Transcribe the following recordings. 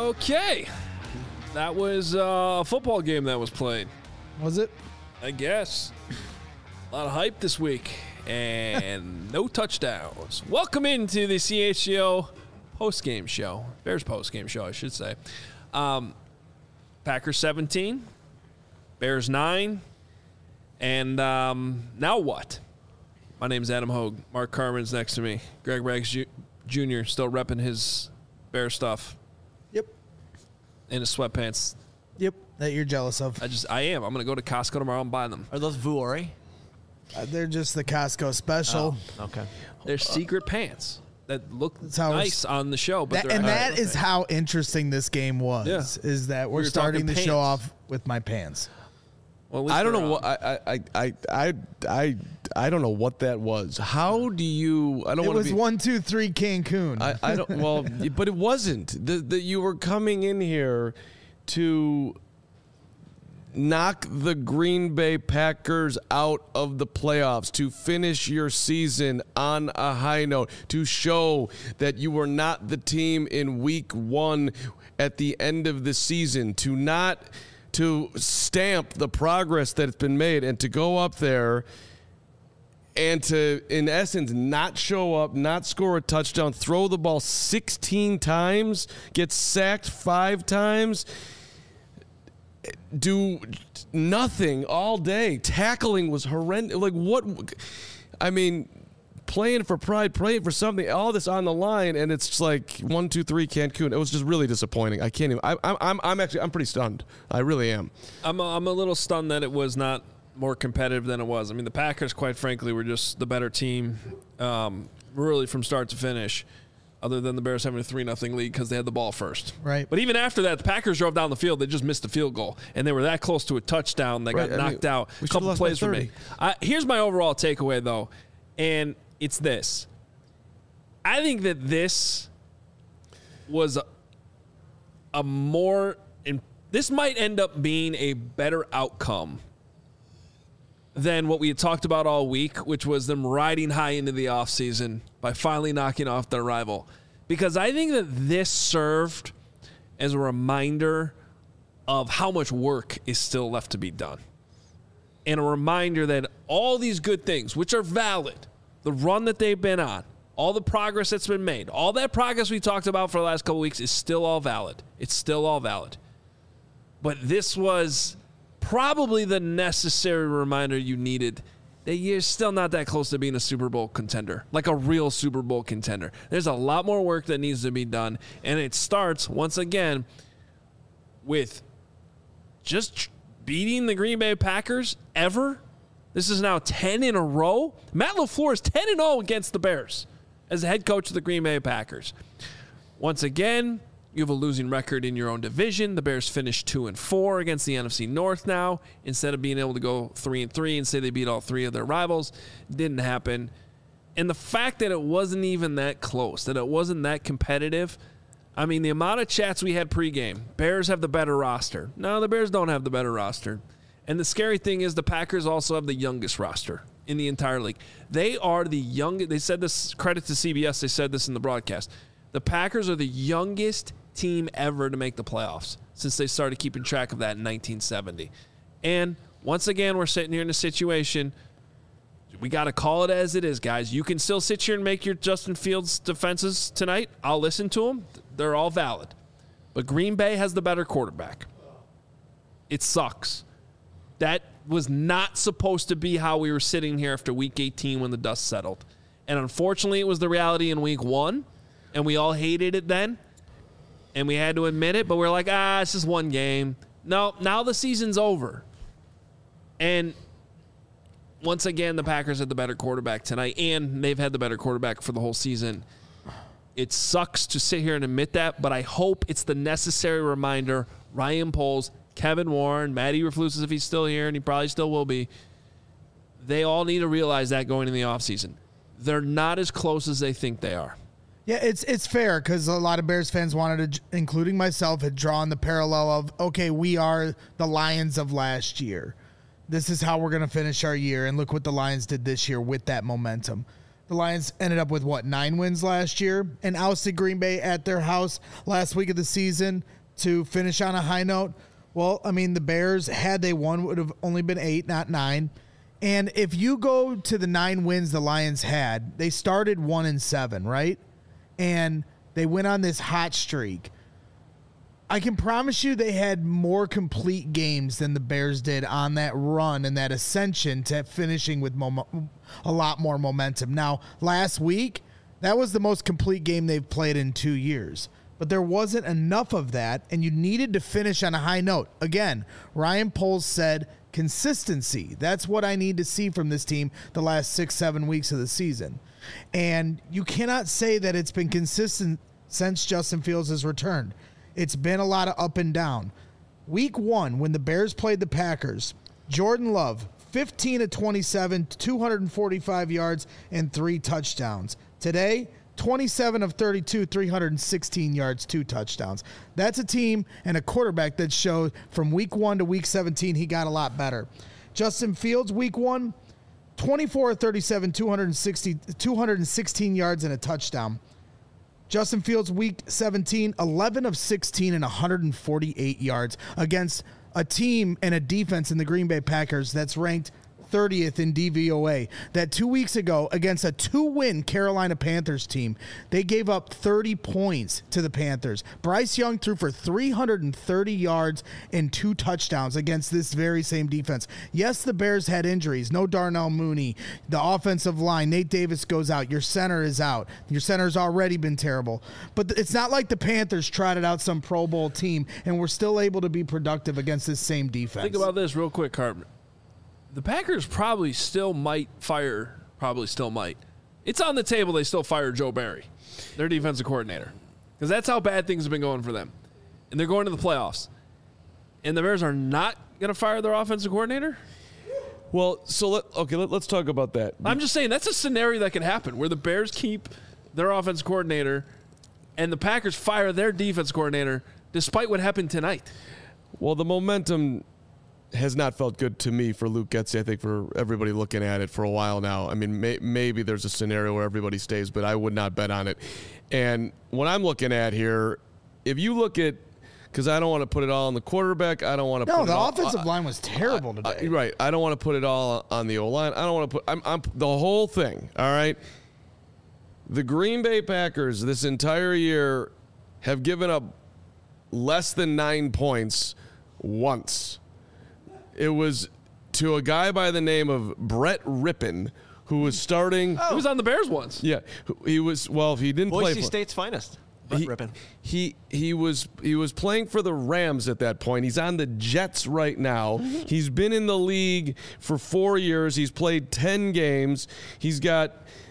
Okay. That was a football game that was played. Was it? I guess. A lot of hype this week. And no touchdowns. Welcome into the CHGO post-game show. Bears post-game show, I should say. Packers 17. Bears 9. And now what? My name's Adam Hogue. Mark Carmen's next to me. Greg Rags Jr. still repping his Bear stuff. Yep. In his sweatpants. Yep. That you're jealous of. I am. I'm going to go to Costco tomorrow and buy them. Are those Vuori? They're just the Costco special. Oh, okay. They're secret pants that look how nice on the show. But that is how interesting this game was. Yeah. Is that we're starting the show off with my pants. Well, I don't know what I don't know what that was. How do you? I don't. It want was to be, 1, 2, 3 Cancun. I don't. Well, but it wasn't. That you were coming in here to knock the Green Bay Packers out of the playoffs, to finish your season on a high note, to show that you were not the team in week 1 at the end of the season, to stamp the progress that's been made, and to go up there and to, in essence, not show up, not score a touchdown, throw the ball 16 times, get sacked 5 times, do nothing all day. Tackling was horrendous. Like, what? I mean, playing for pride, playing for something, all this on the line, and it's just like 1, 2, 3 Cancun. It was just really disappointing. I can't even. I'm pretty stunned. I really am. I'm a little stunned that it was not more competitive than it was. I mean, the Packers, quite frankly, were just the better team, really from start to finish. Other than the Bears having a 3-0 lead because they had the ball first. Right. But even after that, the Packers drove down the field. They just missed a field goal. And they were that close to a touchdown. They got knocked out. A couple plays were made. Here's my overall takeaway, though. And it's this. I think that this was a more – this might end up being a better outcome than what we had talked about all week, which was them riding high into the offseason by finally knocking off their rival. Because I think that this served as a reminder of how much work is still left to be done. And a reminder that all these good things, which are valid, the run that they've been on, all the progress that's been made, all that progress we talked about for the last couple of weeks is still all valid. It's still all valid. But this was probably the necessary reminder you needed that you're still not that close to being a Super Bowl contender, like a real Super Bowl contender. There's a lot more work that needs to be done, and it starts, once again, with just beating the Green Bay Packers ever. This is now 10 in a row. Matt LaFleur is 10-0 against the Bears as the head coach of the Green Bay Packers. Once again, you have a losing record in your own division. The Bears finished 2-4 against the NFC North now, instead of being able to go 3-3 and say they beat all 3 of their rivals. Didn't happen. And the fact that it wasn't even that close, that it wasn't that competitive, I mean, the amount of chats we had pregame, Bears have the better roster. No, the Bears don't have the better roster. And the scary thing is the Packers also have the youngest roster in the entire league. They are the youngest. They said this, credit to CBS, they said this in the broadcast. The Packers are the youngest team ever to make the playoffs since they started keeping track of that in 1970. And once again, we're sitting here in a situation, we got to call it as it is, guys. You can still sit here and make your Justin Fields defenses tonight. I'll listen to them. They're all valid. But Green Bay has the better quarterback. It sucks. That was not supposed to be how we were sitting here after Week 18 when the dust settled. And unfortunately, it was the reality in Week 1, and we all hated it then. And we had to admit it, but we're like, it's just one game. No, now the season's over. And once again, the Packers had the better quarterback tonight, and they've had the better quarterback for the whole season. It sucks to sit here and admit that, but I hope it's the necessary reminder. Ryan Poles, Kevin Warren, Matty Eberflus, if he's still here, and he probably still will be, they all need to realize that going in the offseason. They're not as close as they think they are. Yeah, it's fair because a lot of Bears fans wanted to, including myself, had drawn the parallel of, okay, we are the Lions of last year. This is how we're going to finish our year, and look what the Lions did this year with that momentum. The Lions ended up with, 9 wins last year and ousted Green Bay at their house last week of the season to finish on a high note. Well, I mean, the Bears, had they won, would have only been 8, not 9. And if you go to the 9 wins the Lions had, they started 1-7, right? And they went on this hot streak. I can promise you they had more complete games than the Bears did on that run and that ascension to finishing with a lot more momentum. Now, last week, that was the most complete game they've played in 2 years. But there wasn't enough of that, and you needed to finish on a high note. Again, Ryan Poles said consistency. That's what I need to see from this team the last 6-7 weeks of the season. And you cannot say that it's been consistent since Justin Fields has returned. It's been a lot of up and down. Week 1, when the Bears played the Packers, Jordan Love, 15 of 27, 245 yards, and 3 touchdowns. Today, 27 of 32, 316 yards, 2 touchdowns. That's a team and a quarterback that showed from week 1 to week 17 he got a lot better. Justin Fields, week 1, 24 of 37, 216 yards and a touchdown. Justin Fields, week 17, 11 of 16 and 148 yards against a team and a defense in the Green Bay Packers that's ranked 30th in DVOA. That 2 weeks ago against a 2-win Carolina Panthers team, they gave up 30 points to the Panthers. Bryce Young threw for 330 yards and 2 touchdowns against this very same defense. Yes, the Bears had injuries. No Darnell Mooney. The offensive line, Nate Davis goes out. Your center is out. Your center's already been terrible. But it's not like the Panthers trotted out some Pro Bowl team and were still able to be productive against this same defense. Think about this real quick, Carpenter. The Packers probably still might. It's on the table they still fire Joe Barry, their defensive coordinator, because that's how bad things have been going for them. And they're going to the playoffs. And the Bears are not going to fire their offensive coordinator? Well, so let's talk about that. I'm just saying that's a scenario that could happen where the Bears keep their offensive coordinator and the Packers fire their defense coordinator despite what happened tonight. Well, the momentum has not felt good to me for Luke Getsy. I think for everybody looking at it for a while now. I mean, maybe there's a scenario where everybody stays, but I would not bet on it. And what I'm looking at here, if you look at, because I don't want to put it all on the quarterback. I don't want to. No, the offensive line was terrible today. Right. I don't want to put it all on the O-line. I don't want to put. I'm the whole thing. All right. The Green Bay Packers this entire year have given up less than 9 points once. It was to a guy by the name of Brett Rippon, who was starting. He was on the Bears once. Yeah, he was. Well, if he didn't play. Boise State's finest. Brett Rippon. He was playing for the Rams at that point. He's on the Jets right now. He's been in the league for 4 years. He's played 10 games. He's got.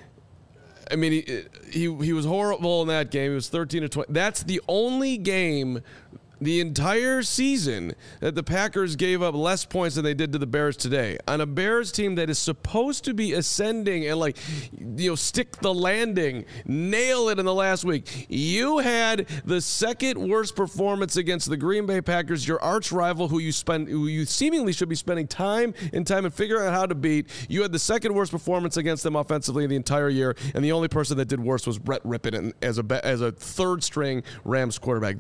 I mean, he was horrible in that game. He was 13 to 20. That's the only game the entire season that the Packers gave up less points than they did to the Bears today. On a Bears team that is supposed to be ascending and stick the landing, nail it in the last week. You had the second worst performance against the Green Bay Packers, your arch rival who you seemingly should be spending time and figuring out how to beat. You had the second worst performance against them offensively in the entire year, and the only person that did worse was Brett Rippon as a third string Rams quarterback.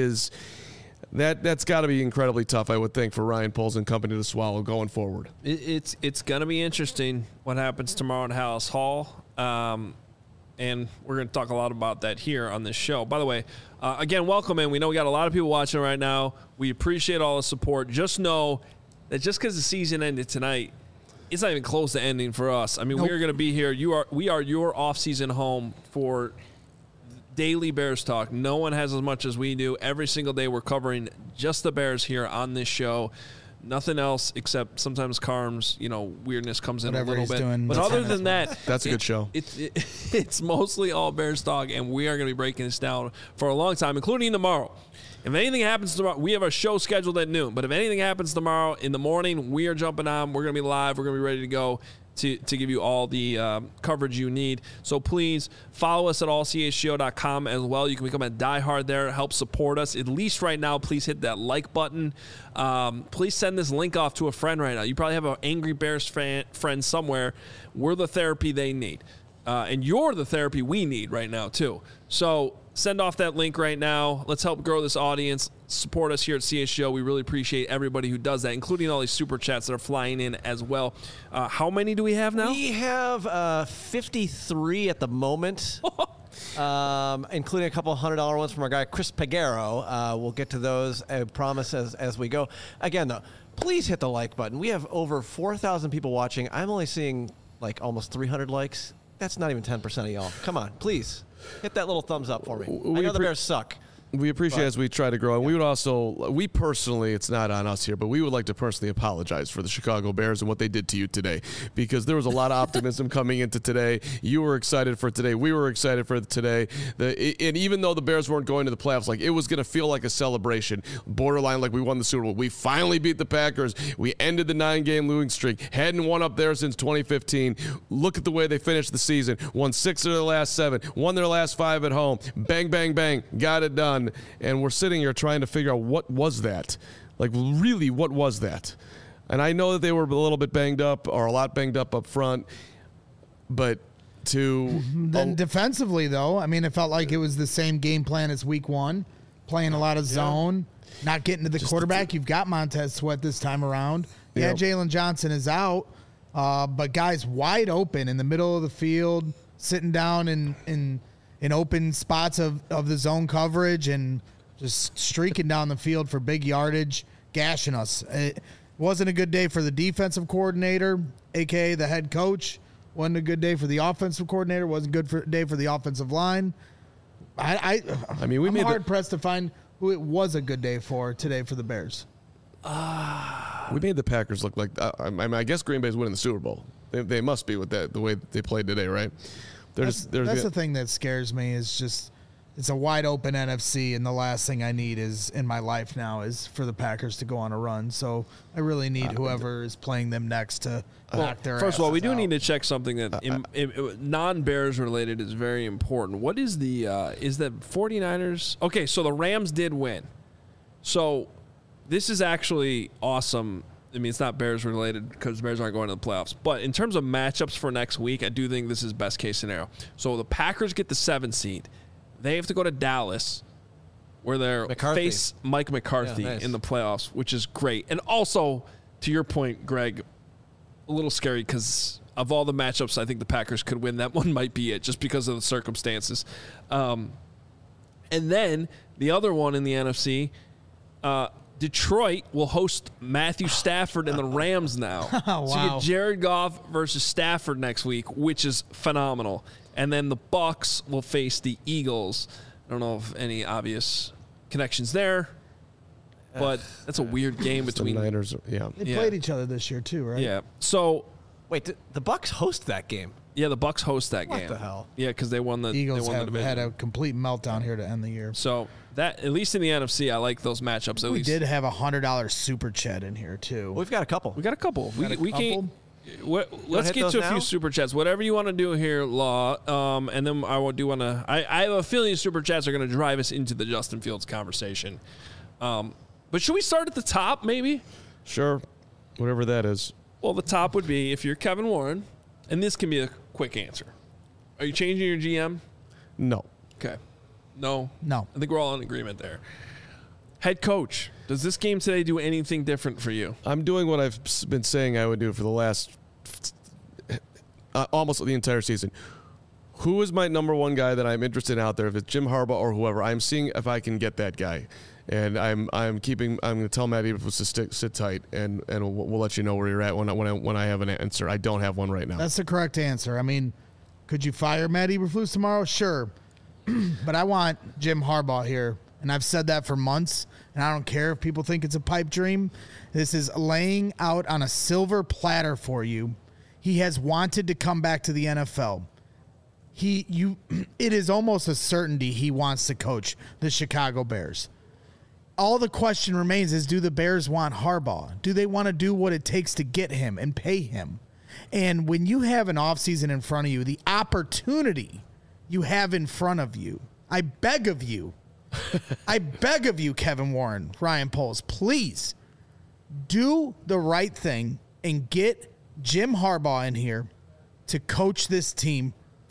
That's got to be incredibly tough, I would think, for Ryan Poles and company to swallow going forward. It's going to be interesting what happens tomorrow at Hallis Hall, and we're going to talk a lot about that here on this show. By the way, again, welcome in. We know we got a lot of people watching right now. We appreciate all the support. Just know that just because the season ended tonight, it's not even close to ending for us. I mean, We're going to be here. We are your off-season home for daily Bears talk. No one has as much as we do. Every single day we're covering just the Bears here on this show. Nothing else except sometimes Carm's, weirdness comes in whatever a little bit. Doing, but other than that, that's a good show. It's mostly all Bears talk, and we are going to be breaking this down for a long time, including tomorrow. If anything happens tomorrow, we have a show scheduled at noon. But if anything happens tomorrow in the morning, we are jumping on. We're going to be live. We're going to be ready to go to give you all the coverage you need. So please follow us at allchgo.com as well. You can become a diehard there. Help support us. At least right now, please hit that like button. Please send this link off to a friend right now. You probably have an angry Bears friend somewhere. We're the therapy they need. And you're the therapy we need right now, too. So send off that link right now. Let's help grow this audience. Support us here at CHGO. We really appreciate everybody who does that, including all these super chats that are flying in as well. How many do we have now? We have 53 at the moment. Including a couple $100 ones from our guy Chris Pagero. We'll get to those, I promise, as we go. Again, though, please hit the like button. We have over 4,000 people watching. I'm only seeing like almost 300 likes. That's not even 10% of y'all. Come on, please hit that little thumbs up for me. I know the Bears suck. We appreciate as we try to grow. And we would also, we personally, it's not on us here, but we would like to personally apologize for the Chicago Bears and what they did to you today, because there was a lot of optimism coming into today. You were excited for today. We were excited for today. And even though the Bears weren't going to the playoffs, like, it was going to feel like a celebration, borderline like we won the Super Bowl. We finally beat the Packers. We ended the 9-game losing streak. Hadn't won up there since 2015. Look at the way they finished the season. Won 6 of their last 7. Won their last 5 at home. Bang, bang, bang. Got it done. And we're sitting here trying to figure out what was that? Like, really, what was that? And I know that they were a little bit banged up, or a lot banged up front, but then defensively, though, I mean, it felt like it was the same game plan as week 1, playing a lot of zone, not getting to the quarterback. You've got Montez Sweat this time around. Yeah, Jalen Johnson is out, but guys wide open in the middle of the field, sitting down in open spots of the zone coverage and just streaking down the field for big yardage, gashing us. It wasn't a good day for the defensive coordinator, a.k.a. the head coach. Wasn't a good day for the offensive coordinator. Wasn't a good day for the offensive line. I'm hard-pressed to find who it was a good day for today for the Bears. We made the Packers look like I guess Green Bay's winning the Super Bowl. They must be with that, the way they played today, right? That's the thing that scares me is just it's a wide open NFC, and the last thing I need is in my life now is for the Packers to go on a run. So I really need whoever is playing them next to knock their First of all, we do out. need to check something that non-Bears related is very important. What is the 49ers? Okay, so the Rams did win. So this is actually awesome. I mean, it's not Bears related because the Bears aren't going to the playoffs. But in terms of matchups for next week, I do think this is best case scenario. So the Packers get the 7 seed. They have to go to Dallas, where they face Mike McCarthy in the playoffs, which is great. And also, to your point, Greg, a little scary because of all the matchups, I think the Packers could win. That one might be it, just because of the circumstances. And then the other one in the NFC, Detroit will host Matthew Stafford and the Rams now. Wow. So you get Jared Goff versus Stafford next week, which is phenomenal. And then the Bucs will face the Eagles. I don't know if any obvious connections there, but that's a weird game between the Niners. Yeah, they played each other this year too, right? Yeah. So wait, the Bucs host that game? Yeah, the Bucs host that game. What the hell? Yeah, because they won the Eagles they won the division. had a complete meltdown here to end the year. So that at least in the NFC, I like those matchups. We did have $100 super chat in here too. Well, we've got a couple. We got a couple. We can. Let's hit get to a now? few super chats. Whatever you want to do here, Law. And then I do want to. I have a feeling super chats are going to drive us into the Justin Fields conversation. But should we start at the top, maybe? Sure, whatever that is. Well, the top would be if you're Kevin Warren, and this can be a quick answer. Are you changing your GM? No. Okay. No. I think we're all in agreement there. Head coach, does this game today do anything different for you? I'm doing what I've been saying I would do for the last almost the entire season. Who is my number one guy that I'm interested in out there? If it's Jim Harbaugh or whoever, I'm seeing if I can get that guy. And I'm going to tell Matt Eberflus to sit tight, and we'll let you know where you're at when I have an answer. I don't have one right now. That's the correct answer. I mean, could you fire Matt Eberflus tomorrow? Sure. But I want Jim Harbaugh here, and I've said that for months, and I don't care if people think it's a pipe dream. This is laying out on a silver platter for you. He has wanted to come back to the NFL. It is almost a certainty he wants to coach the Chicago Bears. All the question remains is, do the Bears want Harbaugh? Do they want to do what it takes to get him and pay him? And when you have an offseason in front of you, the opportunity you have in front of you, I beg of you, Kevin Warren, Ryan Poles, please do the right thing and get Jim Harbaugh in here to coach this team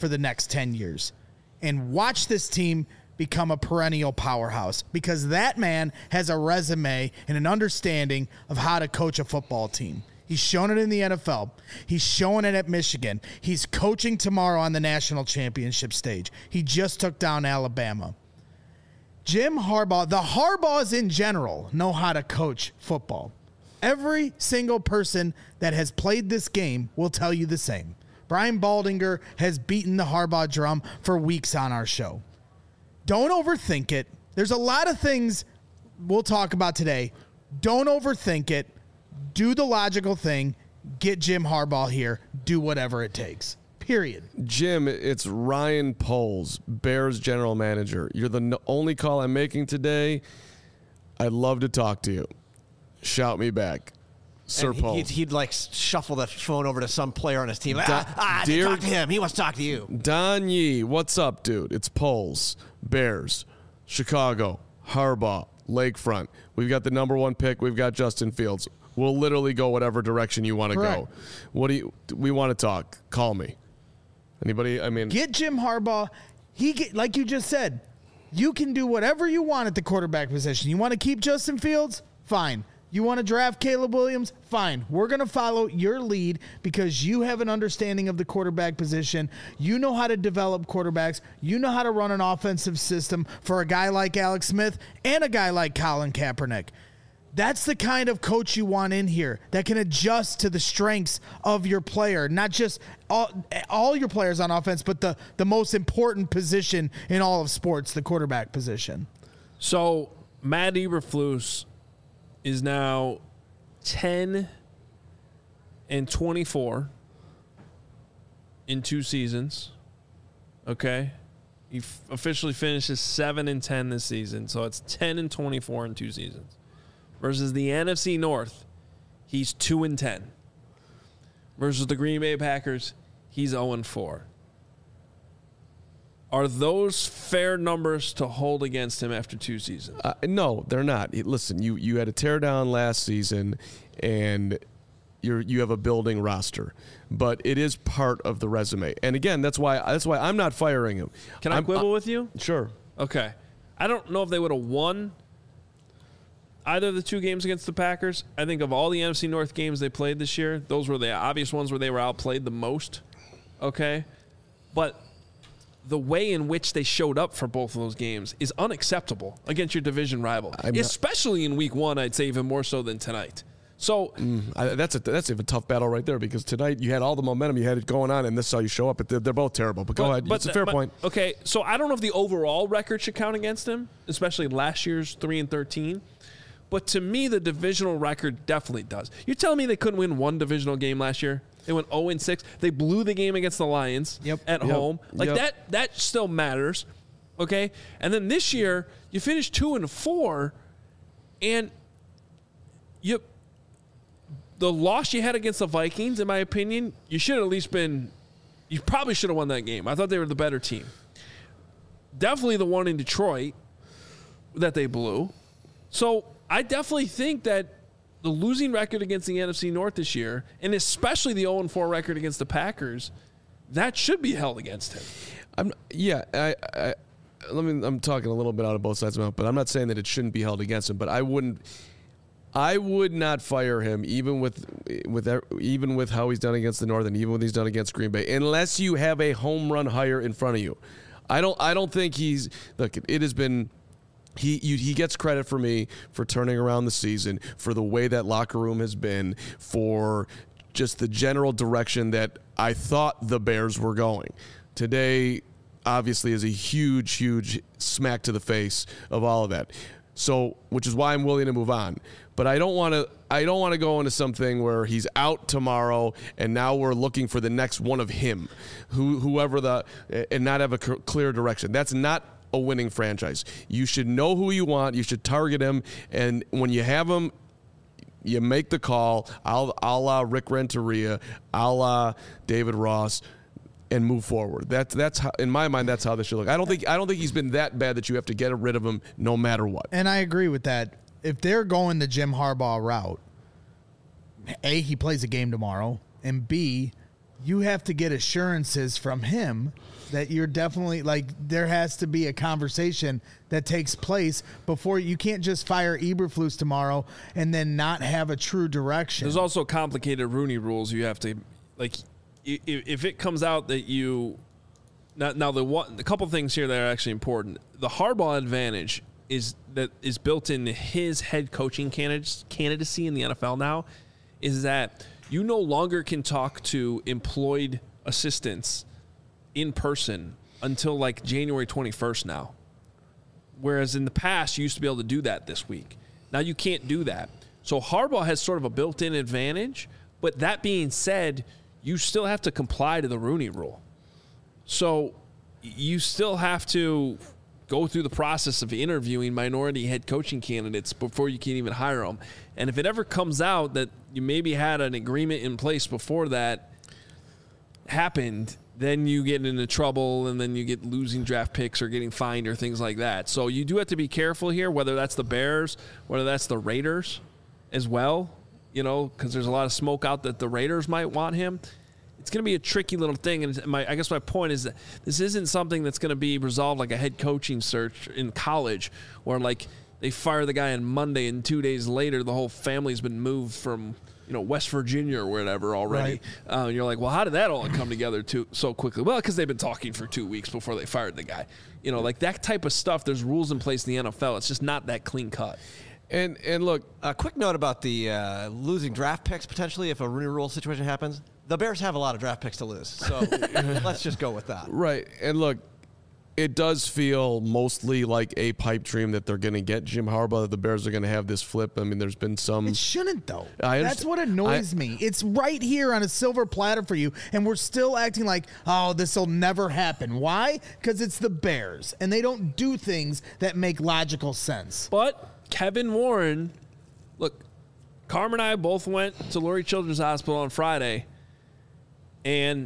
for the next 10 years and watch this team become a perennial powerhouse, because that man has a resume and an understanding of how to coach a football team. He's shown it in the NFL. He's showing it at Michigan. He's coaching tomorrow on the national championship stage. He just took down Alabama. Jim Harbaugh, the Harbaughs in general, know how to coach football. Every single person that has played this game will tell you the same. Brian Baldinger has beaten the Harbaugh drum for weeks on our show. Don't overthink it. There's a lot of things we'll talk about today. Don't overthink it. Do the logical thing. Get Jim Harbaugh here. Do whatever it takes. Period. Jim, it's Ryan Poles, Bears general manager. You're the only call I'm making today. I'd love to talk to you. Shout me back. Sir Poles. He'd like shuffle the phone over to some player on his team. Talk to him. He wants to talk to you. Don Yee, what's up, dude? It's Poles, Bears, Chicago, Harbaugh, Lakefront. We've got the number 1 pick. We've got Justin Fields. We'll literally go whatever direction you want to go. We want to talk. Call me. Anybody? I mean, get Jim Harbaugh. Like you just said, you can do whatever you want at the quarterback position. You want to keep Justin Fields? Fine. You want to draft Caleb Williams? Fine. We're going to follow your lead because you have an understanding of the quarterback position. You know how to develop quarterbacks. You know how to run an offensive system for a guy like Alex Smith and a guy like Colin Kaepernick. That's the kind of coach you want in here that can adjust to the strengths of your player, not just all your players on offense, but the most important position in all of sports, the quarterback position. So Matt Eberflus is now 10-24 in 2 seasons. Okay. He officially finishes 7-10 this season. So it's 10-24 in 2 seasons. Versus the NFC North, he's 2-10. Versus the Green Bay Packers, he's 0-4. Are those fair numbers to hold against him after 2 seasons? No, they're not. Listen, you had a tear down last season, and you have a building roster, but it is part of the resume. And again, that's why I'm not firing him. Can I quibble with you? Sure. Okay. I don't know if they would have won either of the 2 games against the Packers. I think of all the NFC North games they played this year, those were the obvious ones where they were outplayed the most. Okay? But the way in which they showed up for both of those games is unacceptable against your division rival, especially in week 1, I'd say even more so than tonight. So that's a tough battle right there, because tonight you had all the momentum, you had it going on, and this is how you show up. But they're both terrible. But go ahead. It's a fair point. Okay, so I don't know if the overall record should count against him, especially last year's 3-13. But to me, the divisional record definitely does. You're telling me they couldn't win 1 divisional game last year? They went 0-6. They blew the game against the Lions at home. That still matters. Okay? And then this year, you finished 2-4, and the loss you had against the Vikings, in my opinion, you probably should have won that game. I thought they were the better team. Definitely the one in Detroit that they blew. So I definitely think that the losing record against the NFC North this year, and especially the 0-4 record against the Packers, that should be held against him. I'm talking a little bit out of both sides of my mouth, but I'm not saying that it shouldn't be held against him. But I would not fire him, even with how he's done against the North, and even what he's done against Green Bay, unless you have a home run hire in front of you. I don't think he's. Look, it has been. He gets credit for me for turning around the season, for the way that locker room has been, for just the general direction that I thought the Bears were going. Today, obviously, is a huge, huge smack to the face of all of that. So, which is why I'm willing to move on. But I don't want to go into something where he's out tomorrow and now we're looking for the next one of him, and not have a clear direction. That's not a winning franchise. You should know who you want. You should target him, and when you have him, you make the call, a la Rick Renteria, a la David Ross, and move forward. That's how, in my mind, that's how this should look. I don't think he's been that bad that you have to get rid of him no matter what. And I agree with that. If they're going the Jim Harbaugh route, A, he plays a game tomorrow, and B, you have to get assurances from him that you're definitely, like, there has to be a conversation that takes place before. You can't just fire Eberflus tomorrow and then not have a true direction. There's also complicated Rooney rules. You have to, like, if it comes out that you now the couple things here that are actually important. The Harbaugh advantage is built into his head coaching candidacy in the NFL now, is that you no longer can talk to employed assistants in person until like January 21st now. Whereas in the past, you used to be able to do that this week. Now you can't do that. So Harbaugh has sort of a built-in advantage, but that being said, you still have to comply to the Rooney Rule. So you still have to go through the process of interviewing minority head coaching candidates before you can even hire them. And if it ever comes out that you maybe had an agreement in place before that happened, then you get into trouble, and then you get losing draft picks or getting fined or things like that. So you do have to be careful here, whether that's the Bears, whether that's the Raiders as well, you know, because there's a lot of smoke out that the Raiders might want him. It's going to be a tricky little thing. And I guess my point is that this isn't something that's going to be resolved like a head coaching search in college where, like, they fire the guy on Monday and 2 days later the whole family's been moved from, you know, West Virginia or whatever already. Right. And you're like, well, how did that all come together so quickly? Well, because they've been talking for 2 weeks before they fired the guy. You know, like that type of stuff, there's rules in place in the NFL. It's just not that clean cut. And look, a quick note about the losing draft picks potentially if a Rooney Rule situation happens. The Bears have a lot of draft picks to lose, so let's just go with that. Right. And look, it does feel mostly like a pipe dream that they're going to get Jim Harbaugh, that the Bears are going to have this flip. I mean, there's been some... It shouldn't, though. That's what annoys me. It's right here on a silver platter for you, and we're still acting like, oh, this will never happen. Why? Because it's the Bears, and they don't do things that make logical sense. But Kevin Warren... Look, Carmen and I both went to Lurie Children's Hospital on Friday, and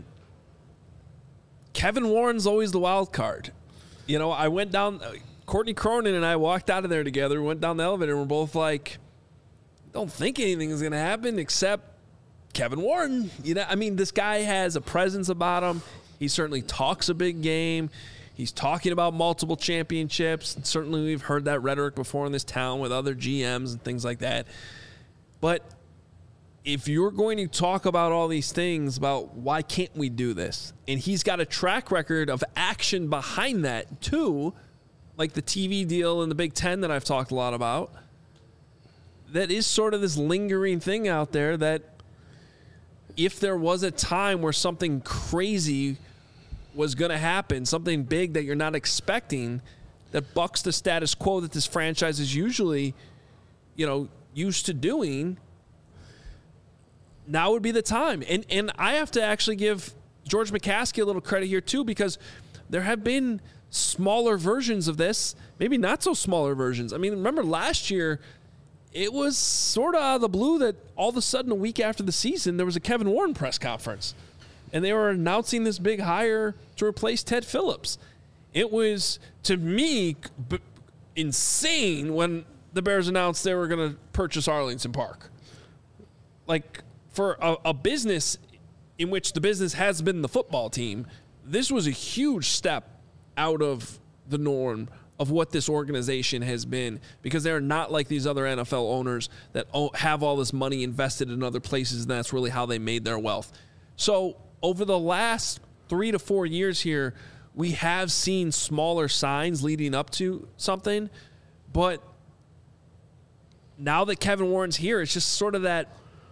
Kevin Warren's always the wild card. You know, I went down, Courtney Cronin and I walked out of there together, went down the elevator, and we're both like, don't think anything is going to happen except Kevin Warren. You know, I mean, this guy has a presence about him. He certainly talks a big game. He's talking about multiple championships. And certainly we've heard that rhetoric before in this town with other GMs and things like that. But if you're going to talk about all these things about why can't we do this, and he's got a track record of action behind that too, like the TV deal in the Big Ten that I've talked a lot about, that is sort of this lingering thing out there that if there was a time where something crazy was going to happen, something big that you're not expecting, that bucks the status quo that this franchise is usually, you know, used to doing, now would be the time. And I have to actually give George McCaskey a little credit here too, because there have been smaller versions of this, maybe not so smaller versions. I mean, remember last year, it was sort of out of the blue that all of a sudden a week after the season, there was a Kevin Warren press conference. And they were announcing this big hire to replace Ted Phillips. It was, to me, insane when the Bears announced they were going to purchase Arlington Park. Like, for a business in which the business has been the football team, this was a huge step out of the norm of what this organization has been, because they're not like these other NFL owners that have all this money invested in other places, and that's really how they made their wealth. So over the last 3 to 4 years here, we have seen smaller signs leading up to something, but now that Kevin Warren's here, it's just sort of that,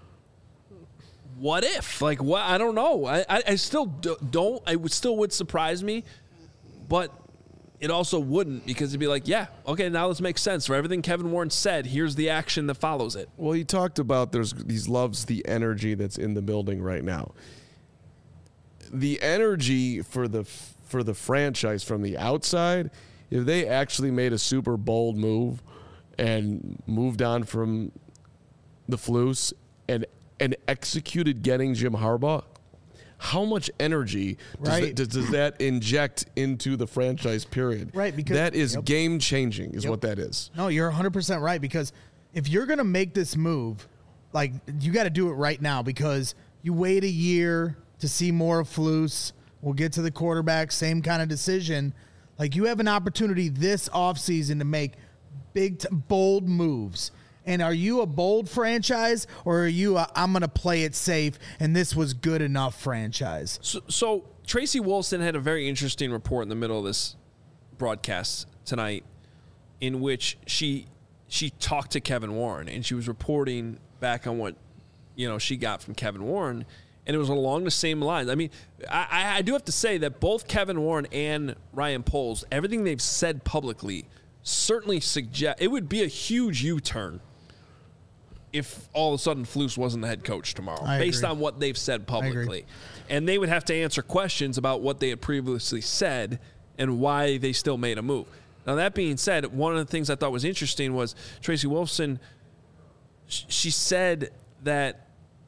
what if? Like, what? I don't know. I still don't. It still would surprise me, but it also wouldn't, because it'd be like, yeah, okay, now this makes sense. For everything Kevin Warren said, here's the action that follows it. Well, he talked about he loves the energy that's in the building right now. The energy for the franchise from the outside, if they actually made a super bold move and moved on from the Flus and executed getting Jim Harbaugh, how much energy does that inject into the franchise period? Right, because that is game-changing is what that is. No, you're 100% right, because if you're going to make this move, like, you got to do it right now, because you wait a year to see more of Flus. We'll get to the quarterback, same kind of decision. Like, you have an opportunity this offseason to make bold moves. And are you a bold franchise, or are you I'm going to play it safe and this was good enough franchise? So Tracy Wolfson had a very interesting report in the middle of this broadcast tonight, in which she talked to Kevin Warren, and she was reporting back on what she got from Kevin Warren, and it was along the same lines. I mean, I do have to say that both Kevin Warren and Ryan Poles, everything they've said publicly, certainly suggest it would be a huge U-turn if all of a sudden Flus wasn't the head coach tomorrow, based on what they've said publicly. And they would have to answer questions about what they had previously said and why they still made a move. Now, that being said, one of the things I thought was interesting was Tracy Wolfson, she said that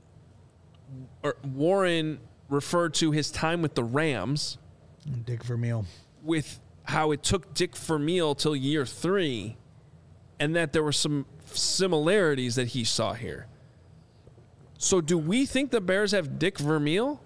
Warren referred to his time with the Rams, Dick Vermeil, with how it took Dick Vermeil till year 3, and that there were some similarities that he saw here. So do we think the Bears have Dick Vermeil?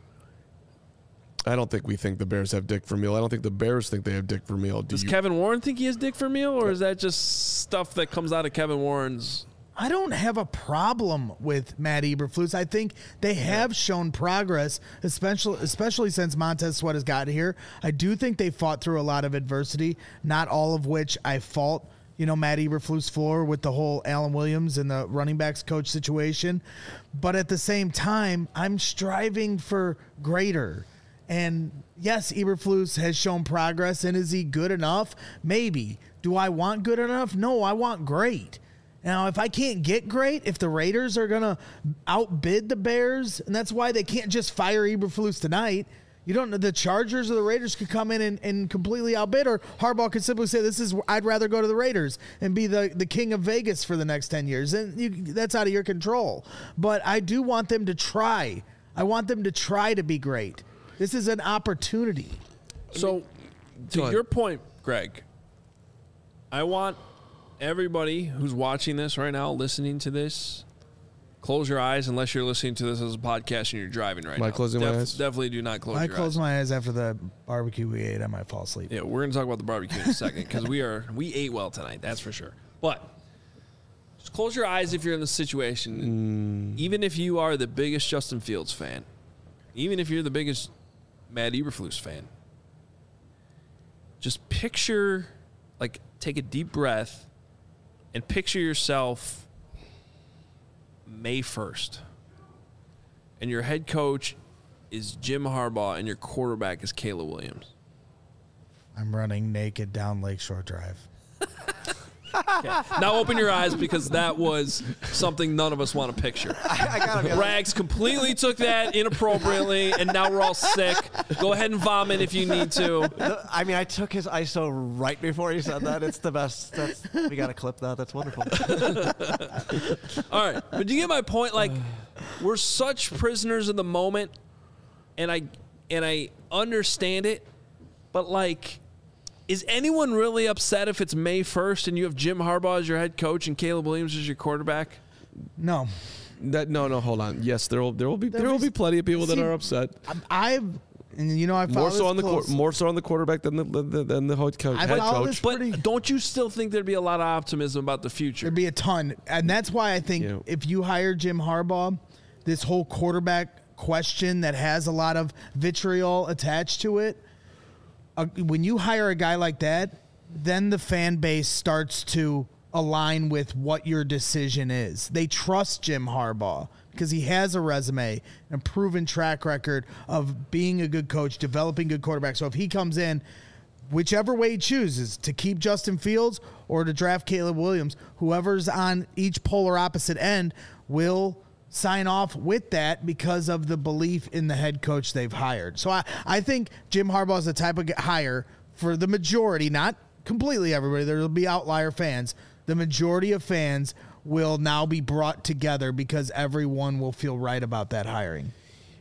I don't think we think the Bears have Dick Vermeil. I don't think the Bears think they have Dick Vermeil. Does Kevin Warren think he has Dick Vermeil, or is that just stuff that comes out of Kevin Warren's? I don't have a problem with Matt Eberflus. I think they have shown progress, especially since Montez Sweat has gotten here. I do think they fought through a lot of adversity, not all of which I fault Matt Eberflus for, with the whole Alan Williams and the running backs coach situation. But at the same time, I'm striving for greater. And yes, Eberflus has shown progress, and is he good enough? Maybe. Do I want good enough? No, I want great. Now, if I can't get great, if the Raiders are going to outbid the Bears, and that's why they can't just fire Eberflus tonight. You don't know, the Chargers or the Raiders could come in and completely outbid, or Harbaugh could simply say, I'd rather go to the Raiders and be the king of Vegas for the next 10 years. And that's out of your control. But I do want them to try. I want them to try to be great. This is an opportunity. So, to your point, Greg, I want everybody who's watching this right now, listening to this, close your eyes unless you're listening to this as a podcast and you're driving right now. Am I closing my eyes? Definitely do not close your eyes. I close my eyes after the barbecue we ate. I might fall asleep. Yeah, we're going to talk about the barbecue in a second, because we ate well tonight, that's for sure. But just close your eyes if you're in the situation. Even if you are the biggest Justin Fields fan, even if you're the biggest Matt Eberflus fan, just picture, take a deep breath and picture yourself May 1st, and your head coach is Jim Harbaugh and your quarterback is Caleb Williams. I'm running naked down Lakeshore Drive. Okay. Now open your eyes, because that was something none of us want to picture. Rags completely took that inappropriately, and now we're all sick. Go ahead and vomit if you need to. I mean, I took his ISO right before he said that. It's the best. We got to clip that. That's wonderful. All right. But do you get my point? We're such prisoners of the moment, and I understand it, but is anyone really upset if it's May 1st and you have Jim Harbaugh as your head coach and Caleb Williams as your quarterback? No. No, hold on. Yes, there will be plenty of people that are upset. I more so on the quarterback than the head coach. But don't you still think there'd be a lot of optimism about the future? There'd be a ton, and that's why I think if you hire Jim Harbaugh, this whole quarterback question that has a lot of vitriol attached to it. When you hire a guy like that, then the fan base starts to align with what your decision is. They trust Jim Harbaugh because he has a resume and a proven track record of being a good coach, developing good quarterbacks. So if he comes in, whichever way he chooses, to keep Justin Fields or to draft Caleb Williams, whoever's on each polar opposite end will sign off with that because of the belief in the head coach they've hired. So I think Jim Harbaugh is the type of hire for the majority, not completely everybody. There will be outlier fans. The majority of fans will now be brought together because everyone will feel right about that hiring.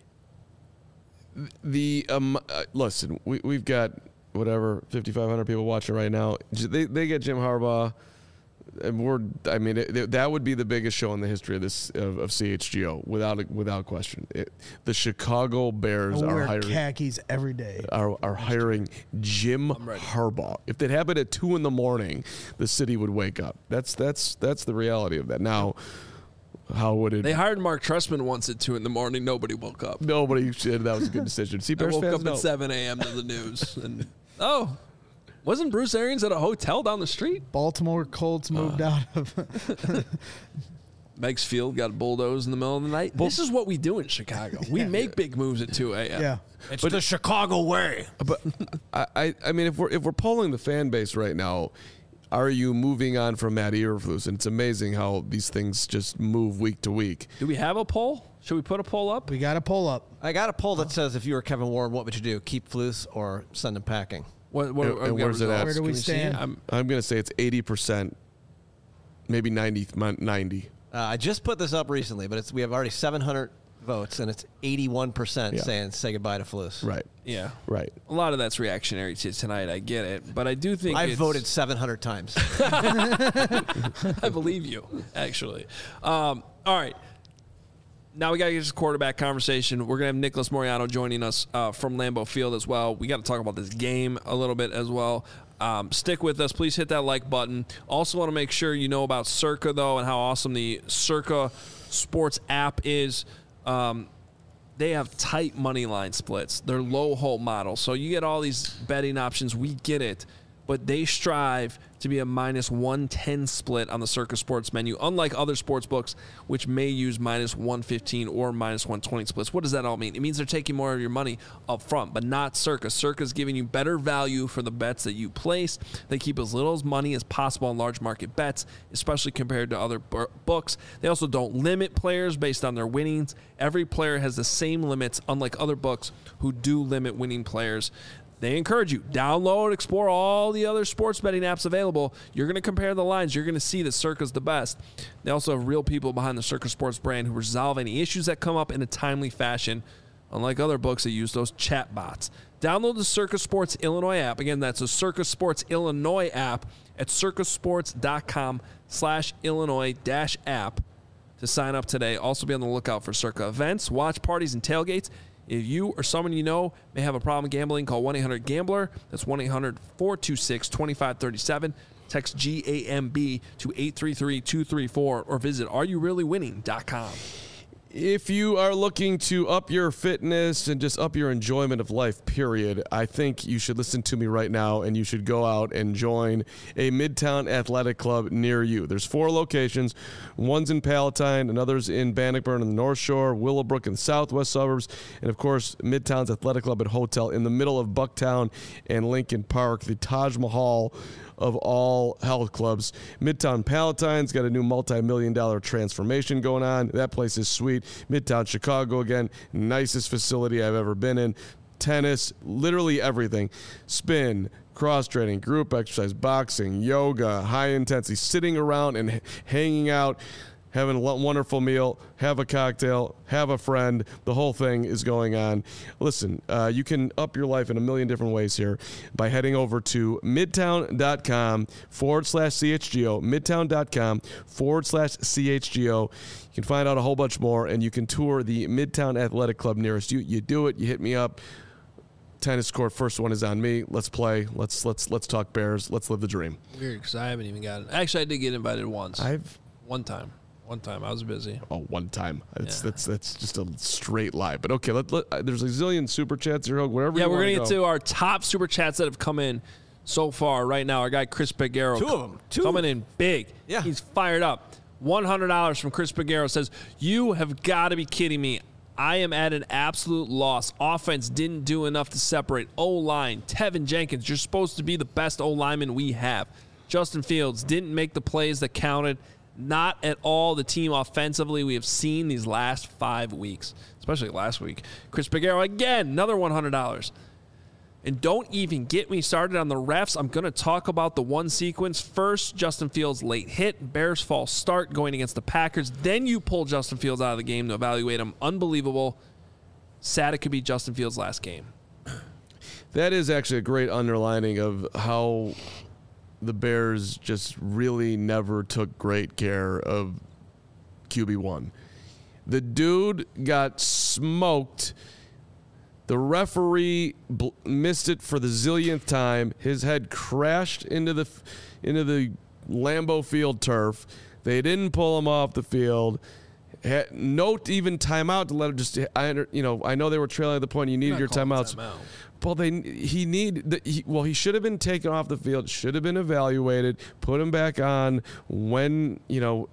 Listen, we've got 5,500 people watching right now. They get Jim Harbaugh. That would be the biggest show in the history of this of CHGO without question. The Chicago Bears are hiring khakis every day. Are hiring Jim Harbaugh. If that happened at 2 a.m, the city would wake up. That's the reality of that. Now, how would it? They hired Mark Trestman once at 2 a.m. Nobody woke up. Nobody said that was a good decision. See, Bears I woke fans up at 7 a.m. to the news and wasn't Bruce Arians at a hotel down the street? Baltimore Colts moved out of Meigs Field got bulldozed in the middle of the night. This is what we do in Chicago. We make big moves at 2 a.m. Yeah, it's the Chicago way. But I mean, if we're polling the fan base right now, are you moving on from Matt Eberflus? And it's amazing how these things just move week to week. Do we have a poll? Should we put a poll up? We got a poll up. I got a poll that says, if you were Kevin Warren, what would you do? Keep Flus or send him packing? And where's it at? Where do we stand? I'm going to say it's 80%, maybe 90. I just put this up recently, but we have already 700 votes, and it's 81% saying say goodbye to Flus. Right. Yeah. Right. A lot of that's reactionary to tonight. I get it. But I do think I've voted 700 times. I believe you, actually. All right. Now we got to get this quarterback conversation. We're going to have Nicholas Moreano joining us from Lambeau Field as well. We got to talk about this game a little bit as well. Stick with us. Please hit that like button. Also want to make sure you know about Circa, though, and how awesome the Circa Sports app is. They have tight money line splits. They're low hold models. So you get all these betting options. We get it. But they strive to be a minus 110 split on the Circa Sports menu, unlike other sports books, which may use minus 115 or minus 120 splits. What does that all mean? It means they're taking more of your money up front, but not Circa. Circa's giving you better value for the bets that you place. They keep as little money as possible on large market bets, especially compared to other books. They also don't limit players based on their winnings. Every player has the same limits, unlike other books who do limit winning players. They encourage you, download, explore all the other sports betting apps available. You're going to compare the lines. You're going to see that Circa's the best. They also have real people behind the Circa Sports brand who resolve any issues that come up in a timely fashion, unlike other books that use those chat bots. Download the Circa Sports Illinois app. Again, that's the Circa Sports Illinois app at circasports.com/Illinois-app to sign up today. Also be on the lookout for Circa events, watch parties, and tailgates. If you or someone you know may have a problem gambling, call 1-800-GAMBLER. That's 1-800-426-2537. Text GAMB to 833-234 or visit areyoureallywinning.com. If you are looking to up your fitness and just up your enjoyment of life, period, I think you should listen to me right now and you should go out and join a Midtown Athletic Club near you. There's 4 locations. One's in Palatine, another's in Bannockburn in the North Shore, Willowbrook in the southwest suburbs, and, of course, Midtown's Athletic Club and Hotel in the middle of Bucktown and Lincoln Park, the Taj Mahal of all health clubs. Midtown Palatine's got a new multi-million-dollar transformation going on. That place is sweet. Midtown Chicago, again, nicest facility I've ever been in. Tennis, literally everything. Spin, cross-training, group exercise, boxing, yoga, high-intensity, sitting around and hanging out, having a wonderful meal, have a cocktail, have a friend. The whole thing is going on. Listen, you can up your life in a million different ways here by heading over to midtown.com/CHGO, midtown.com/CHGO. You can find out a whole bunch more, and you can tour the Midtown Athletic Club nearest you. You do it, you hit me up. Tennis court, first one is on me. Let's play. Let's talk Bears. Let's live the dream. Weird, because I haven't even gotten. Actually, I did get invited once. One time. I was busy. Oh, one time. That's just a straight lie. But okay, there's a zillion super chats here. Whatever. Yeah, we're gonna get to our top super chats that have come in so far right now. Our guy Chris Peguero, 2 of them, coming in big. Yeah, he's fired up. $100 from Chris Peguero says, "You have got to be kidding me. I am at an absolute loss. Offense didn't do enough to separate. O-line, Tevin Jenkins, you're supposed to be the best O-lineman we have. Justin Fields didn't make the plays that counted. Not at all the team offensively we have seen these last 5 weeks, especially last week." Chris Peguero, again, another $100. And don't even get me started on the refs. I'm going to talk about the one sequence. First, Justin Fields' late hit, Bears' false start going against the Packers. Then you pull Justin Fields out of the game to evaluate him. Unbelievable. Sad it could be Justin Fields' last game. That is actually a great underlining of how the Bears just really never took great care of QB1. The dude got smoked. The referee missed it for the zillionth time. His head crashed into the Lambeau Field turf. They didn't pull him off the field. No even timeout to let him just. I know they were trailing at the point. You needed your timeouts. Well, he should have been taken off the field. Should have been evaluated. Put him back on when the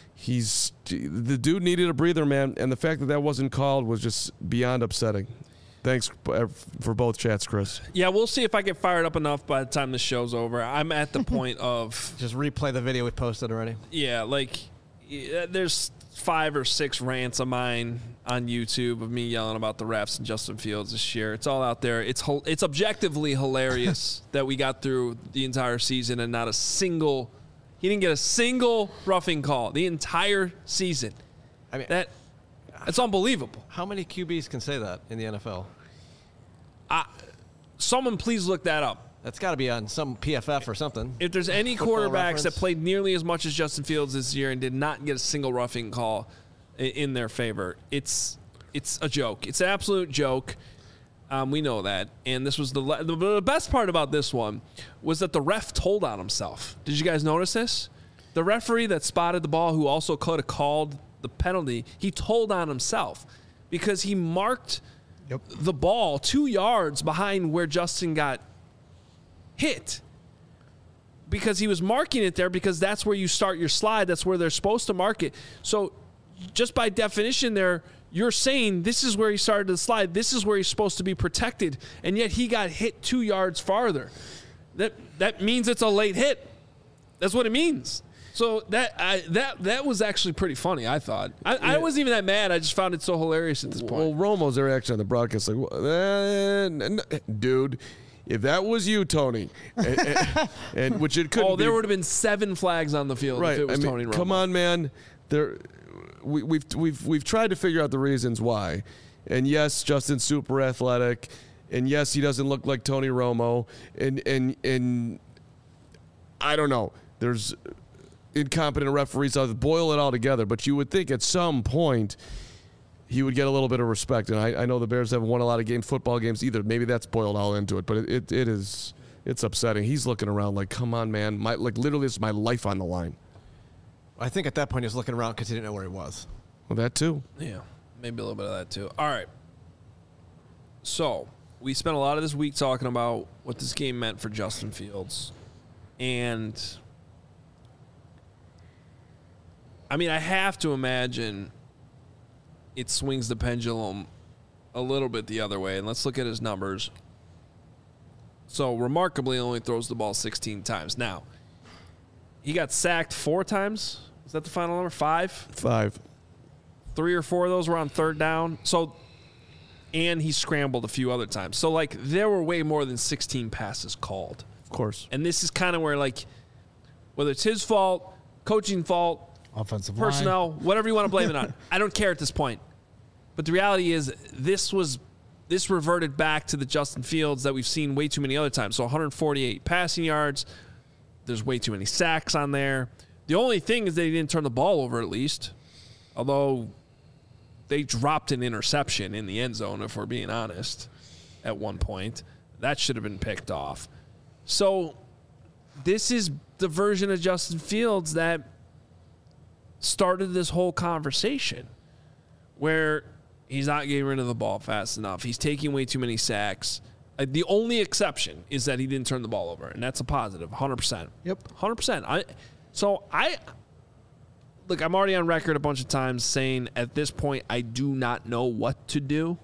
dude needed a breather, man. And the fact that wasn't called was just beyond upsetting. Thanks for both chats, Chris. Yeah, we'll see if I get fired up enough by the time the show's over. I'm at the point of just replay the video we posted already. Yeah, there's 5 or 6 rants of mine on YouTube of me yelling about the refs and Justin Fields this year. It's all out there. It's objectively hilarious that we got through the entire season and he didn't get a single roughing call the entire season. I mean, it's unbelievable. How many QBs can say that in the NFL? Someone please look that up. That's got to be on some PFF or something. If there's any quarterbacks that played nearly as much as Justin Fields this year and did not get a single roughing call in their favor, it's a joke. It's an absolute joke. We know that. And this was the best part about this one was that the ref told on himself. Did you guys notice this? The referee that spotted the ball, who also could have called the penalty, he told on himself because he marked the ball 2 yards behind where Justin got hit, because he was marking it there because that's where you start your slide. That's where they're supposed to mark it. So just by definition there, you're saying this is where he started the slide. This is where he's supposed to be protected. And yet he got hit 2 yards farther. That means it's a late hit. That's what it means. So that was actually pretty funny, I thought. I wasn't even that mad. I just found it so hilarious at this point. Well, Romo's reaction on the broadcast, dude, if that was you, Tony, and which it couldn't. There would have been 7 flags on the field if it was Tony Romo. Come on, man. We've tried to figure out the reasons why, and yes, Justin's super athletic, and yes, he doesn't look like Tony Romo, and I don't know. There's incompetent referees. I'll boil it all together, but you would think at some point he would get a little bit of respect. And I know the Bears haven't won a lot of football games either. Maybe that's boiled all into it, but it's upsetting. He's looking around like, come on, man. Literally, it's my life on the line. I think at that point he was looking around because he didn't know where he was. Well, that too. Yeah, maybe a little bit of that too. All right. So we spent a lot of this week talking about what this game meant for Justin Fields. And I mean, I have to imagine it swings the pendulum a little bit the other way. And let's look at his numbers. So, remarkably, only throws the ball 16 times. Now, he got sacked 4 times. Is that the final number? 5? 5. 3 or 4 of those were on third down. So, and he scrambled a few other times. So, there were way more than 16 passes called. Of course. And this is kind of where, whether it's his fault, coaching fault, offensive personnel, line, whatever you want to blame it on. I don't care at this point. But the reality is this reverted back to the Justin Fields that we've seen way too many other times. So 148 passing yards. There's way too many sacks on there. The only thing is that he didn't turn the ball over at least. Although they dropped an interception in the end zone, if we're being honest, at one point. That should have been picked off. So this is the version of Justin Fields that started this whole conversation where he's not getting rid of the ball fast enough. He's taking way too many sacks. The only exception is that he didn't turn the ball over, and that's a positive, 100%. Yep. 100%. Look, I'm already on record a bunch of times saying at this point I do not know what to do.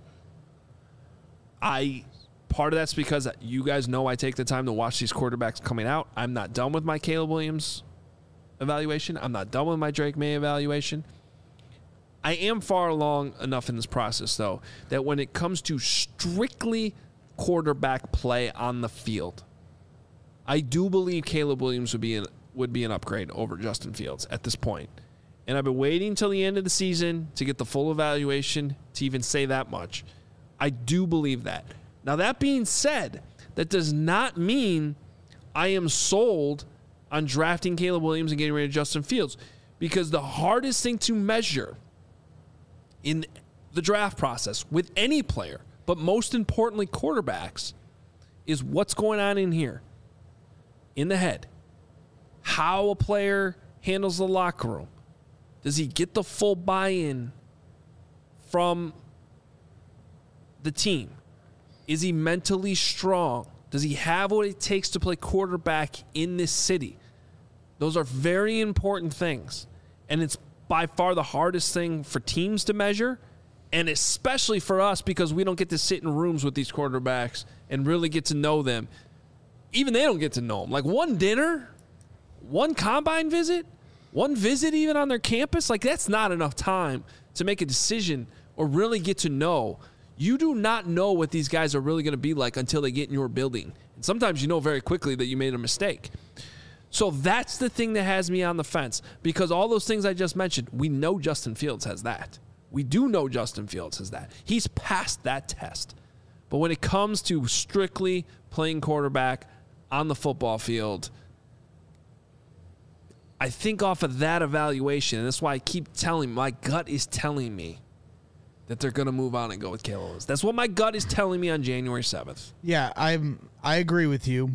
Part of that's because you guys know I take the time to watch these quarterbacks coming out. I'm not done with my Caleb Williams evaluation. I'm not done with my Drake May evaluation. I am far along enough in this process, though, that when it comes to strictly quarterback play on the field, I do believe Caleb Williams would be an upgrade over Justin Fields at this point. And I've been waiting until the end of the season to get the full evaluation to even say that much. I do believe that. Now, that being said, that does not mean I am sold on drafting Caleb Williams and getting rid of Justin Fields, because the hardest thing to measure in the draft process with any player, but most importantly quarterbacks, is what's going on in here, in the head. How a player handles the locker room. Does he get the full buy-in from the team? Is he mentally strong? Does he have what it takes to play quarterback in this city? Those are very important things. And it's by far the hardest thing for teams to measure, and especially for us, because we don't get to sit in rooms with these quarterbacks and really get to know them. Even they don't get to know them. Like one dinner, one combine visit, one visit even on their campus, like that's not enough time to make a decision or really get to know. You do not know what these guys are really going to be like until they get in your building. And sometimes you know very quickly that you made a mistake. So that's the thing that has me on the fence, because all those things I just mentioned, we know Justin Fields has that. We do know Justin Fields has that. He's passed that test. But when it comes to strictly playing quarterback on the football field, I think off of that evaluation, and that's why I keep telling, my gut is telling me that they're going to move on and go with Caleb Williams. That's what my gut is telling me on January 7th. Yeah, I agree with you.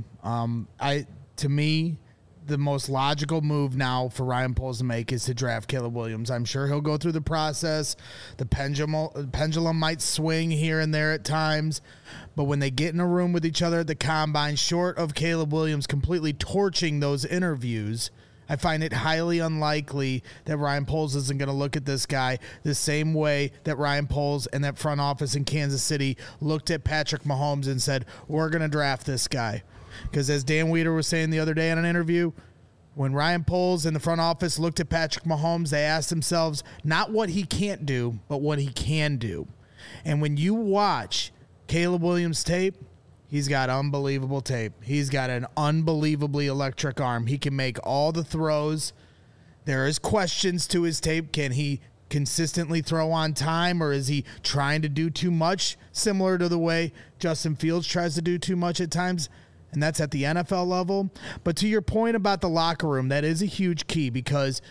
To me, the most logical move now for Ryan Poles to make is to draft Caleb Williams. I'm sure he'll go through the process. The pendulum might swing here and there at times, but when they get in a room with each other at the combine, short of Caleb Williams completely torching those interviews, I find it highly unlikely that Ryan Poles isn't going to look at this guy the same way that Ryan Poles and that front office in Kansas City looked at Patrick Mahomes and said, we're going to draft this guy. Because as Dan Weeder was saying the other day in an interview, when Ryan Poles and the front office looked at Patrick Mahomes, they asked themselves not what he can't do, but what he can do. And when you watch Caleb Williams' tape, he's got unbelievable tape. He's got an unbelievably electric arm. He can make all the throws. There is questions to his tape. Can he consistently throw on time, or is he trying to do too much, similar to the way Justin Fields tries to do too much at times? And that's at the NFL level. But to your point about the locker room, that is a huge key, because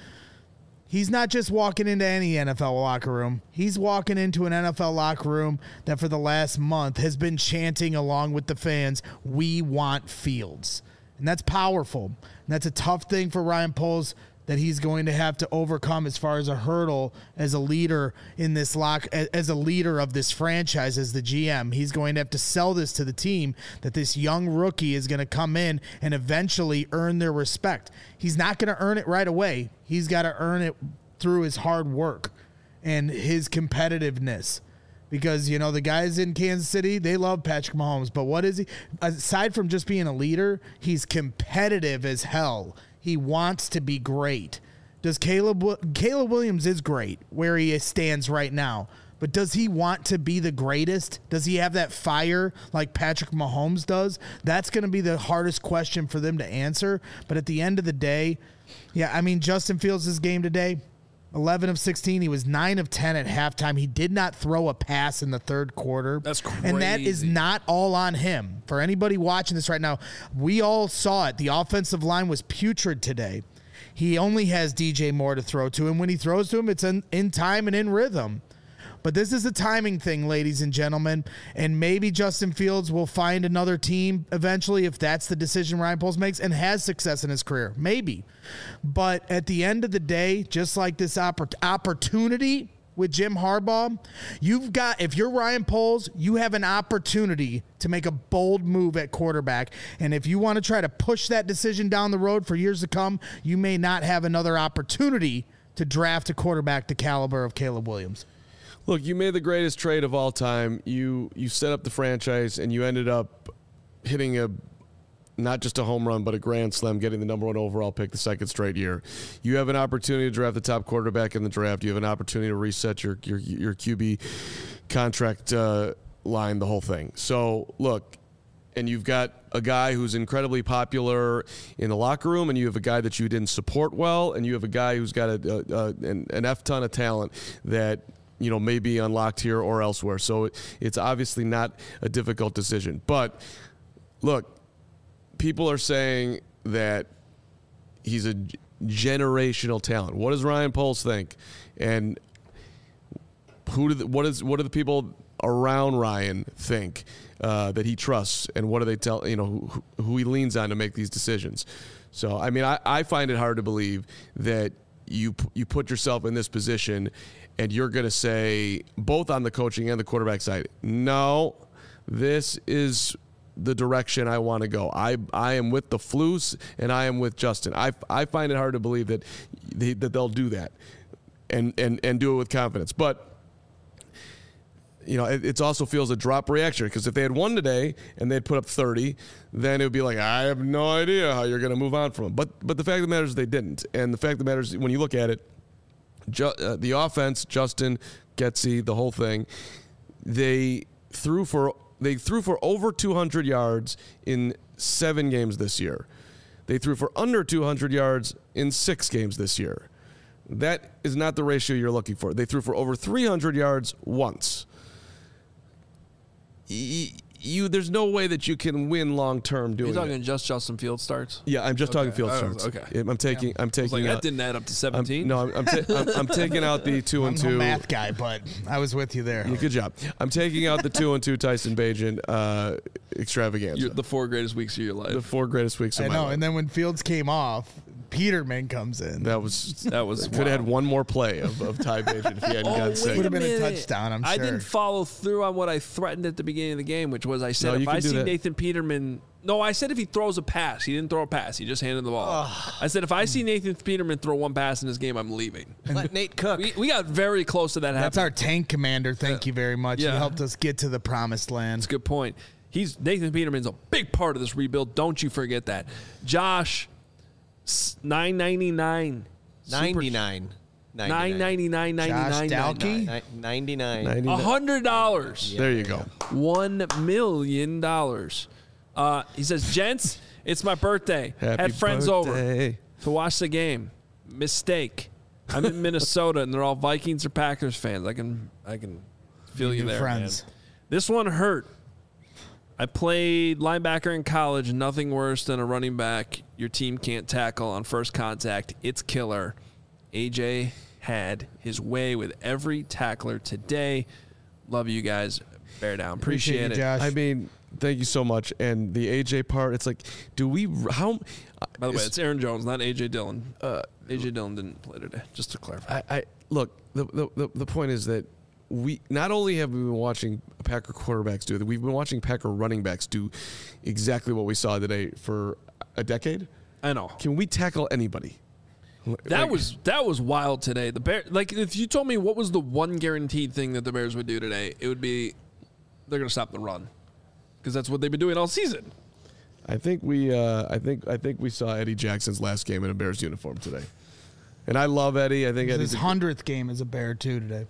he's not just walking into any NFL locker room. He's walking into an NFL locker room that for the last month has been chanting along with the fans, "We want Fields." And that's powerful. And that's a tough thing for Ryan Poles that he's going to have to overcome as far as a hurdle as a leader in this as a leader of this franchise, as the GM. He's going to have to sell this to the team that this young rookie is going to come in and eventually earn their respect. He's not going to earn it right away. He's got to earn it through his hard work and his competitiveness. Because, you know, the guys in Kansas City, they love Patrick Mahomes. But what is he? Aside from just being a leader, he's competitive as hell. He wants to be great. Caleb Williams is great where he stands right now. But does he want to be the greatest? Does he have that fire like Patrick Mahomes does? That's going to be the hardest question for them to answer. But at the end of the day, yeah, I mean, Justin Fields' game today, 11 of 16. He was 9 of 10 at halftime. He did not throw a pass in the third quarter. That's crazy. And that is not all on him. For anybody watching this right now, we all saw it. The offensive line was putrid today. He only has DJ Moore to throw to him. When he throws to him, it's in time and in rhythm. But this is a timing thing, ladies and gentlemen, and maybe Justin Fields will find another team eventually if that's the decision Ryan Poles makes and has success in his career. Maybe. But at the end of the day, just like this opportunity with Jim Harbaugh, if you're Ryan Poles, you have an opportunity to make a bold move at quarterback. And if you want to try to push that decision down the road for years to come, you may not have another opportunity to draft a quarterback the caliber of Caleb Williams. Look, you made the greatest trade of all time. You set up the franchise, and you ended up hitting not just a home run, but a grand slam, getting the number 1 overall pick the second straight year. You have an opportunity to draft the top quarterback in the draft. You have an opportunity to reset your QB contract line, the whole thing. So, look, and you've got a guy who's incredibly popular in the locker room, and you have a guy that you didn't support well, and you have a guy who's got an F-ton of talent that – you know, may be unlocked here or elsewhere. So it's obviously not a difficult decision. But look, people are saying that he's a generational talent. What does Ryan Poles think? And what do the people around Ryan think that he trusts, and what do they tell, who he leans on to make these decisions? So, I mean, I find it hard to believe that you put yourself in this position and you're going to say, both on the coaching and the quarterback side, no, this is the direction I want to go. I am with the Flus and I am with Justin. I find it hard to believe that they'll do that and do it with confidence. But it also feels a drop reaction, because if they had won today and they'd put up 30, then it would be like, I have no idea how you're going to move on from them. But the fact of the matter is they didn't. And the fact of the matter is, when you look at it, the offense, Justin, Getsy, the whole thing, they threw for over 200 yards in 7 games this year. They threw for under 200 yards in 6 games this year. That is not the ratio you're looking for. They threw for over 300 yards once. There's no way that you can win long term doing. You're talking just Justin Fields starts? Yeah, I'm just talking Fields starts. Okay, I'm taking. That didn't add up to 17. I'm taking out the 2 and 2. I'm a math guy, but I was with you there. Yeah, good job. I'm taking out the 2 and 2 Tyson Bagent extravaganza. The 4 greatest weeks of your life. The 4 greatest weeks of my life. And then when Fields came off, Peterman comes in. That was could have had one more play of Ty Bagent if he hadn't gotten sick. Would have been a touchdown, I'm sure. I didn't follow through on what I threatened at the beginning of the game, which was I said if I see Nathan Peterman. No, I said if he throws a pass. He didn't throw a pass. He just handed the ball. I said if I see Nathan Peterman throw one pass in this game, I'm leaving. Let Nate cook. We got very close to that happening. That's our tank commander. Thank you very much. Yeah. He helped us get to the promised land. That's a good point. Nathan Peterman's a big part of this rebuild. Don't you forget that. Josh, $9.99. $9.99. Josh Dalkey? $99. $100. There you go. $1 million. He says, gents, it's my birthday. Had friends over to watch the game. Mistake. I'm in Minnesota, and they're all Vikings or Packers fans. I can feel you there, friends. Man. This one hurt. I played linebacker in college. Nothing worse than a running back your team can't tackle on first contact. It's killer. AJ had his way with every tackler today. Love you guys. Bear down. Appreciate it. Josh. I mean, thank you so much. And the AJ part, it's like, how? By the way, it's Aaron Jones, not AJ Dillon. AJ Dillon didn't play today. Just to clarify. Look. The point is that we not only have we been watching Packer quarterbacks do it, we've been watching Packer running backs do exactly what we saw today for a decade. I know. Can we tackle anybody? That was wild today. The Bears, if you told me what was the one guaranteed thing that the Bears would do today, it would be they're going to stop the run, because that's what they've been doing all season. I think we saw Eddie Jackson's last game in a Bears uniform today. And I love Eddie. I think Eddie's his 100th game as a Bear too today.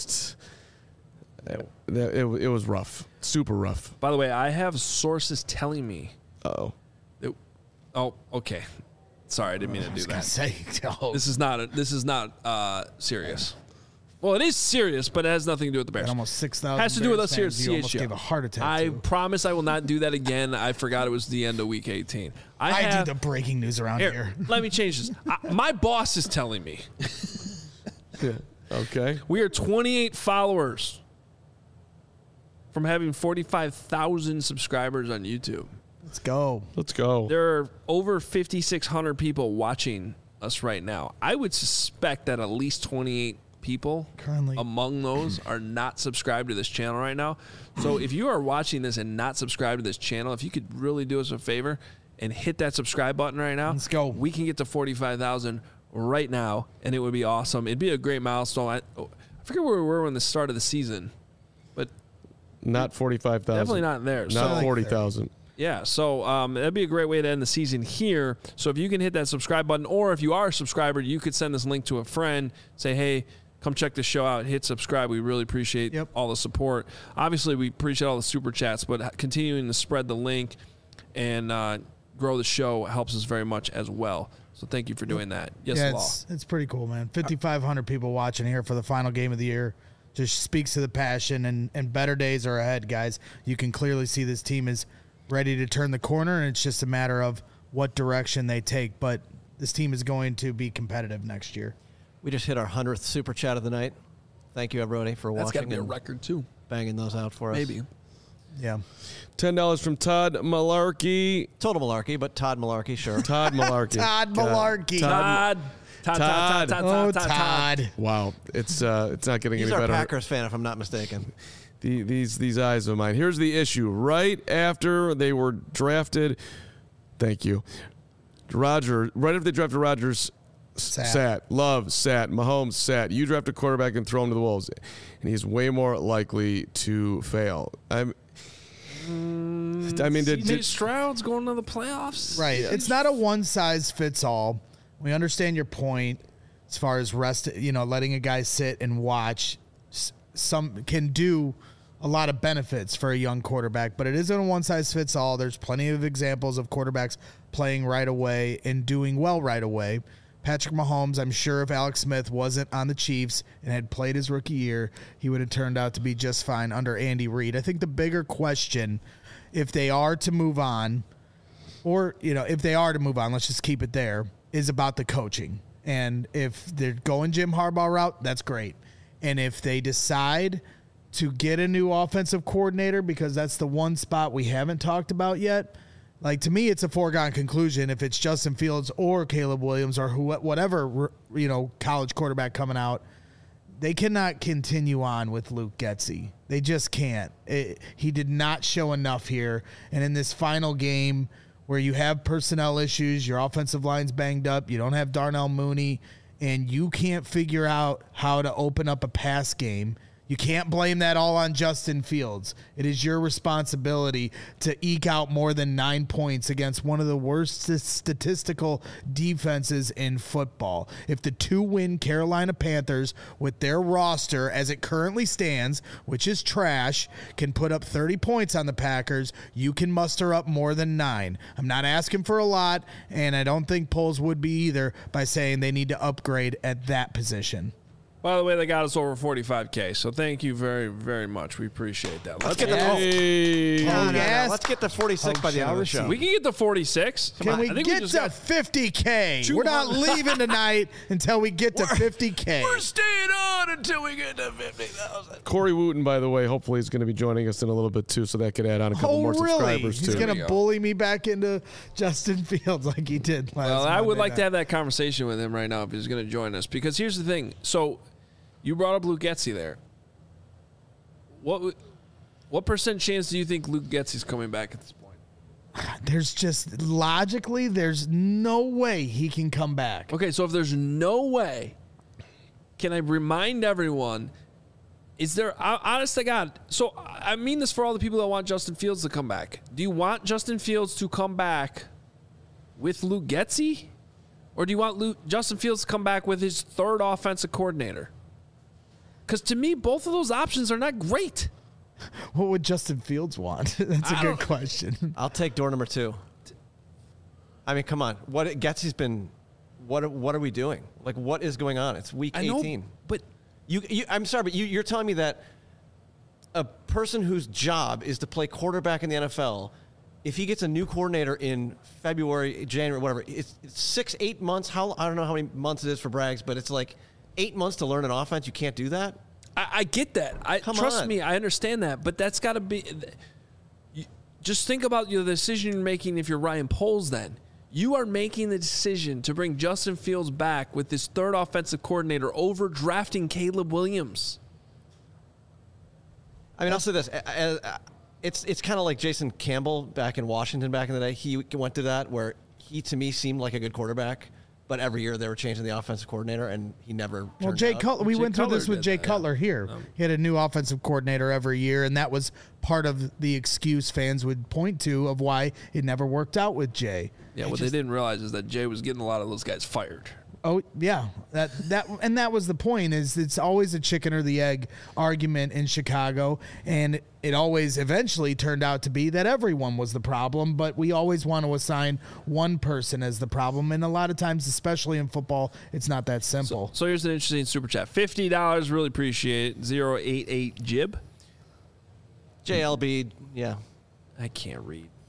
It was rough, super rough. By the way, I have sources telling me. Oh, okay. Sorry, I didn't mean to do that. This is not serious. Well, it is serious, but it has nothing to do with the Bears. Almost 6,000. Has to do with us here at CHGO. You almost gave a heart attack. I promise I will not do that again. I forgot it was the end of week 18. I do the breaking news around here. Let me change this. My boss is telling me. Yeah. Okay. We are 28 followers from having 45,000 subscribers on YouTube. Let's go. There are over 5,600 people watching us right now. I would suspect that at least 28 people currently among those are not subscribed to this channel right now. So if you are watching this and not subscribed to this channel, if you could really do us a favor and hit that subscribe button right now, let's go. We can get to 45,000 right now, and it would be awesome. It'd be a great milestone. I forget where we were when the start of the season, but not 45,000. Definitely not there. Not 40,000. Yeah, so that'd be a great way to end the season here. So if you can hit that subscribe button, or if you are a subscriber, you could send this link to a friend, say, hey, come check the show out, hit subscribe. We really appreciate all the support. Obviously, we appreciate all the super chats, but continuing to spread the link and grow the show helps us very much as well. So thank you for doing that. Yes, it's pretty cool, man. 5,500 people watching here for the final game of the year. Just speaks to the passion, and better days are ahead, guys. You can clearly see this team is ready to turn the corner, and it's just a matter of what direction they take. But this team is going to be competitive next year. We just hit our 100th Super Chat of the night. Thank you, everybody, for watching. That's got to be a record, too. Banging those out for us. Maybe. Yeah. $10 from Todd Malarkey. Total malarkey, but Todd Malarkey, sure. Todd Malarkey. Todd Malarkey. Todd. Wow, it's not getting He's any better. He's our Packers fan, if I'm not mistaken. These eyes of mine. Here's the issue. Right after they were drafted, thank you, Roger. Right after they drafted Rodgers, sat. Love sat. Mahomes sat. You draft a quarterback and throw him to the wolves, and he's way more likely to fail. CJ Stroud's going to the playoffs. Right. Yeah. It's not a one-size-fits-all. We understand your point as far as letting a guy sit and watch. Some can do a lot of benefits for a young quarterback, but it isn't a one-size-fits-all. There's plenty of examples of quarterbacks playing right away and doing well right away. Patrick Mahomes, I'm sure if Alex Smith wasn't on the Chiefs and had played his rookie year, he would have turned out to be just fine under Andy Reid. I think the bigger question, if they are to move on, let's just keep it there, is about the coaching. And if they're going Jim Harbaugh route, that's great. And if they decide to get a new offensive coordinator, because that's the one spot we haven't talked about yet, like, to me, it's a foregone conclusion if it's Justin Fields or Caleb Williams or whatever, college quarterback coming out, they cannot continue on with Luke Getsy. They just can't. He did not show enough here. And in this final game where you have personnel issues, your offensive line's banged up, you don't have Darnell Mooney, and you can't figure out how to open up a pass game, you can't blame that all on Justin Fields. It is your responsibility to eke out more than 9 points against one of the worst statistical defenses in football. If the 2-win Carolina Panthers, with their roster as it currently stands, which is trash, can put up 30 points on the Packers, you can muster up more than 9. I'm not asking for a lot, and I don't think Poles would be either by saying they need to upgrade at that position. By the way, they got us over 45K, so thank you very, very much. We appreciate that. Let's get the 46 by the end of the show. We can get the 46. Can we get to 50K? We're not leaving tonight until we get to 50K. We're staying on until we get to 50,000. Corey Wooten, by the way, hopefully is going to be joining us in a little bit too, so that could add on a couple more subscribers too. He's going to bully me back into Justin Fields like he did last Well, I would like night. to have that conversation with him right now if he's going to join us, because here's the thing. So you brought up Luke Getsy there. What percent chance do you think Luke Getsy's coming back at this point? There's just logically, there's no way he can come back. Okay, so if there's no way, can I remind everyone, is there, honest to God, so I mean this for all the people that want Justin Fields to come back. Do you want Justin Fields to come back with Luke Getsy? Or do you want Justin Fields to come back with his third offensive coordinator? Because to me, both of those options are not great. What would Justin Fields want? That's a good question. I'll take door number 2. I mean, come on. Getsy's been. What are we doing? Like, what is going on? It's week 18. But I'm sorry, but you're telling me that a person whose job is to play quarterback in the NFL, if he gets a new coordinator in February, January, whatever, it's 6-8 months. I don't know how many months it is for Braggs, but it's like 8 months to learn an offense. You can't do that. I get that. Trust me, I understand that. But that's got to be. Just think about the decision you're making if you're Ryan Poles. Then you are making the decision to bring Justin Fields back with this third offensive coordinator over drafting Caleb Williams. I mean, I'll say this. It's kind of like Jason Campbell back in Washington back in the day. He went to that where he, to me, seemed like a good quarterback. But every year they were changing the offensive coordinator, and he never turned Well, Jay out. Cutler, we went through this with Jay Cutler here. He had a new offensive coordinator every year, and that was part of the excuse fans would point to of why it never worked out with Jay. Yeah, what they didn't realize is that Jay was getting a lot of those guys fired. Oh yeah, that was the point. Is it's always a chicken or the egg argument in Chicago, and it always eventually turned out to be that everyone was the problem. But we always want to assign one person as the problem, and a lot of times, especially in football, it's not that simple. So here's an interesting super chat: $50, really appreciate it. 088 Jib. JLB, yeah. I can't read.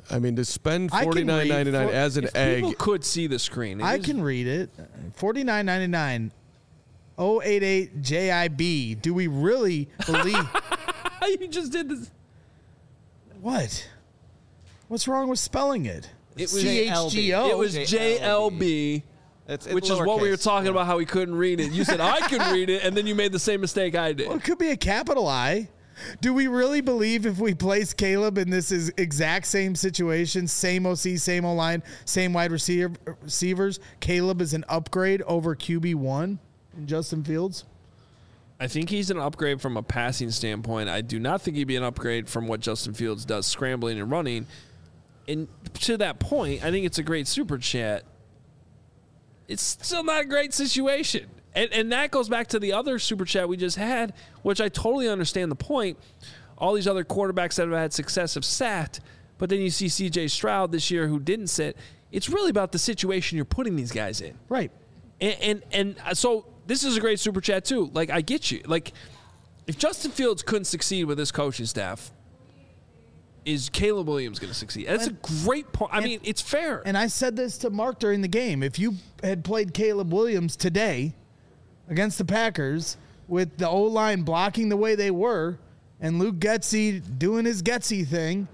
I mean, to spend $49.99 as an egg. People could see the screen. I can read it. $49.99. 088 JIB. Do we really believe? You just did this. What? What's wrong with spelling it? It was CHGO. It was JLB. Which is what we were talking about, how he couldn't read it. You said, I can read it, and then you made the same mistake I did. Well, it could be a capital I. Do we really believe if we place Caleb in this exact same situation, same OC, same O-line, same wide receivers, Caleb is an upgrade over QB1 in Justin Fields? I think he's an upgrade from a passing standpoint. I do not think he'd be an upgrade from what Justin Fields does, scrambling and running. And to that point, I think it's a great super chat. It's still not a great situation. And that goes back to the other super chat we just had, which I totally understand the point. All these other quarterbacks that have had success have sat, but then you see C.J. Stroud this year who didn't sit. It's really about the situation you're putting these guys in. Right. And so this is a great super chat too. Like, I get you. Like, if Justin Fields couldn't succeed with this coaching staff, is Caleb Williams going to succeed? That's a great point. I mean, it's fair. And I said this to Mark during the game. If you had played Caleb Williams today against the Packers with the O-line blocking the way they were and Luke Getsy doing his Getsy thing,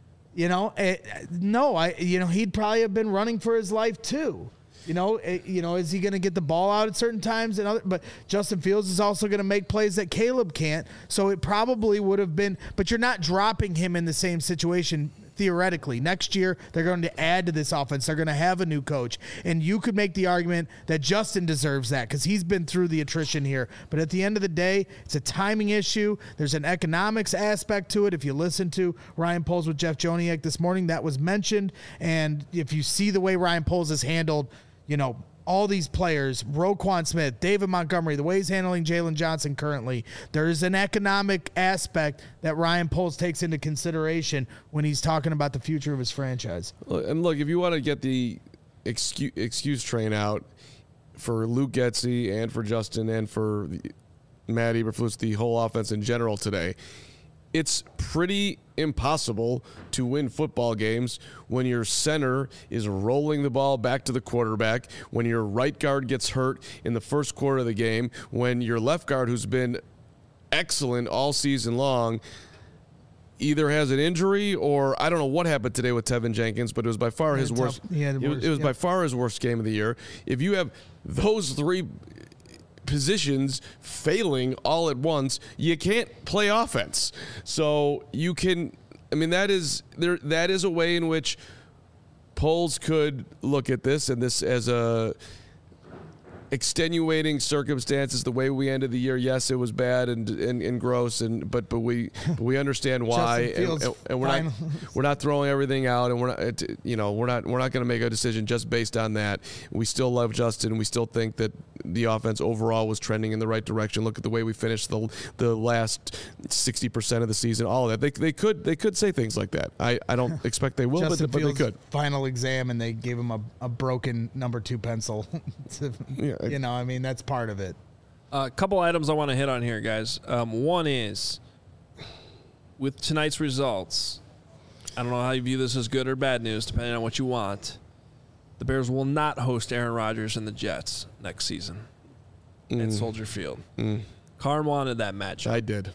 he'd probably have been running for his life too. Is he going to get the ball out at certain times? But Justin Fields is also going to make plays that Caleb can't. So it probably would have been, but you're not dropping him in the same situation theoretically. Next year, they're going to add to this offense. They're going to have a new coach. And you could make the argument that Justin deserves that because he's been through the attrition here. But at the end of the day, it's a timing issue. There's an economics aspect to it. If you listen to Ryan Poles with Jeff Joniak this morning, that was mentioned. And if you see the way Ryan Poles has handled all these players, Roquan Smith, David Montgomery, the way he's handling Jalen Johnson currently, there is an economic aspect that Ryan Poles takes into consideration when he's talking about the future of his franchise. And look, if you want to get the excuse train out for Luke Getsy and for Justin and for Matt Eberflus, the whole offense in general today, it's pretty impossible to win football games when your center is rolling the ball back to the quarterback, when your right guard gets hurt in the first quarter of the game, when your left guard, who's been excellent all season long, either has an injury or I don't know what happened today with Tevin Jenkins, but it was by far his worst. It was by far his worst game of the year. If you have those three positions failing all at once, you can't play offense. So you can, that is a way in which Poles could look at this and this as a extenuating circumstances. The way we ended the year, yes, it was bad and gross, but we understand why, and we're not throwing everything out, and we're not going to make a decision just based on that. We still love Justin. We still think that the offense overall was trending in the right direction. Look at the way we finished the last 60% of the season. All of that, they could say things like that. I don't expect they will, but they could. Final exam, and they gave him a broken number 2 pencil. That's part of it. A couple items I want to hit on here, guys. One is, with tonight's results, I don't know how you view this as good or bad news, depending on what you want. The Bears will not host Aaron Rodgers and the Jets next season at Soldier Field. Carm wanted that matchup. I did.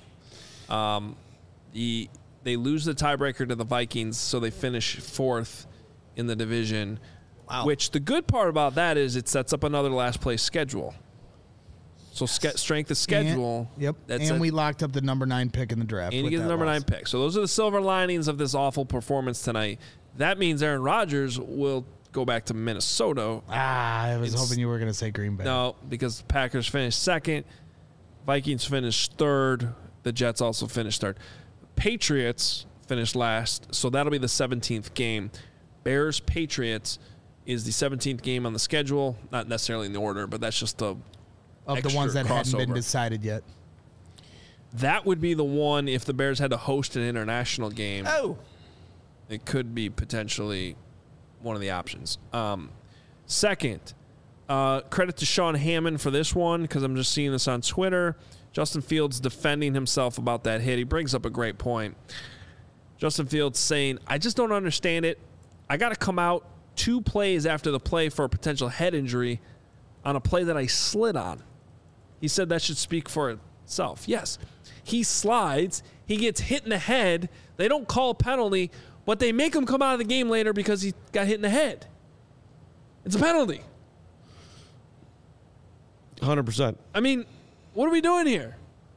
They lose the tiebreaker to the Vikings, so they finish 4th in the division. Wow. Which the good part about that is it sets up another last place schedule. So strength of schedule. And we locked up the number 9 pick in the draft. And you get the number 9 pick. So those are the silver linings of this awful performance tonight. That means Aaron Rodgers will go back to Minnesota. I was hoping you were going to say Green Bay. No, because Packers finished 2nd. Vikings finished 3rd. The Jets also finished 3rd. Patriots finished last. So that'll be the 17th game. Bears-Patriots is the 17th game on the schedule, not necessarily in the order, but that's just the ones that crossover. hadn't been decided yet. That would be the one if the Bears had to host an international game. Oh, it could be potentially one of the options. Second, credit to Sean Hammond for this one because I'm just seeing this on Twitter. Justin Fields defending himself about that hit. He brings up a great point. Justin Fields saying, I just don't understand it. I got to come out 2 plays after the play for a potential head injury on a play that I slid on. He said that should speak for itself. Yes, he slides. He gets hit in the head. They don't call a penalty, but they make him come out of the game later because he got hit in the head. It's a penalty. 100%. I mean, what are we doing here?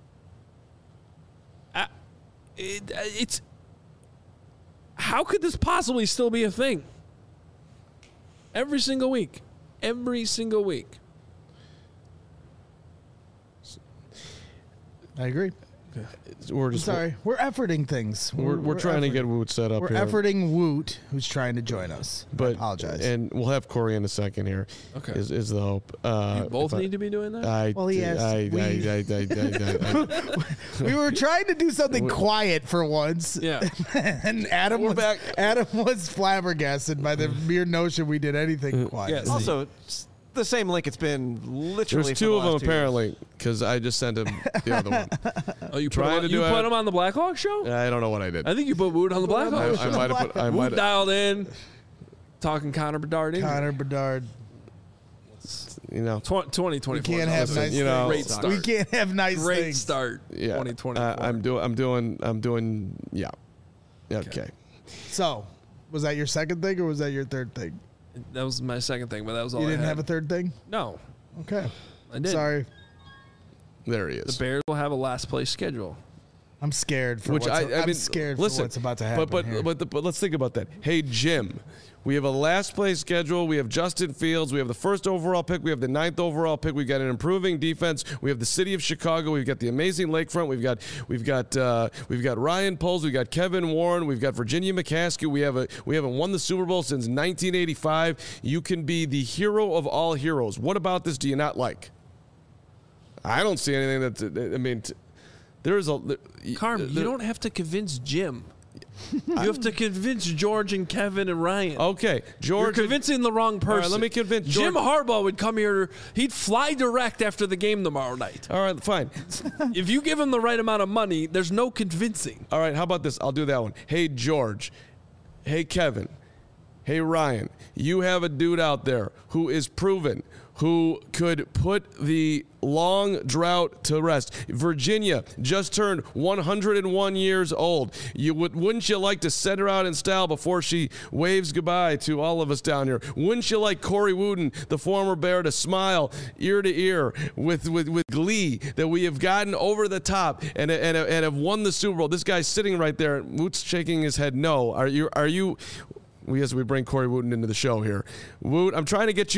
It's how could this possibly still be a thing? Every single week. Every single week. I agree. We're we're efforting things. We're trying to get Woot set up here. We're efforting Woot, who's trying to join us. But I apologize. And we'll have Corey in a second here. Okay. Is the hope. You both need to be doing that? We were trying to do something quiet for once. Yeah. And Adam was flabbergasted by the mere notion we did anything quiet. Yes. Also, the same link it's been literally. There's 2 of them apparently because I just sent him the other one. Oh, you put him on the Blackhawk show? I don't know what I did. I think you put Wood on the Blackhawk show. I might have put. Wood dialed in, talking Connor Bedard. Connor Bedard. 2024. We can't have nice things. Great start. We can't have nice things. Great start. Yeah. 2024. I'm doing. Yeah. Okay. So, was that your second thing or was that your third thing? That was my second thing, but that was all. You didn't I had. have a third thing? No. Okay. I did. Sorry. There he is. The Bears will have a last place schedule. I'm scared for I'm scared for what's about to happen. But let's think about that. Hey, Jim, we have a last place schedule. We have Justin Fields. We have the 1st overall pick. We have the 9th overall pick. We've got an improving defense. We have the city of Chicago. We've got the amazing lakefront. We've got Ryan Poles. We've got Kevin Warren. We've got Virginia McCaskey. We haven't won the Super Bowl since 1985. You can be the hero of all heroes. What about this do you not like? I don't see anything that. I mean. There's a Carm. You don't have to convince Jim. You have to convince George and Kevin and Ryan. Okay, George. You're convincing the wrong person. All right, let me convince Jim Harbaugh would come here. He'd fly direct after the game tomorrow night. All right, fine. If you give him the right amount of money, there's no convincing. All right, how about this? I'll do that one. Hey, George. Hey, Kevin. Hey, Ryan. You have a dude out there who is proven, who could put the long drought to rest. Virginia just turned 101 years old. Wouldn't you like to send her out in style before she waves goodbye to all of us down here? Wouldn't you like Corey Wooten, the former Bear, to smile ear to ear with glee that we have gotten over the top and have won the Super Bowl? This guy's sitting right there. Woot's shaking his head no. Are you? We bring Corey Wooten into the show here. Woot, I'm trying to get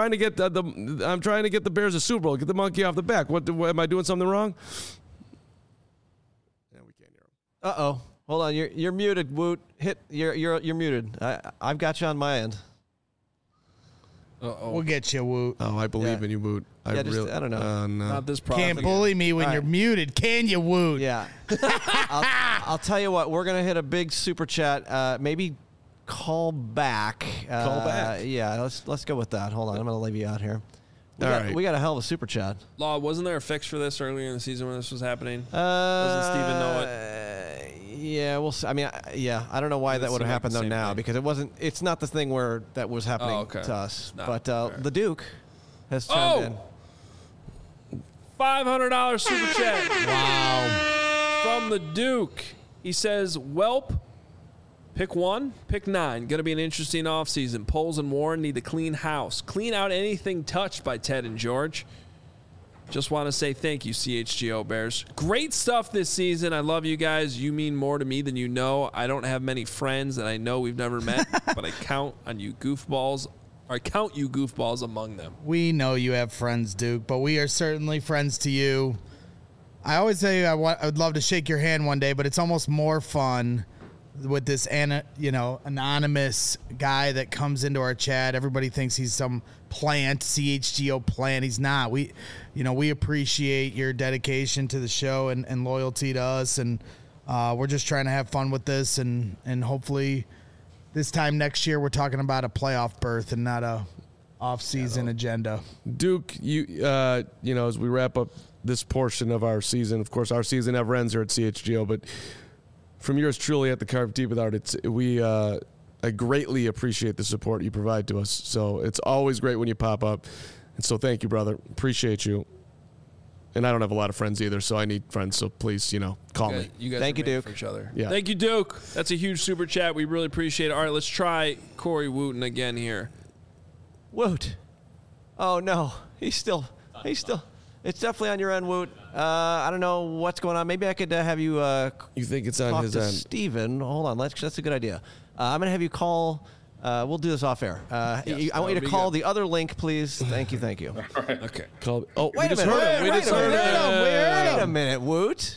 the Bears a Super Bowl. Get the monkey off the back. What am I doing something wrong? Yeah, we can't hear him. Uh-oh. Hold on. You're muted, Woot. You're muted. I've got you on my end. Uh-oh. We'll get you, Woot. Oh, I believe in you, Woot. I don't know. No. Not this problem. Can't bully me when you're muted, can you, Woot? Yeah. I'll tell you what. We're gonna hit a big super chat. Maybe call back. Yeah. Let's go with that. Hold on. I'm gonna leave you out here. We got a hell of a super chat. Law, wasn't there a fix for this earlier in the season when this was happening? Doesn't Steven know it? Yeah, we'll see. I mean, I don't know why that would have happened though now thing. Because it wasn't. It's not the thing where that was happening to us. But the Duke has chimed in. $500 super chat. Wow. From the Duke. He says, "Welp, pick 1, pick 9. Going to be an interesting offseason. Poles and Warren need to clean house. Clean out anything touched by Ted and George. Just want to say thank you, CHGO Bears. Great stuff this season. I love you guys. You mean more to me than you know. I don't have many friends that I know we've never met, but I count on you goofballs. Or I count you goofballs among them." We know you have friends, Duke, but we are certainly friends to you. I always say I would love to shake your hand one day, but it's almost more fun with this anonymous guy that comes into our chat. Everybody thinks he's some plant, CHGO plant. He's not. We appreciate your dedication to the show and loyalty to us, and we're just trying to have fun with this, and hopefully this time next year we're talking about a playoff berth and not a off-season agenda. Duke, as we wrap up this portion of our season, of course, our season never ends here at CHGO, but from yours truly at the Carve Deep with Art, I greatly appreciate the support you provide to us. So it's always great when you pop up. And so thank you, brother. Appreciate you. And I don't have a lot of friends either, so I need friends. So please, call me. You guys thank you, Duke. For each other. Yeah. Thank you, Duke. That's a huge super chat. We really appreciate it. All right, let's try Corey Wooten again here. Woot. Oh, no. He's still. It's definitely on your end, Woot. I don't know what's going on. Maybe I could have you. You think it's on his end? Steven. Hold on. That's a good idea. I'm going to have you call. We'll do this off air. Yes, I want you to call the other link, please. Thank you. All right. Okay. Called. Oh, wait a minute. Wait a minute, Woot.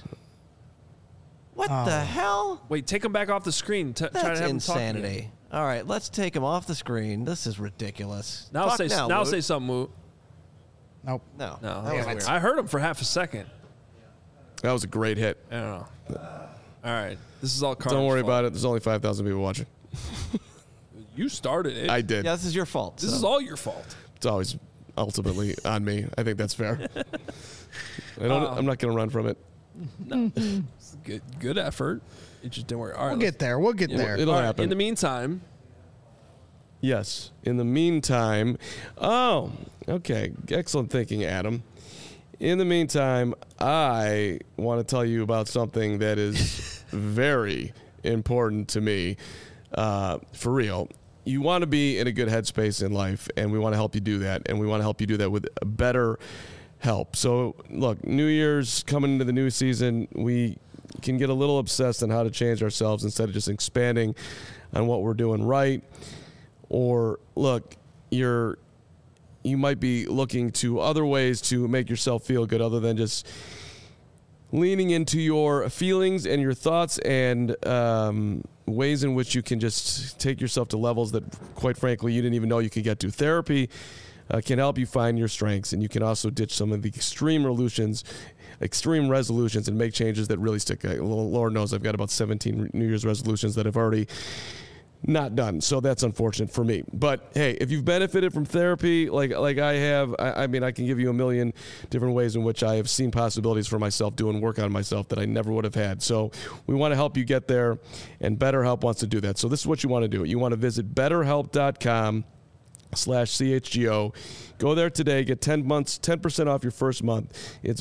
What the hell? Wait, take him back off the screen. Try to That's have insanity. Him talk All right, let's take him off the screen. This is ridiculous. now Talk now Woot. say something, Woot. Nope. No. No, That was weird. I heard him for half a second. That was a great hit. I don't know. All right, this is all Carter's Don't worry fault. about it. There's only 5,000 people watching. You started it. I did. Yeah, this is your fault. This is all your fault. It's always ultimately on me. I think that's fair. I'm not going to run from it. No, it's good effort. It just didn't work. All right, We'll get there. We'll get there. It'll all right, happen. in the meantime, Yes. In the meantime, okay. Excellent thinking, Adam. In the meantime, I want to tell you about something that is very important to me. For real. You want to be in a good headspace in life, and we want to help you do that. And we want to help you do that with better help. So, look, New Year's coming into the new season, we can get a little obsessed on how to change ourselves instead of just expanding on what we're doing right. Or, look, you might be looking to other ways to make yourself feel good other than just leaning into your feelings and your thoughts and ways in which you can just take yourself to levels that, quite frankly, you didn't even know you could get to. Therapy can help you find your strengths, and you can also ditch some of the extreme resolutions and make changes that really stick. Lord knows I've got about 17 New Year's resolutions that I've already not done, so that's unfortunate for me. But hey, if you've benefited from therapy like I have, I mean, I can give you a million different ways in which I have seen possibilities for myself doing work on myself that I never would have had. So we want to help you get there, and BetterHelp wants to do that. So this is what you want to do. You want to visit BetterHelp.com/CHGO. Go there today. Get 10% off your first month. It's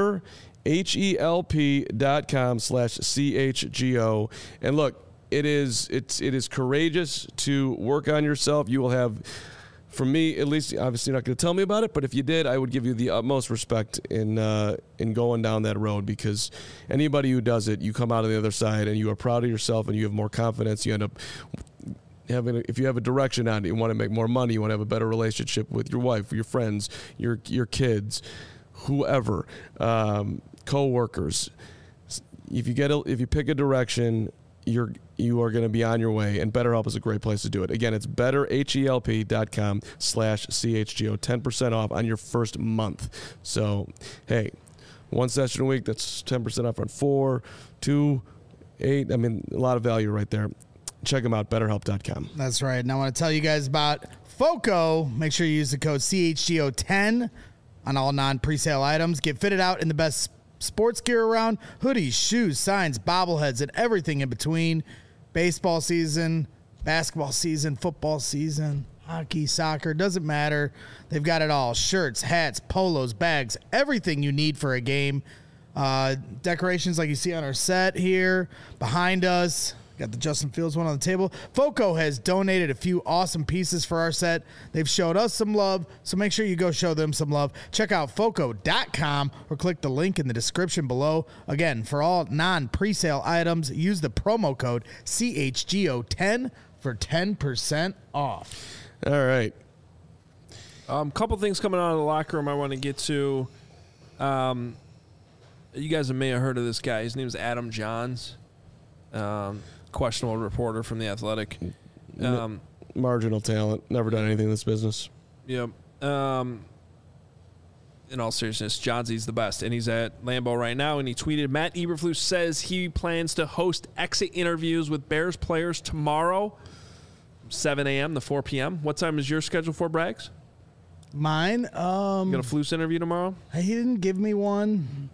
BetterHelp.com/CHGO. And look, it is courageous to work on yourself. You will have, from me at least, obviously you're not going to tell me about it, but if you did, I would give you the utmost respect in going down that road, because anybody who does it, you come out on the other side and you are proud of yourself and you have more confidence. You end up having, if you have a direction on it, you want to make more money, you want to have a better relationship with your wife, your friends, your kids, whoever, co-workers. If you pick a direction, you are going to be on your way, and BetterHelp is a great place to do it. Again, it's BetterHelp.com/CHGO, 10% off on your first month. So, hey, one session a week, that's 10% off on 4, 2, 8. I mean, a lot of value right there. Check them out, BetterHelp.com. That's right. And I want to tell you guys about FOCO. Make sure you use the code CHGO10 on all non-presale items. Get fitted out in the best sports gear around: hoodies, shoes, signs, bobbleheads, and everything in between. Baseball season, basketball season, football season, hockey, soccer, doesn't matter. They've got it all. Shirts, hats, polos, bags, everything you need for a game. Decorations like you see on our set here behind us. Got the Justin Fields one on the table. FOCO has donated a few awesome pieces for our set. They've showed us some love, so make sure you go show them some love. Check out FOCO.com or click the link in the description below. Again, for all non-presale items, use the promo code CHGO10 for 10% off. All right. Couple things coming out of the locker room I want to get to. You guys may have heard of this guy. His name is Adam Johns. Questionable reporter from The Athletic. Marginal talent. Never done anything in this business. Yep. In all seriousness, Johnsy's the best, and he's at Lambeau right now, and he tweeted, Matt Eberflus says he plans to host exit interviews with Bears players tomorrow, 7 a.m. to 4 p.m. What time is your schedule for, Braggs? Mine? You got a Flus interview tomorrow? He didn't give me one.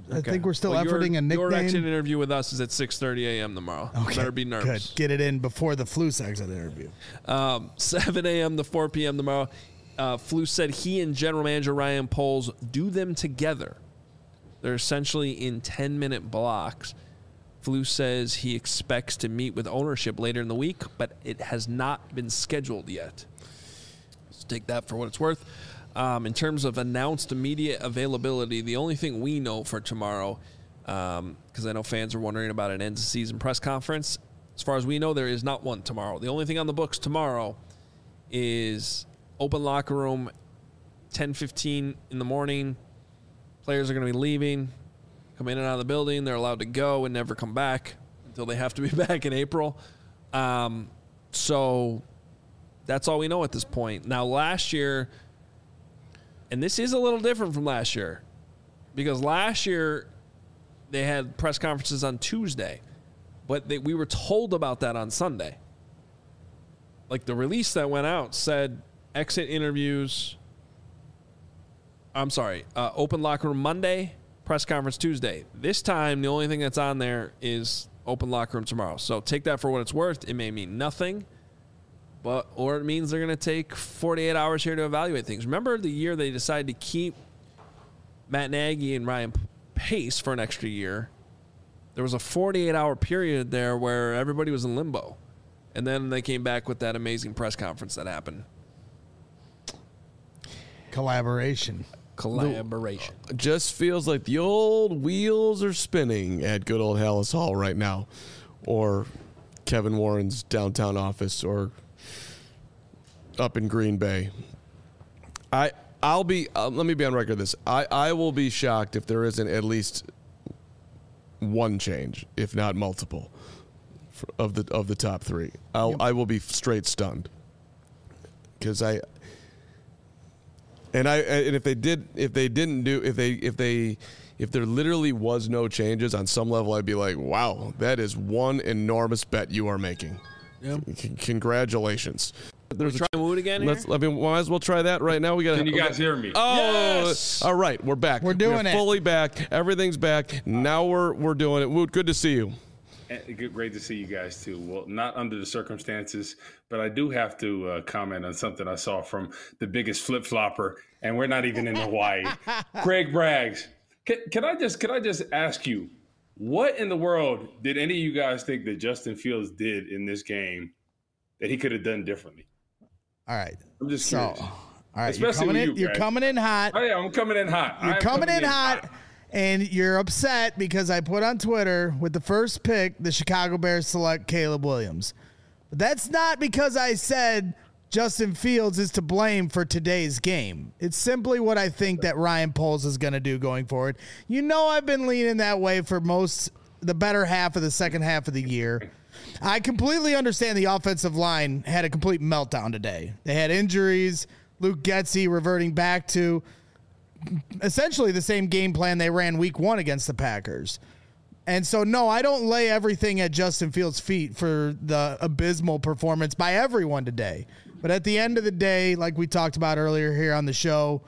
I think we're still efforting a nickname. Your exit interview with us is at 6:30 a.m. tomorrow. Okay. Better be nervous. Good. Get it in before the Flus exit interview. 7 a.m. to 4 p.m. tomorrow. Flus said he and general manager Ryan Poles do them together. They're essentially in 10-minute blocks. Flus says he expects to meet with ownership later in the week, but it has not been scheduled yet. So take that for what it's worth. In terms of announced immediate availability, the only thing we know for tomorrow, because I know fans are wondering about an end-of-season press conference, as far as we know, there is not one tomorrow. The only thing on the books tomorrow is open locker room, 10:15 in the morning. Players are going to be leaving, come in and out of the building. They're allowed to go and never come back until they have to be back in April. So that's all we know at this point. Now, last year, and this is a little different from last year, because last year they had press conferences on Tuesday, but we were told about that on Sunday. Like the release that went out said exit interviews, open locker room Monday, press conference Tuesday. This time, the only thing that's on there is open locker room tomorrow. So take that for what it's worth. It may mean nothing, or it means they're going to take 48 hours here to evaluate things. Remember the year they decided to keep Matt Nagy and Ryan Pace for an extra year? There was a 48-hour period there where everybody was in limbo. And then they came back with that amazing press conference that happened. Collaboration. Just feels like the old wheels are spinning at good old Halas Hall right now, or Kevin Warren's downtown office, or up in Green Bay. I'll be let me be on record this. I will be shocked if there isn't at least one change, if not multiple, of the top three. I will be straight stunned, because if there literally was no changes on some level, I'd be like, wow, that is one enormous bet you are making. Yep. Congratulations. There's try mood again here? Might as well try that right now. Can you guys hear me? Oh, yes! All right, we're back. We're fully back. Everything's back. Now we're doing it. Woot, good to see you. Great to see you guys too. Well, not under the circumstances, but I do have to comment on something I saw from the biggest flip flopper, and we're not even in Hawaii. Greg Braggs. Can I just ask you, what in the world did any of you guys think that Justin Fields did in this game that he could have done differently? All right. I'm just curious. All right, you're coming in hot. Oh yeah, I'm coming in hot. You're coming in hot. And you're upset because I put on Twitter with the first pick, the Chicago Bears select Caleb Williams. But that's not because I said Justin Fields is to blame for today's game. It's simply what I think that Ryan Poles is going to do going forward. You know, I've been leaning that way for the better half of the second half of the year. I completely understand the offensive line had a complete meltdown today. They had injuries, Luke Getsy reverting back to essentially the same game plan they ran week one against the Packers. And so, no, I don't lay everything at Justin Fields' feet for the abysmal performance by everyone today. But at the end of the day, like we talked about earlier here on the show,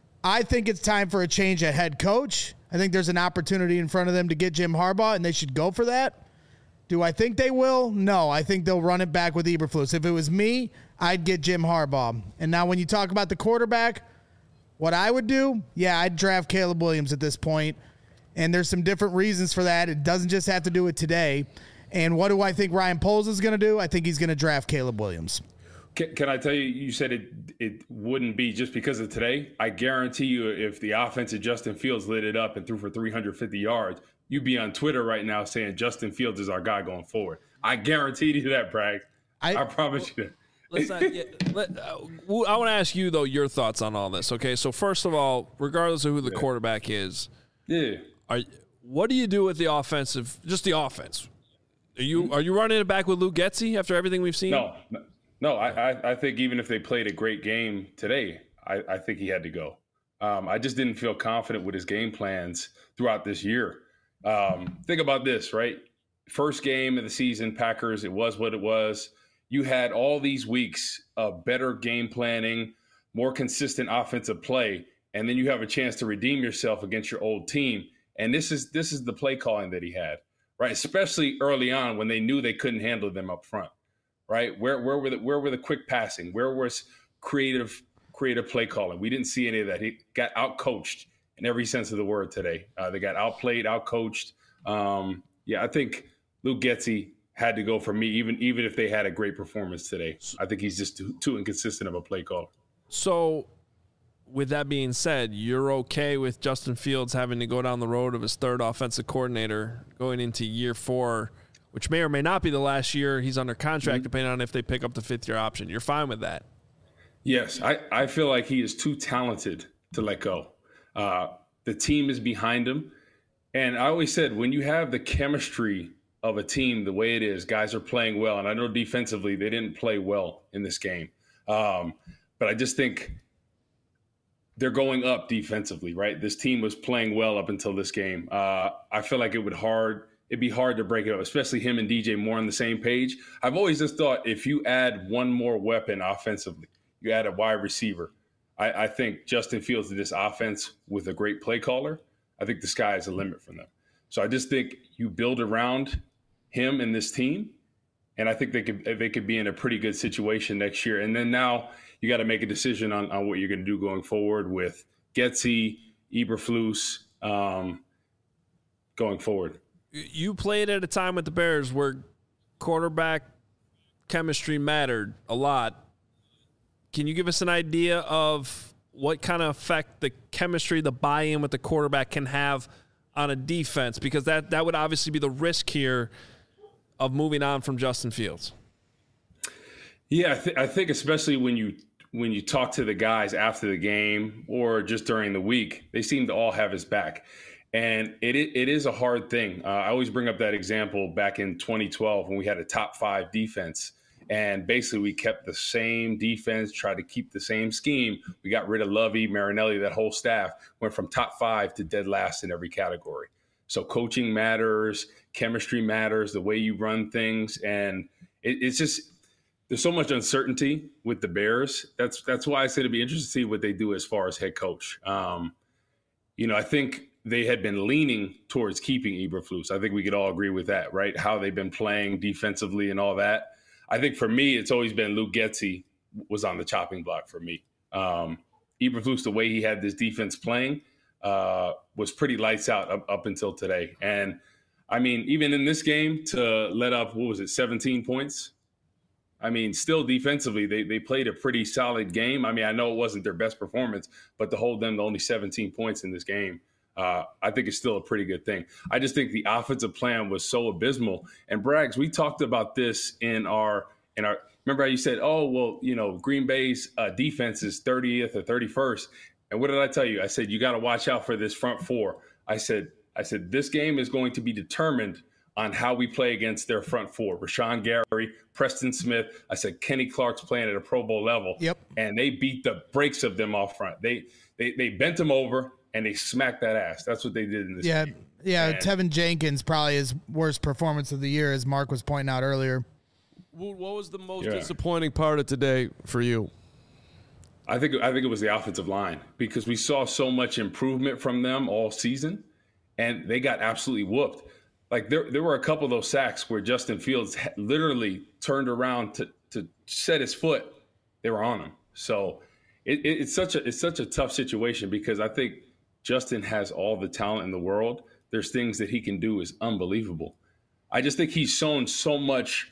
I think it's time for a change at head coach. I think there's an opportunity in front of them to get Jim Harbaugh, and they should go for that. Do I think they will? No, I think they'll run it back with Eberflus. If it was me, I'd get Jim Harbaugh. And now when you talk about the quarterback, what I would do, I'd draft Caleb Williams at this point. And there's some different reasons for that. It doesn't just have to do with today. And what do I think Ryan Poles is going to do? I think he's going to draft Caleb Williams. Can I tell you, you said it wouldn't be just because of today. I guarantee you if the offense of Justin Fields lit it up and threw for 350 yards, you'd be on Twitter right now saying Justin Fields is our guy going forward. I guarantee you that, Bragg. I promise you that. I want to ask you, though, your thoughts on all this. Okay, so first of all, regardless of who the quarterback is, what do you do with the offensive? Just the offense. Are you running it back with Luke Getsy after everything we've seen? No. I think even if they played a great game today, I think he had to go. I just didn't feel confident with his game plans throughout this year. Think about this, right? First game of the season, Packers. It was what it was. You had all these weeks of better game planning, more consistent offensive play, and then you have a chance to redeem yourself against your old team, And this is the play calling that he had, right? Especially early on when they knew they couldn't handle them up front, right? Where were the quick passing? Where was creative play calling? We didn't see any of that. He got out-coached in every sense of the word today. They got outplayed, out-coached. I think Luke Getsy had to go for me, even if they had a great performance today. I think he's just too inconsistent of a play caller. So, with that being said, you're okay with Justin Fields having to go down the road of his third offensive coordinator going into year 4, which may or may not be the last year he's under contract, depending on if they pick up the 5th-year option. You're fine with that? Yes, I feel like he is too talented to let go. The team is behind him. And I always said, when you have the chemistry of a team the way it is, guys are playing well. And I know defensively they didn't play well in this game. But I just think they're going up defensively, right? This team was playing well up until this game. I feel like it'd be hard to break it up, especially him and DJ Moore on the same page. I've always just thought if you add one more weapon offensively, you add a wide receiver, I think Justin Fields did this offense with a great play caller. I think the sky is the limit for them. So I just think you build around him and this team, and I think they could be in a pretty good situation next year. And then now you got to make a decision on what you're going to do going forward with Getsy, Eberflus, going forward. You played at a time with the Bears where quarterback chemistry mattered a lot. Can you give us an idea of what kind of effect the chemistry, the buy-in with the quarterback can have on a defense? Because that would obviously be the risk here of moving on from Justin Fields. Yeah, I think especially when you talk to the guys after the game or just during the week, they seem to all have his back. And it is a hard thing. I always bring up that example back in 2012 when we had a top 5 defense. And basically we kept the same defense, tried to keep the same scheme. We got rid of Lovey, Marinelli, that whole staff, went from top 5 to dead last in every category. So coaching matters, chemistry matters, the way you run things. And it's just, there's so much uncertainty with the Bears. That's why I say it'd be interesting to see what they do as far as head coach. I think they had been leaning towards keeping Eberflus. I think we could all agree with that, right? How they've been playing defensively and all that. I think for me, it's always been Luke Getsy was on the chopping block for me. Eberflus, the way he had this defense playing, was pretty lights out up until today. And, I mean, even in this game to let up, 17 points? I mean, still defensively, they played a pretty solid game. I mean, I know it wasn't their best performance, but to hold them to only 17 points in this game, I think it's still a pretty good thing. I just think the offensive plan was so abysmal. And Braggs, we talked about this in our remember how you said, Green Bay's defense is 30th or 31st. And what did I tell you? I said, you got to watch out for this front 4. I said, this game is going to be determined on how we play against their front 4. Rashawn Gary, Preston Smith. I said, Kenny Clark's playing at a Pro Bowl level. Yep. And they beat the brakes of them off front. They bent them over. And they smacked that ass. That's what they did in this game. Yeah, Tevin Jenkins probably his worst performance of the year, as Mark was pointing out earlier. What was the most disappointing part of today for you? I think it was the offensive line, because we saw so much improvement from them all season, and they got absolutely whooped. Like there were a couple of those sacks where Justin Fields literally turned around to set his foot. They were on him. So it's such a tough situation, because I think Justin has all the talent in the world. There's things that he can do is unbelievable. I just think he's shown so much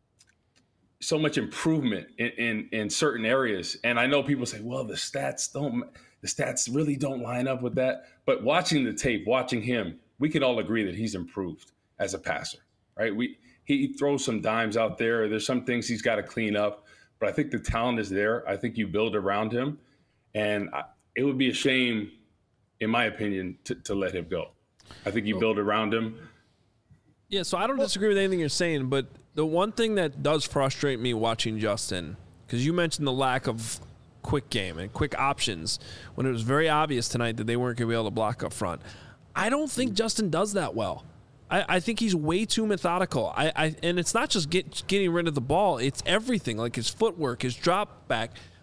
improvement in certain areas. And I know people say, well, the stats really don't line up with that. But watching the tape, watching him, we can all agree that he's improved as a passer, right? He throws some dimes out there. There's some things he's got to clean up, but I think the talent is there. I think you build around him, and it would be a shame, in my opinion, to let him go. I think you build around him. Yeah, so I don't disagree with anything you're saying, but the one thing that does frustrate me watching Justin, because you mentioned the lack of quick game and quick options when it was very obvious tonight that they weren't going to be able to block up front. I don't think Justin does that well. I think he's way too methodical. And it's not just getting rid of the ball. It's everything, like his footwork, his drop back,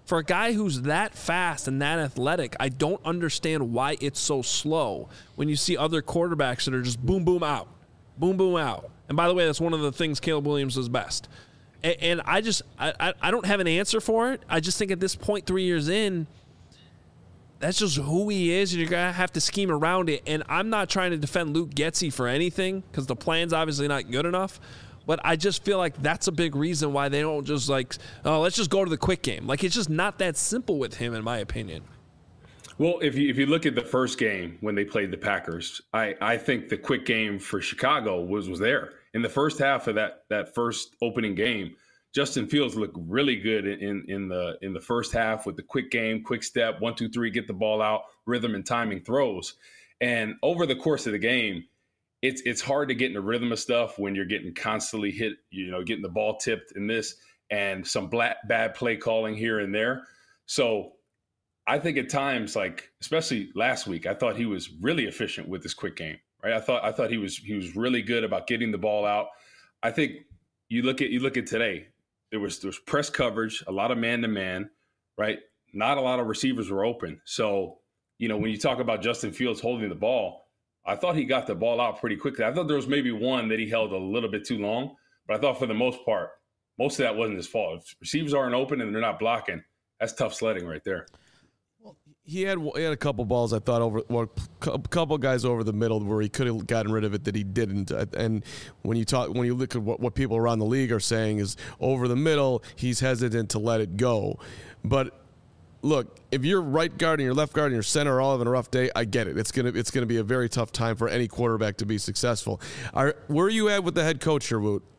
For a guy who's that fast and that athletic, I don't understand why it's so slow when you see other quarterbacks that are just boom, boom, out. Boom, boom, out. And by the way, that's one of the things Caleb Williams does best. And I don't have an answer for it. I just think at this point, 3 years in, that's just who he is, and you're going to have to scheme around it. And I'm not trying to defend Luke Getsy for anything because the plan's obviously not good enough. But I just feel like that's a big reason why they don't just like, oh, let's just go to the quick game. Like, it's just not that simple with him, in my opinion. Well, if you look at the first game when they played the Packers, I think the quick game for Chicago was there. In the first half of that first opening game, Justin Fields looked really good in the first half with the quick game, quick step, 1, 2, 3, get the ball out, rhythm and timing throws. And over the course of the game, it's hard to get in the rhythm of stuff when you're getting constantly hit, getting the ball tipped in this and some bad play calling here and there. So I think at times, like especially last week, I thought he was really efficient with this quick game. Right? I thought he was really good about getting the ball out. I think you look at today, there was press coverage, a lot of man-to-man, right? Not a lot of receivers were open. So, when you talk about Justin Fields holding the ball, I thought he got the ball out pretty quickly. I thought there was maybe one that he held a little bit too long, but I thought for the most part, most of that wasn't his fault. If receivers aren't open and they're not blocking, that's tough sledding right there. He had a couple balls I thought a couple guys over the middle where he could have gotten rid of it that he didn't. And when you look at what people around the league are saying is over the middle, he's hesitant to let it go. But look, if your right guard and your left guard and your center are all having a rough day, I get it. It's gonna be a very tough time for any quarterback to be successful. Where are you at with the head coach here, Woot?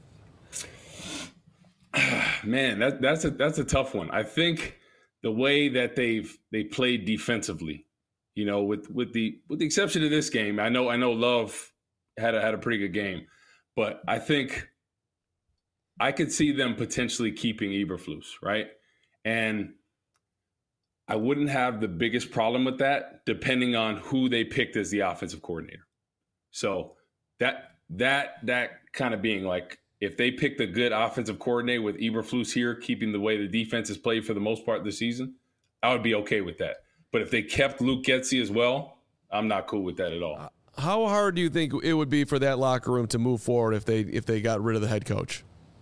Man, that's a tough one. I think the way that they played defensively, with the exception of this game, I know Love had a pretty good game, but I think I could see them potentially keeping Eberflus, right? And I wouldn't have the biggest problem with that, depending on who they picked as the offensive coordinator. So that kind of being like, if they picked a good offensive coordinator with Eberflus here, keeping the way the defense has played for the most part of the season, I would be okay with that. But if they kept Luke Getsy as well, I'm not cool with that at all. How hard do you think it would be for that locker room to move forward if they got rid of the head coach?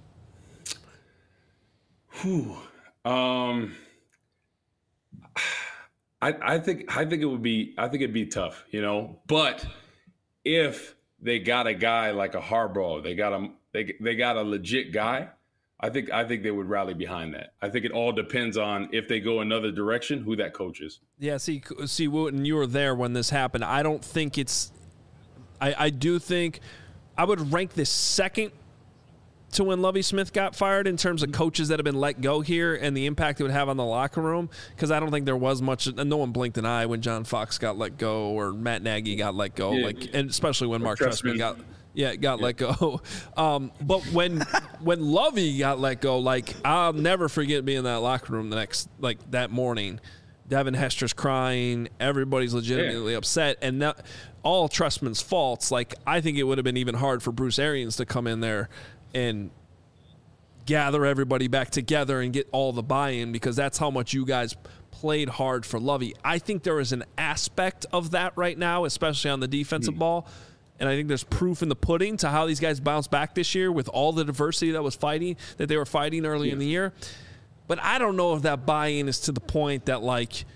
I think it'd be tough, But if they got a guy like a Harbaugh, they got a legit guy, I think they would rally behind that. I think it all depends on if they go another direction, who that coach is. Yeah, see, Wooten, you were there when this happened. I don't think it's – I do think I would rank this second to when Lovie Smith got fired in terms of coaches that have been let go here and the impact it would have on the locker room, because I don't think there was much – no one blinked an eye when John Fox got let go or Matt Nagy got let go, and especially when Mark Trestman got – let go. But when Lovey got let go, I'll never forget being in that locker room that morning. Devin Hester's crying. Everybody's legitimately upset. And that, all Trestman's faults. I think it would have been even hard for Bruce Arians to come in there and gather everybody back together and get all the buy-in, because that's how much you guys played hard for Lovey. I think there is an aspect of that right now, especially on the defensive ball. And I think there's proof in the pudding to how these guys bounced back this year with all the diversity that they were fighting early in the year. But I don't know if that buy-in is to the point that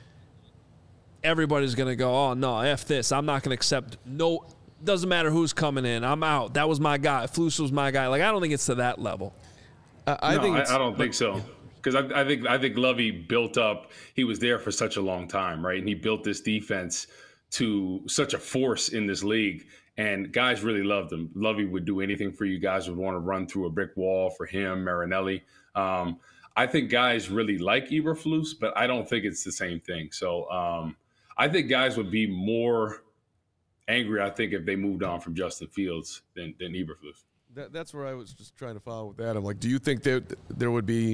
everybody's going to go, oh no, F this. I'm not going to accept. No, doesn't matter who's coming in. I'm out. That was my guy. Flus was my guy. I don't think it's to that level. I don't think so. Because I think Lovey built up. He was there for such a long time, right? And he built this defense to such a force in this league. And guys really loved him. Lovey would do anything for you. Guys would want to run through a brick wall for him, Marinelli. I think guys really like Eberflus, but I don't think it's the same thing. So I think guys would be more angry, I think, if they moved on from Justin Fields than Eberflus. That's where I was just trying to follow with Adam. Do you think there would be,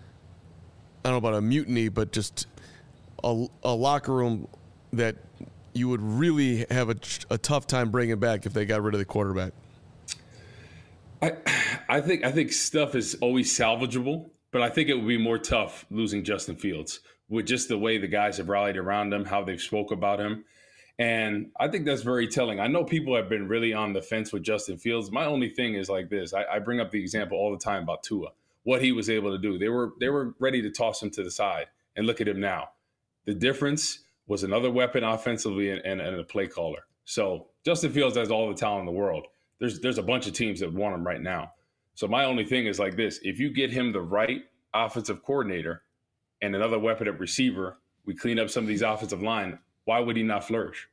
I don't know about a mutiny, but just a locker room that – you would really have a tough time bringing back if they got rid of the quarterback? I think stuff is always salvageable, but I think it would be more tough losing Justin Fields with just the way the guys have rallied around him, how they've spoke about him. And I think that's very telling. I know people have been really on the fence with Justin Fields. My only thing is like this. I bring up the example all the time about Tua, what he was able to do. They were ready to toss him to the side, and look at him now. The difference was another weapon offensively and a play caller. So Justin Fields has all the talent in the world. There's a bunch of teams that want him right now. So my only thing is like this. If you get him the right offensive coordinator and another weapon at receiver, we clean up some of these offensive line, why would he not flourish?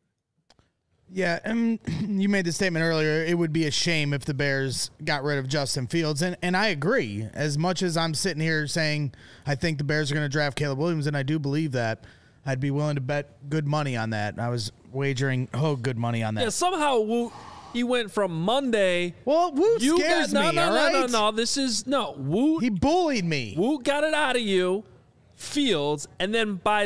Yeah, and you made the statement earlier, it would be a shame if the Bears got rid of Justin Fields, and I agree. As much as I'm sitting here saying I think the Bears are going to draft Caleb Williams, and I do believe that, I'd be willing to bet good money on that. I was wagering good money on that. Yeah, somehow he went from Monday. Well, Woo scares me, all right? No. This is, no. Woo. He bullied me. Woo got it out of you, Fields, and then by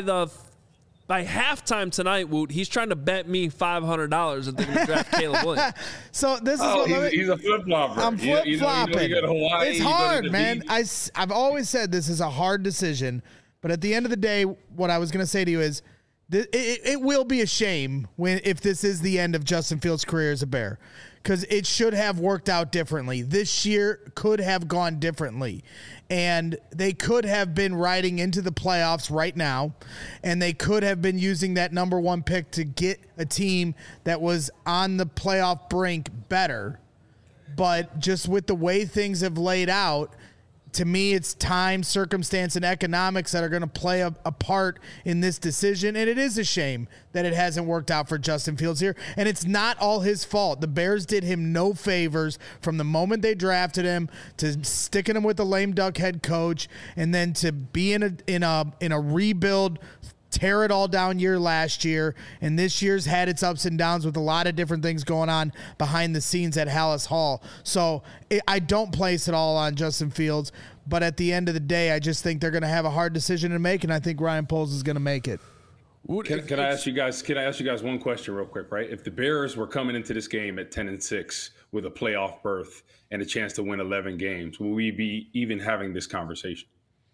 halftime tonight, Woot, he's trying to bet me $500 that they're going to draft Caleb Williams. So this is he's a flip-flopper. I'm flip-flopping. You go to Hawaii, it's hard, man. I've always said this is a hard decision, but at the end of the day, what I was going to say to you is it will be a shame if this is the end of Justin Fields' career as a Bear, because it should have worked out differently. This year could have gone differently. And they could have been riding into the playoffs right now, and they could have been using that number one pick to get a team that was on the playoff brink better. But just with the way things have laid out, to me, it's time, circumstance, and economics that are going to play a part in this decision. And it is a shame that it hasn't worked out for Justin Fields here. And it's not all his fault. The Bears did him no favors from the moment they drafted him to sticking him with the lame duck head coach, and then to be in a rebuild, tear it all down year last year, and this year's had its ups and downs with a lot of different things going on behind the scenes at Halas Hall. So I don't place it all on Justin Fields, but at the end of the day, I just think they're going to have a hard decision to make, and I think Ryan Poles is going to make it. Can I ask you guys one question real quick, right? If the Bears were coming into this game at 10-6 with a playoff berth and a chance to win 11 games, will we be even having this conversation?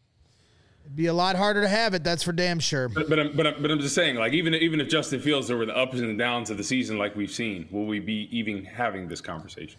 It'd be a lot harder to have it, that's for damn sure. But I'm just saying, like, even if Justin Fields there were the ups and downs of the season like we've seen, will we be even having this conversation?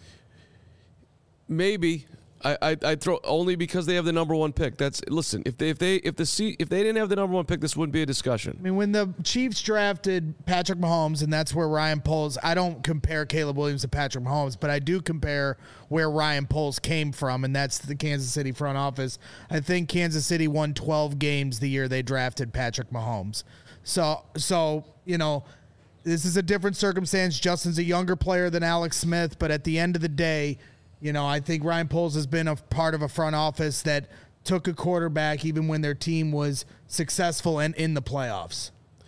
Maybe. I throw only because they have the number one pick. Listen. If they didn't have the number one pick, this wouldn't be a discussion. I mean, when the Chiefs drafted Patrick Mahomes, and that's where Ryan Poles. I don't compare Caleb Williams to Patrick Mahomes, but I do compare where Ryan Poles came from, and that's the Kansas City front office. I think Kansas City won 12 games the year they drafted Patrick Mahomes. So you know, this is a different circumstance. Justin's a younger player than Alex Smith, but at the end of the day, you know, I think Ryan Poles has been a part of a front office that took a quarterback even when their team was successful and in the playoffs.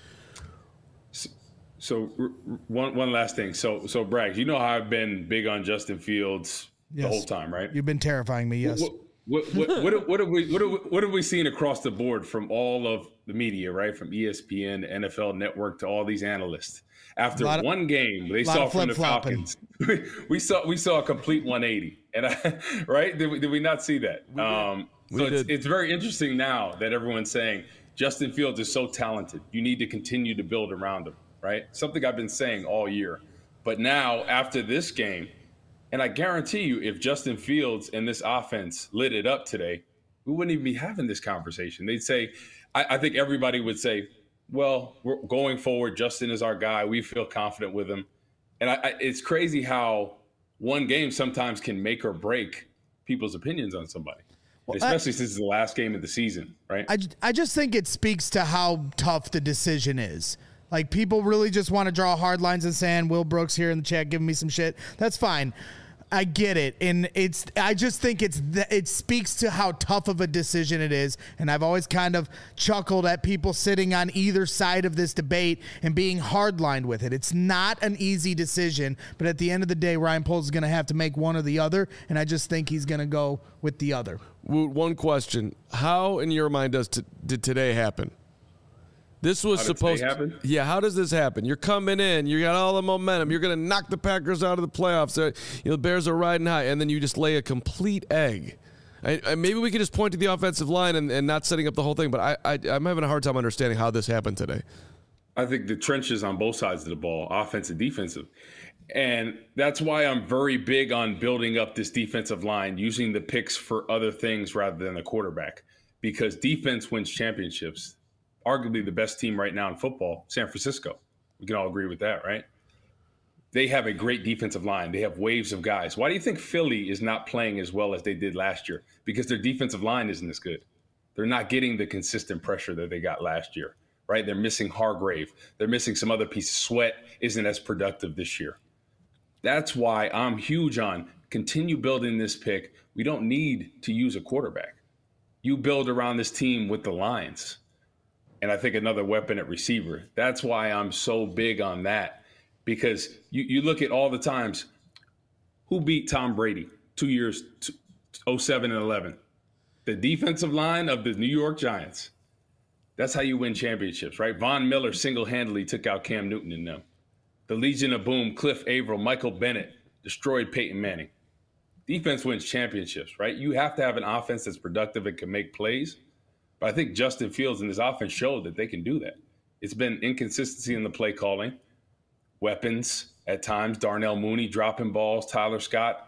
So one last thing. So Bragg, you know how I've been big on Justin Fields the whole time, right? You've been terrifying me, yes. What have we seen across the board from all of the media, right? From ESPN, NFL Network, to all these analysts. After one game, they saw from the Falcons. we saw a complete 180, and right? Did we not see that? It's very interesting now that everyone's saying Justin Fields is so talented. You need to continue to build around him, right? Something I've been saying all year, but now after this game, and I guarantee you, if Justin Fields and this offense lit it up today, we wouldn't even be having this conversation. They'd say, I think everybody would say, well, we're going forward, Justin is our guy. We feel confident with him. And it's crazy how one game sometimes can make or break people's opinions on somebody, especially since it's the last game of the season, right? I just think it speaks to how tough the decision is. Like, people really just want to draw hard lines in the sand. Will Brooks here in the chat giving me some shit. That's fine. I get it, and I just think it speaks to how tough of a decision it is, and I've always kind of chuckled at people sitting on either side of this debate and being hardlined with it. It's not an easy decision, but at the end of the day, Ryan Poles is going to have to make one or the other, and I just think he's going to go with the other. One question: how, in your mind, did today happen? This was supposed to happen? Yeah, how does this happen? You're coming in, you got all the momentum, you're going to knock the Packers out of the playoffs. The Bears are riding high, and then you just lay a complete egg Maybe we could just point to the offensive line and not setting up the whole thing, but I'm having a hard time understanding how this happened today. I think the trenches on both sides of the ball, offensive, defensive. And that's why I'm very big on building up this defensive line, using the picks for other things rather than the quarterback, because defense wins championships. Arguably the best team right now in football, San Francisco. We can all agree with that, right? They have a great defensive line. They have waves of guys. Why do you think Philly is not playing as well as they did last year? Because their defensive line isn't as good. They're not getting the consistent pressure that they got last year, right? They're missing Hargrave. They're missing some other pieces. Sweat isn't as productive this year. That's why I'm huge on continue building this pick. We don't need to use a quarterback. You build around this team with the lines. And I think another weapon at receiver. That's why I'm so big on that. Because you look at all the times, who beat Tom Brady 2 years, 07 and 11? The defensive line of the New York Giants. That's how you win championships, right? Von Miller single-handedly took out Cam Newton and them. The Legion of Boom, Cliff Averill, Michael Bennett destroyed Peyton Manning. Defense wins championships, right? You have to have an offense that's productive and can make plays. But I think Justin Fields and his offense showed that they can do that. It's been inconsistency in the play calling, weapons at times, Darnell Mooney dropping balls, Tyler Scott.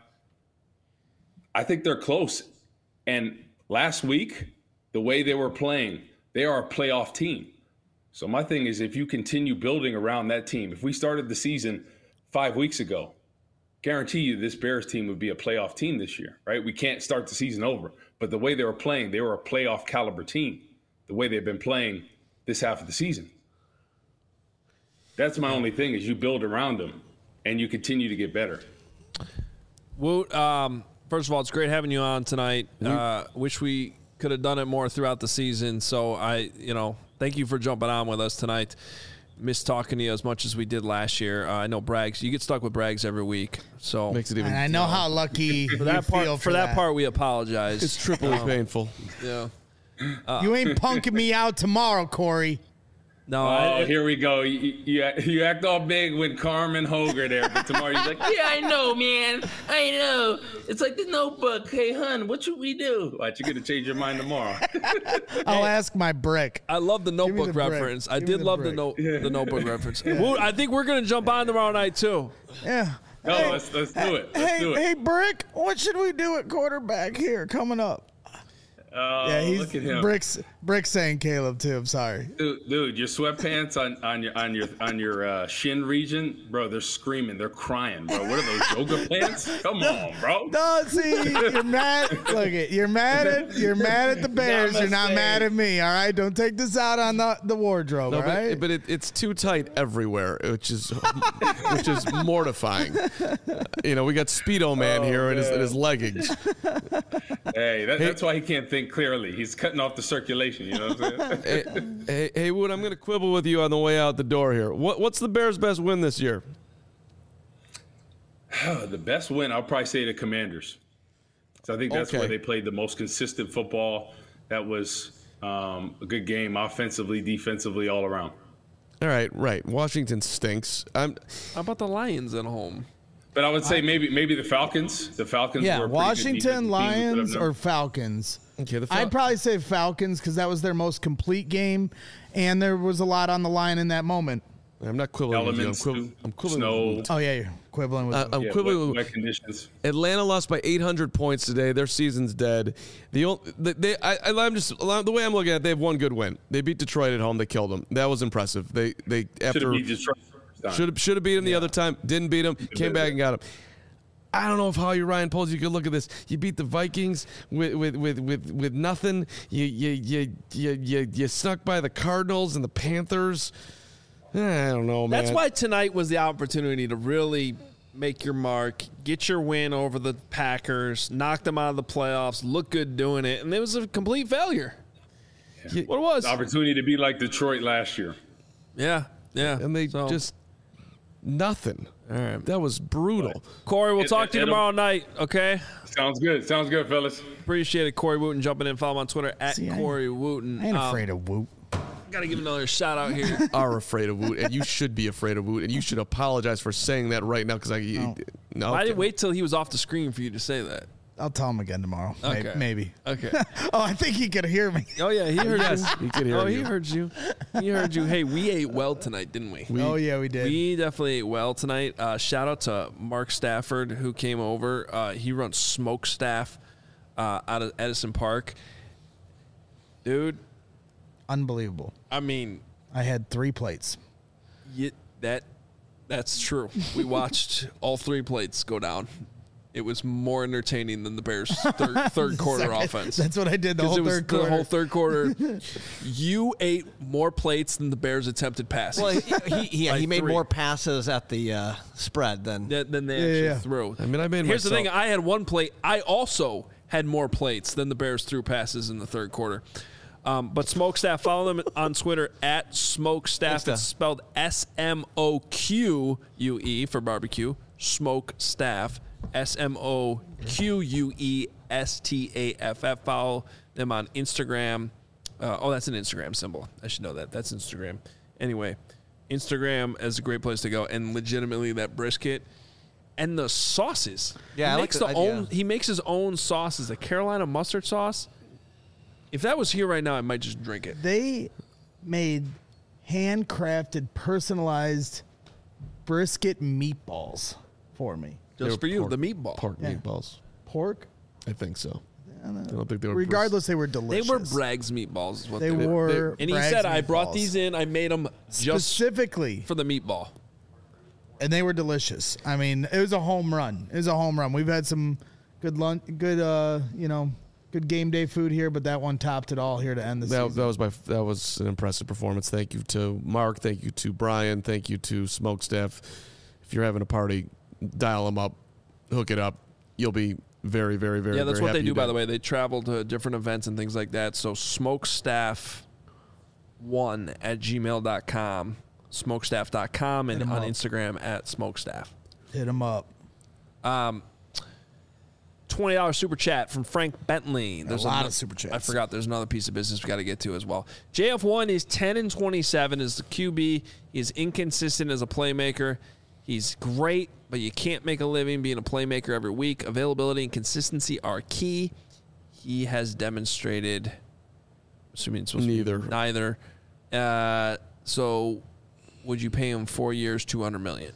I think they're close. And last week, the way they were playing, they are a playoff team. So my thing is, if you continue building around that team, if we started the season 5 weeks ago, guarantee you this Bears team would be a playoff team this year, right? We can't start the season over. But the way they were playing, they were a playoff caliber team, the way they've been playing this half of the season. That's my only thing is you build around them and you continue to get better. Woot, first of all, it's great having you on tonight. Wish we could have done it more throughout the season. So thank you for jumping on with us tonight. Miss talking to you as much as we did last year. I know Braggs, you get stuck with Braggs every week, so makes it even. And I know how lucky for that part. For that part, we apologize. It's triply painful. Yeah, you ain't punking me out tomorrow, Corey. No, here we go. You act all big with Carmen Hoger there, but tomorrow you're like, yeah, I know, man. I know. It's like the Notebook. Hey, hun, what should we do? What, you're going to change your mind tomorrow? I'll ask my brick. I love the Notebook reference. I did love the Notebook reference. Woot, I think we're going to jump on tomorrow night, too. Yeah. No, let's do it. Let's do it. Hey, Brick, what should we do at quarterback here coming up? Yeah, look at him. Brick's saying Caleb too. I'm sorry, dude. Your sweatpants on your shin region, bro. They're screaming. They're crying, bro. What are those yoga pants? Come on, bro. No, see, you're mad. Look, you're mad at the Bears. You're not mad at me. All right, don't take this out on the wardrobe. No, all right, but it's too tight everywhere, which is mortifying. We got Speedo Man here in his leggings. Hey, that's why he can't think clearly. He's cutting off the circulation. You know what I'm saying? hey, Wood, I'm going to quibble with you on the way out the door here. What's the Bears' best win this year? The best win, I'll probably say the Commanders. So I think that's where they played the most consistent football. That was a good game, offensively, defensively, all around. All right. Washington stinks. How about the Lions at home? But I would say maybe the Falcons. The Falcons. Yeah, were Washington, Lions, or Falcons. Okay, I'd probably say Falcons because that was their most complete game, and there was a lot on the line in that moment. I'm not quibbling with you. I'm quibbling with you. Oh, yeah, you're quibbling with I'm quibbling with conditions. Atlanta lost by 800 points today. Their season's dead. The way I'm looking at it, they have one good win. They beat Detroit at home. They killed them. That was impressive. They after beat Detroit. Should have beat them the other time. Didn't beat them. Came back and got them. I don't know if Ryan Poles, you could look at this. You beat the Vikings with nothing. You snuck by the Cardinals and the Panthers. I don't know, man. That's why tonight was the opportunity to really make your mark, get your win over the Packers, knock them out of the playoffs, look good doing it, and it was a complete failure. Yeah. What it was? The opportunity to be like Detroit last year. Yeah. And they just nothing. All right. That was brutal. Corey, we'll talk to you tomorrow night, okay? Sounds good, fellas. Appreciate it. Corey Wooten jumping in. Follow him on Twitter at Corey Wooten. I ain't afraid of Woot. Got to give another shout out here. You are afraid of Woot, and you should be afraid of Woot, and you should apologize for saying that right now because I didn't wait till he was off the screen for you to say that. I'll tell him again tomorrow. Okay. Maybe. Okay. Oh, I think he could hear me. Oh yeah, he heard us. He could hear you. He heard you. He heard you. Hey, we ate well tonight, didn't we? Oh yeah, we did. We definitely ate well tonight. Shout out to Mark Stafford who came over. He runs Smoke Staff out of Edison Park. Dude, Unbelievable. I mean, I had 3 plates. That's true. We watched all 3 plates go down. It was more entertaining than the Bears' third quarter offense. That's what I did the whole third quarter. The whole third quarter. You ate more plates than the Bears attempted passes. Well, he made 3. more passes at the spread than they actually threw. I mean, I made Here's myself. the thing. I had 1 plate. I also had more plates than the Bears threw passes in the third quarter. But Smokestaff, follow them on Twitter at Smokestaff. It's spelled SMOQUE for barbecue. Smokestaff. SMOQUESTAFF. Follow them on Instagram. That's an Instagram symbol. I should know that. That's Instagram. Anyway, Instagram is a great place to go. And legitimately, that brisket and the sauces. Yeah, he makes his own sauces. The Carolina mustard sauce. If that was here right now, I might just drink it. They made handcrafted, personalized brisket meatballs for me. Just for you, the meatball. Pork meatballs. Pork? I think so. I don't think they were. Regardless, they were delicious. They were Bragg's meatballs. Is what They were. And he Bragg's said, I brought meatballs. these in. I made them just specifically for the meatball. And they were delicious. I mean, it was a home run. It was a home run. We've had some good lunch, good game day food here, but that one topped it all here to end the season. That was an impressive performance. Thank you to Mark. Thank you to Brian. Thank you to Smokestaff. If you're having a party, dial them up, hook it up. You'll be very, very, very, that's very what they happy do, by the way. They travel to different events and things like that. So smokestaff1@gmail.com, smokestaff.com, and on Instagram at smokestaff. Hit them up. $20 super chat from Frank Bentley. There's a lot of super chats. I forgot there's another piece of business we got to get to as well. JF1 is 10-27 as the QB. He's inconsistent as a playmaker. He's great, but you can't make a living being a playmaker every week. Availability and consistency are key. He has demonstrated, assuming it's supposed to be neither. So would you pay him 4 years, $200 million?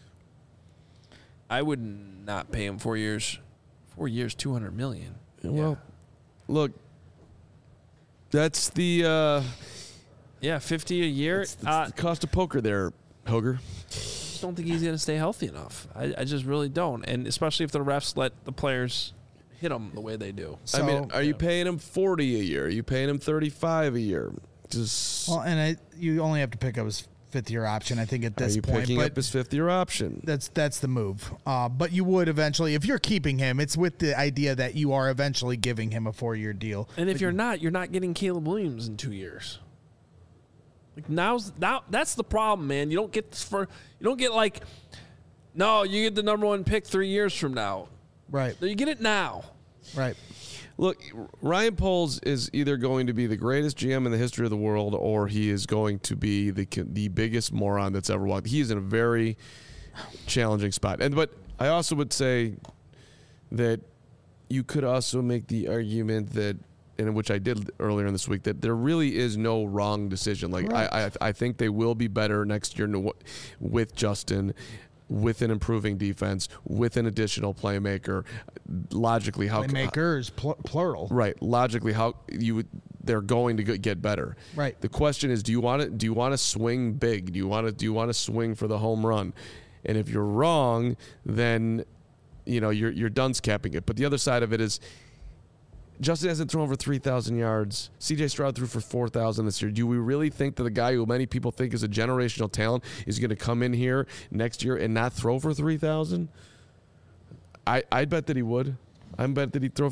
I would not pay him 4 years. 4 years, $200 million. Well, look, that's the 50 a year. That's the cost of poker there, Hoger. I just don't think he's going to stay healthy enough. I just really don't, and especially if the refs let the players hit him the way they do. So, I mean, are you paying him 40 a year? Are you paying him 35 a year? You only have to pick up his 5th-year option, I think, at this point. Are you picking up his 5th-year option? That's the move. But you would eventually, if you're keeping him, it's with the idea that you are eventually giving him a 4-year deal. And if you're not getting Caleb Williams in 2 years. Like now that's the problem, man. You don't get you get the number 1 pick 3 years from now. Right. You get it now. Right. Look, Ryan Poles is either going to be the greatest GM in the history of the world, or he is going to be the biggest moron that's ever walked. He is in a very challenging spot. But I also would say that you could also make the argument that, and which I did earlier in this week, that there really is no wrong decision. Like I think they will be better next year with Justin, with an improving defense, with an additional playmaker. Logically, playmakers plural, right? Logically, they're going to get better, right? The question is, do you want to swing big? Do you want to swing for the home run? And if you're wrong, then you're done capping it. But the other side of it is, Justin hasn't thrown over 3,000 yards. C.J. Stroud threw for 4,000 this year. Do we really think that the guy who many people think is a generational talent is going to come in here next year and not throw for 3,000? I'd bet that he would. I bet that he'd throw.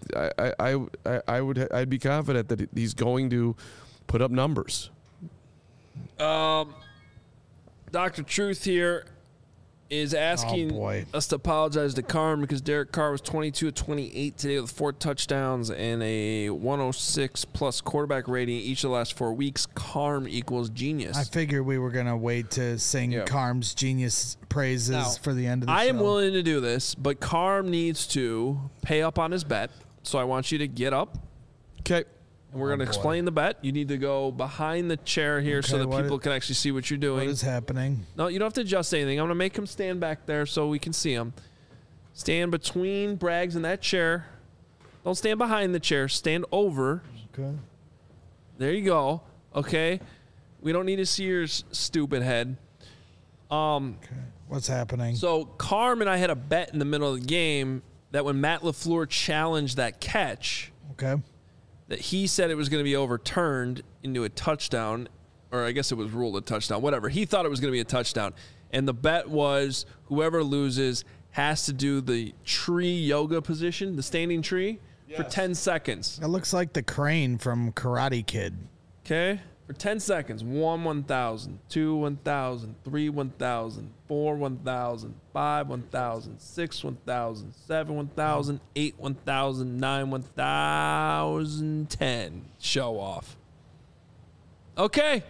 I'd be confident that he's going to put up numbers. Dr. Truth here. is asking us to apologize to Carm because Derek Carr was 22 of 28 today with 4 touchdowns and a 106-plus quarterback rating each of the last 4 weeks. Carm equals genius. I figured we were going to wait to sing Carm's genius praises for the end of the show. I am willing to do this, but Carm needs to pay up on his bet. So I want you to get up. Okay. And we're going to explain the bet. You need to go behind the chair here so that people can actually see what you're doing. What is happening? No, you don't have to adjust anything. I'm going to make him stand back there so we can see him. Stand between Braggs and that chair. Don't stand behind the chair. Stand over. Okay. There you go. Okay. We don't need to see your stupid head. Okay. What's happening? So Carm and I had a bet in the middle of the game that when Matt LaFleur challenged that catch, that he said it was going to be overturned into a touchdown, or I guess it was ruled a touchdown, whatever. He thought it was going to be a touchdown. And the bet was whoever loses has to do the tree yoga position, the standing tree, for 10 seconds. It looks like the crane from Karate Kid. Okay? For 10 seconds. 1, 1,000. 2, 1,000. 3, 1,000. 4, 1,000. 5, 1,000. 6, 1,000. 7, 1,000. 8, 1,000. 9, 1,000. 10. Show off. Okay.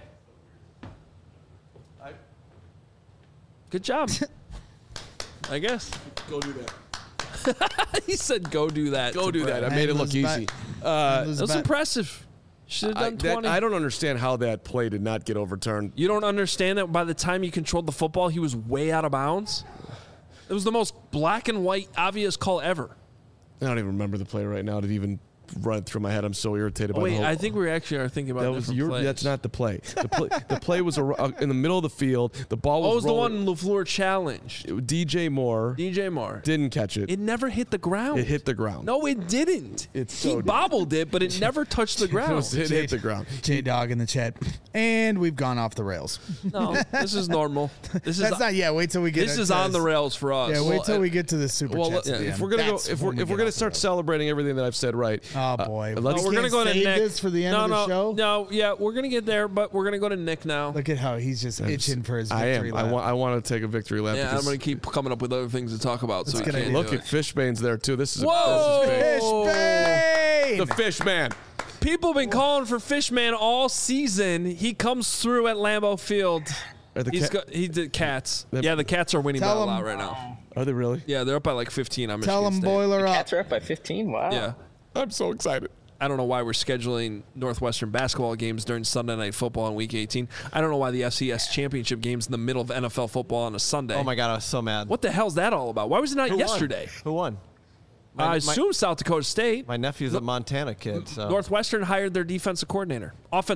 Good job. I guess. Go do that. He said, "Go do that." Go do that. I made it look easy. That was impressive. Should have done 20. I don't understand how that play did not get overturned. You don't understand that by the time he controlled the football, he was way out of bounds? It was the most black and white, obvious call ever. I don't even remember the play right now to even run through my head. I'm so irritated by the whole. I think we actually are thinking about different plays. That's not the play. The play was in the middle of the field. The ball was the one LaFleur challenged. DJ Moore didn't catch it. It never hit the ground. It hit the ground. No, it didn't. He bobbled it, but it never touched the ground. It hit the ground. J-Dog in the chat. And we've gone off the rails. No, this is normal. That's not yet. Wait till we get. This is on the rails for us. Yeah, wait till we get to the super chats. If we're gonna if we're gonna start celebrating everything that I've said right. Oh boy. We're going to go to Nick. This for the end of the show? No, yeah, we're going to get there, but we're going to go to Nick now. Look at how he's just itching for his victory lap. I want to take a victory lap. Yeah, I'm going to keep coming up with other things to talk about. So look at Fishbane's there, too. This is Fishbane! The Fishman. People have been calling for Fishman all season. He comes through at Lambeau Field. He did Cats. Yeah, the Cats are winning by a lot right now. Are they really? Yeah, they're up by like 15 on Michigan State. Tell them boiler up. Cats are up by 15? Wow. Yeah. I'm so excited. I don't know why we're scheduling Northwestern basketball games during Sunday Night Football in Week 18. I don't know why the FCS Championship game's in the middle of NFL football on a Sunday. Oh, my God, I was so mad. What the hell's that all about? Why was it not yesterday? Who won? I assume South Dakota State. My nephew's a Montana kid. So. Northwestern hired their offensive coordinator.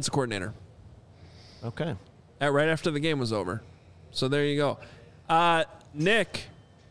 Okay. Right after the game was over. So there you go. Nick.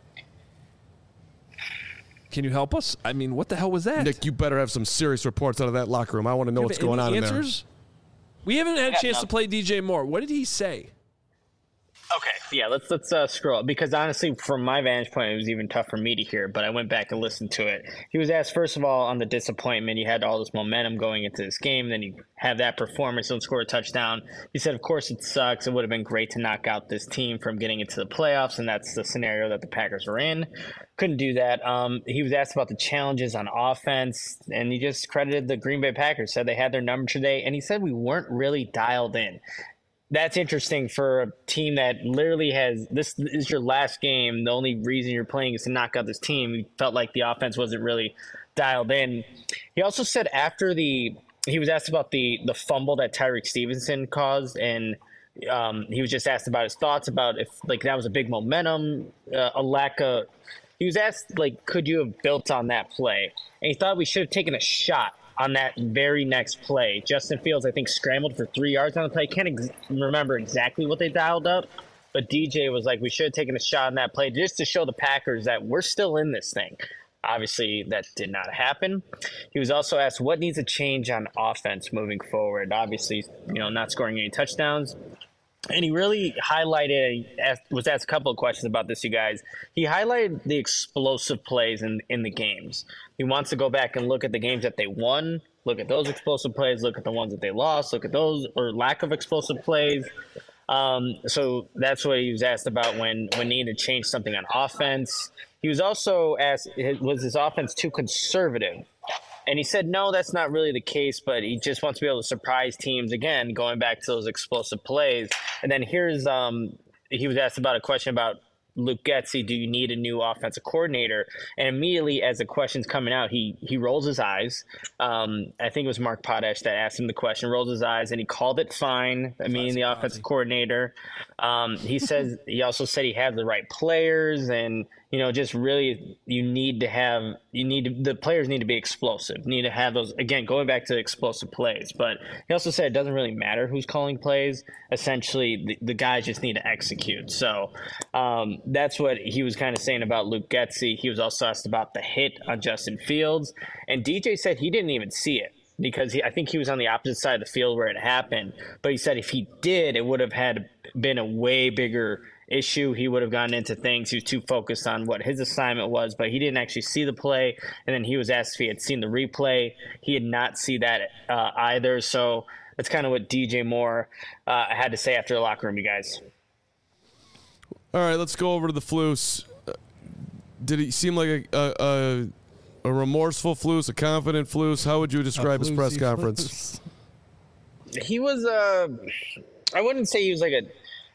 Can you help us? I mean, what the hell was that? Nick, you better have some serious reports out of that locker room. I want to know what's going on in there. We haven't had a chance to play DJ Moore. What did he say? Okay, yeah, let's scroll up because honestly, from my vantage point, it was even tough for me to hear. But I went back and listened to it. He was asked first of all on the disappointment. You had all this momentum going into this game, then you have that performance, don't score a touchdown. He said, "Of course, it sucks. It would have been great to knock out this team from getting into the playoffs, and that's the scenario that the Packers were in. Couldn't do that." He was asked about the challenges on offense, and he just credited the Green Bay Packers. Said they had their number today, and he said we weren't really dialed in. That's interesting for a team that literally has – this is your last game. The only reason you're playing is to knock out this team. He felt like the offense wasn't really dialed in. He also said after he was asked about the fumble that Tyreek Stevenson caused, and he was just asked about his thoughts about if like that was a big momentum, a lack of – he was asked like could you have built on that play? And he thought we should have taken a shot on that very next play. Justin Fields, I think, scrambled for 3 yards on the play. Can't remember exactly what they dialed up, but DJ was like, we should have taken a shot on that play just to show the Packers that we're still in this thing. Obviously, that did not happen. He was also asked what needs to change on offense moving forward. Obviously, not scoring any touchdowns. And he really highlighted, was asked a couple of questions about this, you guys. He highlighted the explosive plays in the games. He wants to go back and look at the games that they won, look at those explosive plays, look at the ones that they lost, look at those or lack of explosive plays. So that's what he was asked about when needed to change something on offense. He was also asked, was his offense too conservative? And he said, no, that's not really the case, but he just wants to be able to surprise teams again, going back to those explosive plays. And then here's he was asked about a question about Luke Getsy, do you need a new offensive coordinator? And immediately as the question's coming out, he rolls his eyes. I think it was Mark Potash that asked him the question, rolls his eyes, and he called it fine. I mean, the offensive coordinator. He also said he had the right players, and just really the players need to be explosive. Need to have those, again, going back to explosive plays. But he also said it doesn't really matter who's calling plays. Essentially, the guys just need to execute. So that's what he was kind of saying about Luke Getsy. He was also asked about the hit on Justin Fields, and DJ said he didn't even see it because I think he was on the opposite side of the field where it happened. But he said if he did, it would have been a way bigger issue. He would have gotten into things. He was too focused on what his assignment was, but he didn't actually see the play. And then he was asked if he had seen the replay. He had not seen that either. So that's kind of what DJ Moore had to say after the locker room, you guys. All right, let's go over to the Flus. Did he seem like a remorseful Flus, a confident Flus? How would you describe his press conference? He was I wouldn't say he was like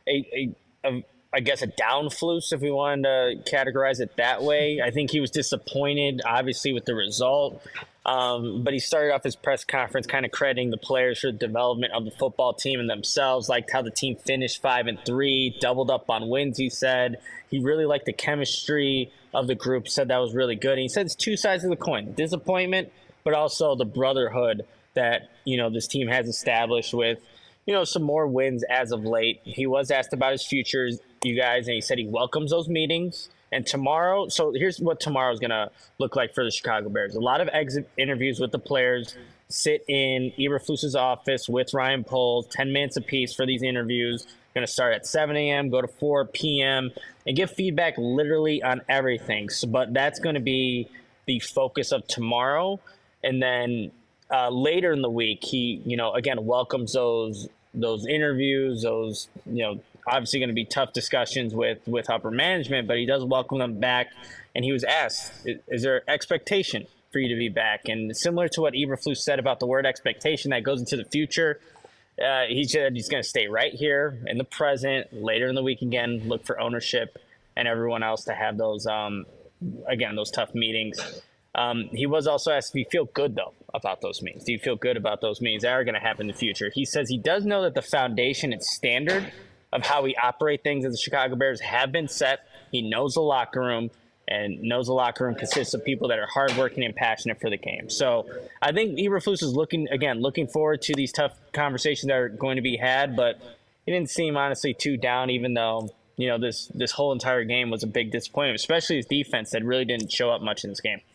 I guess a down Flus, if we wanted to categorize it that way. I think he was disappointed, obviously, with the result. But he started off his press conference kind of crediting the players for the development of the football team and themselves, liked how the team finished 5-3, doubled up on wins, he said. He really liked the chemistry of the group, said that was really good. And he said it's two sides of the coin, disappointment, but also the brotherhood that, this team has established with, some more wins as of late. He was asked about his future, you guys, and he said he welcomes those meetings. And tomorrow, so here's what tomorrow is going to look like for the Chicago Bears. A lot of exit interviews with the players, sit in Eberflus's office with Ryan Poles, 10 minutes apiece for these interviews. Going to start at 7 a.m., go to 4 p.m., and give feedback literally on everything. So, but that's going to be the focus of tomorrow. And then later in the week, he, again, welcomes those interviews, those, obviously going to be tough discussions with upper management, but he does welcome them back. And he was asked, is there expectation for you to be back? And similar to what Eberflus said about the word expectation that goes into the future, he said he's going to stay right here in the present. Later in the week, again, look for ownership and everyone else to have those, again, those tough meetings. He was also asked if you feel good, though, about those meetings. Do you feel good about those meetings that are going to happen in the future? He says he does know that the foundation and standard of how we operate things as the Chicago Bears have been set. He knows the locker room and knows the locker room consists of people that are hardworking and passionate for the game. So I think Eberflus is looking forward to these tough conversations that are going to be had, but he didn't seem honestly too down, even though, this whole entire game was a big disappointment, especially his defense that really didn't show up much in this game.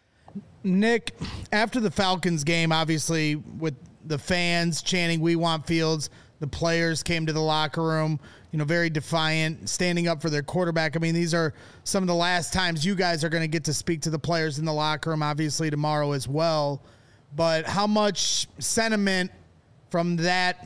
Nick, after the Falcons game, obviously with the fans chanting, "We want Fields," the players came to the locker room, very defiant, standing up for their quarterback. I mean, these are some of the last times you guys are going to get to speak to the players in the locker room, obviously tomorrow as well. But how much sentiment from that,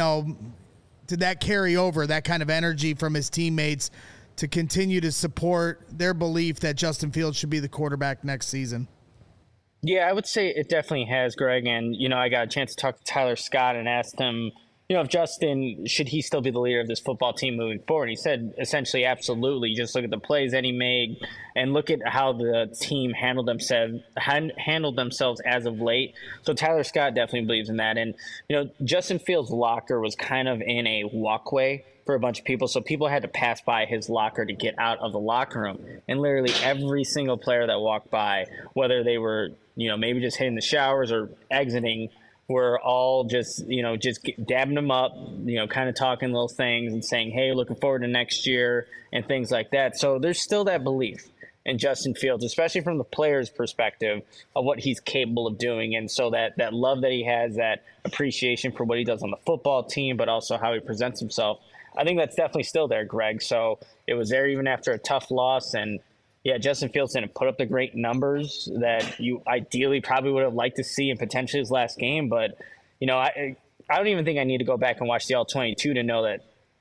did that carry over, that kind of energy from his teammates to continue to support their belief that Justin Fields should be the quarterback next season? Yeah, I would say it definitely has, Greg. And, I got a chance to talk to Tyler Scott and asked him, if Justin, should he still be the leader of this football team moving forward? He said essentially absolutely. Just look at the plays that he made and look at how the team handled themselves as of late. So Tyler Scott definitely believes in that. And, Justin Fields' locker was kind of in a walkway for a bunch of people. So people had to pass by his locker to get out of the locker room. And literally every single player that walked by, whether they were, maybe just hitting the showers or exiting, were all just dabbing them up, kind of talking little things and saying, hey, looking forward to next year and things like that. So there's still that belief in Justin Fields, especially from the player's perspective of what he's capable of doing. And so that love that he has, that appreciation for what he does on the football team, but also how he presents himself, I think that's definitely still there, Greg. So it was there even after a tough loss. And yeah, Justin Fields didn't put up the great numbers that you ideally probably would have liked to see in potentially his last game. But, I don't even think I need to go back and watch the All-22 to know that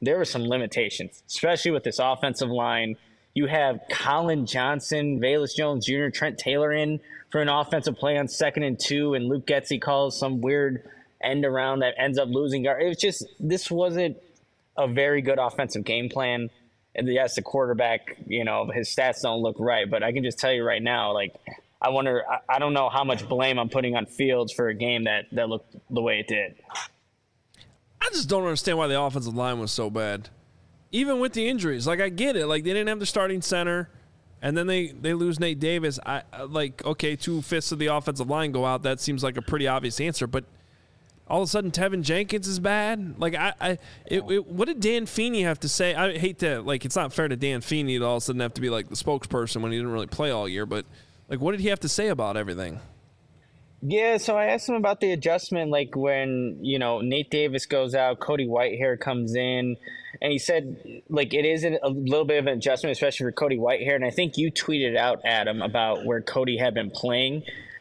there were some limitations, especially with this offensive line. You have Colin Johnson, Velus Jones Jr., Trent Taylor in for an offensive play on 2nd and 2, and Luke Getsy calls some weird end around that ends up losing guard. It was just, this wasn't a very good offensive game plan. And yes, the quarterback, his stats don't look right, but I can just tell you right now, like, I don't know how much blame I'm putting on Fields for a game that looked the way it did. I just don't understand why the offensive line was so bad. Even with the injuries, like, I get it. Like, they didn't have the starting center, and then they lose Nate Davis. Okay, 2/5 of the offensive line go out. That seems like a pretty obvious answer, but all of a sudden Tevin Jenkins is bad. Like, what did Dan Feeney have to say? I hate to, like, it's not fair to Dan Feeney to all of a sudden have to be like the spokesperson when he didn't really play all year, but like, what did he have to say about everything? Yeah, so I asked him about the adjustment, like when, Nate Davis goes out, Cody Whitehair comes in, and he said, like, it is a little bit of an adjustment, especially for Cody Whitehair. And I think you tweeted out, Adam, about where Cody had been playing.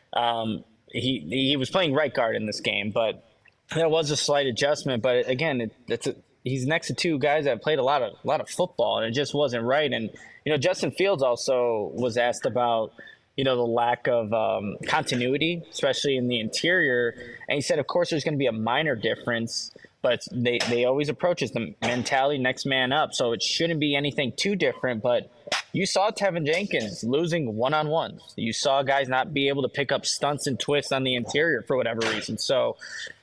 He was playing right guard in this game, but there was a slight adjustment. But again, he's next to two guys that played a lot of football, and it just wasn't right. And, Justin Fields also was asked about, the lack of continuity, especially in the interior. And he said, of course, there's going to be a minor difference, but they always approach it the mentality, next man up. So it shouldn't be anything too different. But you saw Tevin Jenkins losing one-on-ones. You saw guys not be able to pick up stunts and twists on the interior for whatever reason. So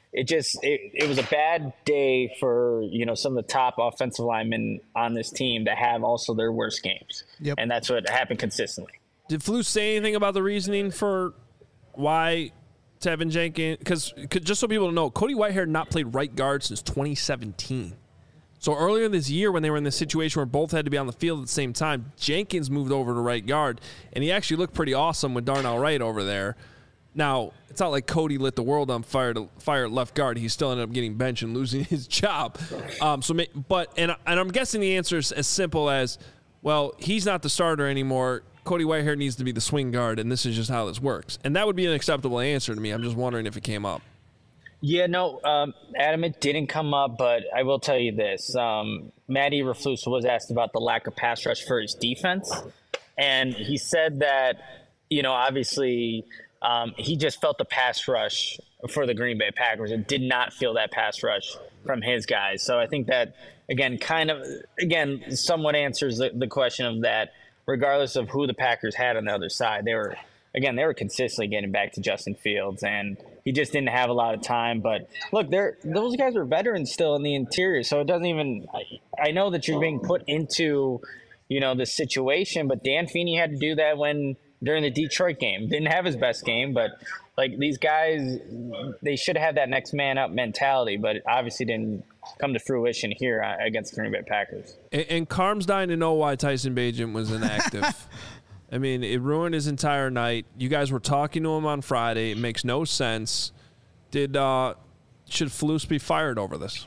it was a bad day for, some of the top offensive linemen on this team that have also their worst games. Yep. And that's what happened consistently. Did Flus say anything about the reasoning for why Tevin Jenkins? Because just so people know, Cody Whitehair not played right guard since 2017. So earlier this year, when they were in this situation where both had to be on the field at the same time, Jenkins moved over to right guard, and he actually looked pretty awesome with Darnell Wright over there. Now, it's not like Cody lit the world on fire at left guard. He still ended up getting benched and losing his job. And I'm guessing the answer is as simple as, well, he's not the starter anymore. Cody Whitehair needs to be the swing guard, and this is just how this works. And that would be an acceptable answer to me. I'm just wondering if it came up. Yeah, no, Adam, it didn't come up, but I will tell you this. Matt Eberflus was asked about the lack of pass rush for his defense, and he said that, obviously he just felt the pass rush for the Green Bay Packers and did not feel that pass rush from his guys. So I think that, again, somewhat answers the question of that. Regardless of who the Packers had on the other side, they were consistently getting back to Justin Fields, and he just didn't have a lot of time. But look, those guys are veterans still in the interior, so it doesn't even. I know that you're being put into, this situation, but Dan Feeney had to do that during the Detroit game. Didn't have his best game, but like these guys, they should have that next man up mentality, but it obviously didn't come to fruition here against the Green Bay Packers. And Carm's dying to know why Tyson Bagent was inactive. I mean, it ruined his entire night. You guys were talking to him on Friday. It makes no sense. Should Flus be fired over this?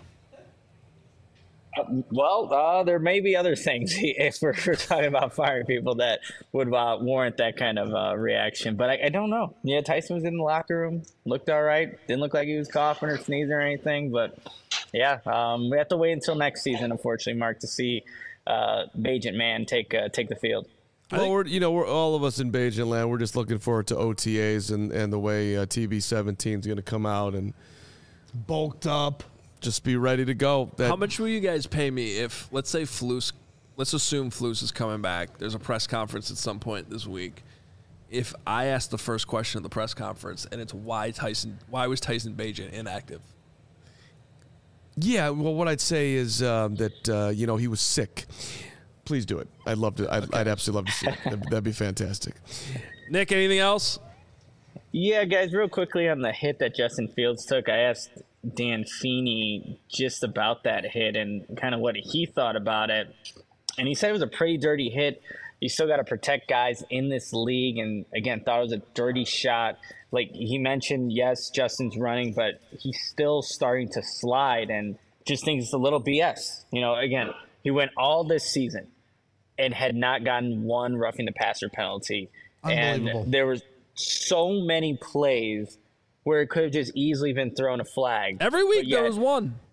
There may be other things if we're talking about firing people that would warrant that kind of reaction. But I don't know. Yeah, Tyson was in the locker room, looked all right. Didn't look like he was coughing or sneezing or anything. But, yeah, we have to wait until next season, unfortunately, Mark, to see Bagent man take the field. Well, we're all of us in Bagent land. We're just looking forward to OTAs and the way TB17 is going to come out and bulked up. Just be ready to go. How much will you guys pay me if, let's assume Flus is coming back. There's a press conference at some point this week. If I ask the first question of the press conference and it's why was Tyson Bagent inactive? Yeah, well, what I'd say is that he was sick. Please do it. I'd love to. I'd absolutely love to see it. That'd be fantastic. Nick, anything else? Yeah, guys, real quickly on the hit that Justin Fields took, I asked Dan Feeney just about that hit and kind of what he thought about it. And he said it was a pretty dirty hit. You still got to protect guys in this league. And again, thought it was a dirty shot. Like he mentioned, yes, Justin's running, but he's still starting to slide and just thinks it's a little BS. Again, he went all this season and had not gotten one roughing the passer penalty. And there was so many plays where it could have just easily been thrown a flag. Every week there was one.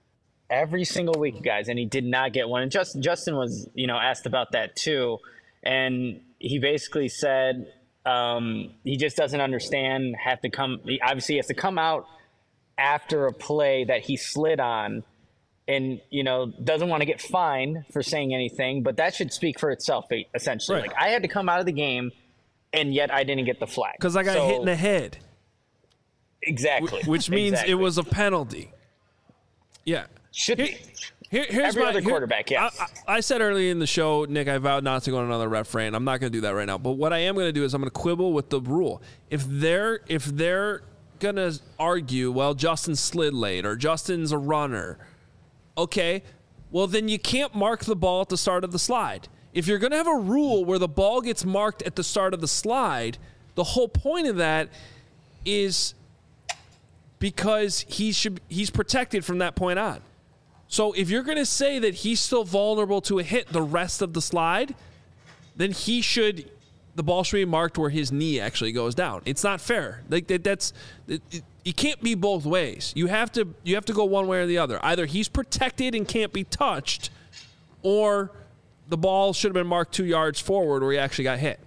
every single week, guys, and he did not get one. And Justin was, asked about that too, and he basically said he just doesn't understand. He obviously has to come out after a play that he slid on, and doesn't want to get fined for saying anything, but that should speak for itself. Essentially, right. Like, I had to come out of the game, and yet I didn't get the flag because I got hit in the head. Exactly, which means it was a penalty. Yeah. Should be. Here's every other quarterback, yes. I said earlier in the show, Nick, I vowed not to go on another ref rant. I'm not going to do that right now. But what I am going to do is I'm going to quibble with the rule. If they're going to argue, well, Justin slid late or Justin's a runner, okay, well, then you can't mark the ball at the start of the slide. If you're going to have a rule where the ball gets marked at the start of the slide, the whole point of that is because he's protected from that point on. So if you're going to say that he's still vulnerable to a hit the rest of the slide, then the ball should be marked where his knee actually goes down. It's not fair. Like it can't be both ways. You have to go one way or the other. Either he's protected and can't be touched, or the ball should have been marked 2 yards forward where he actually got hit.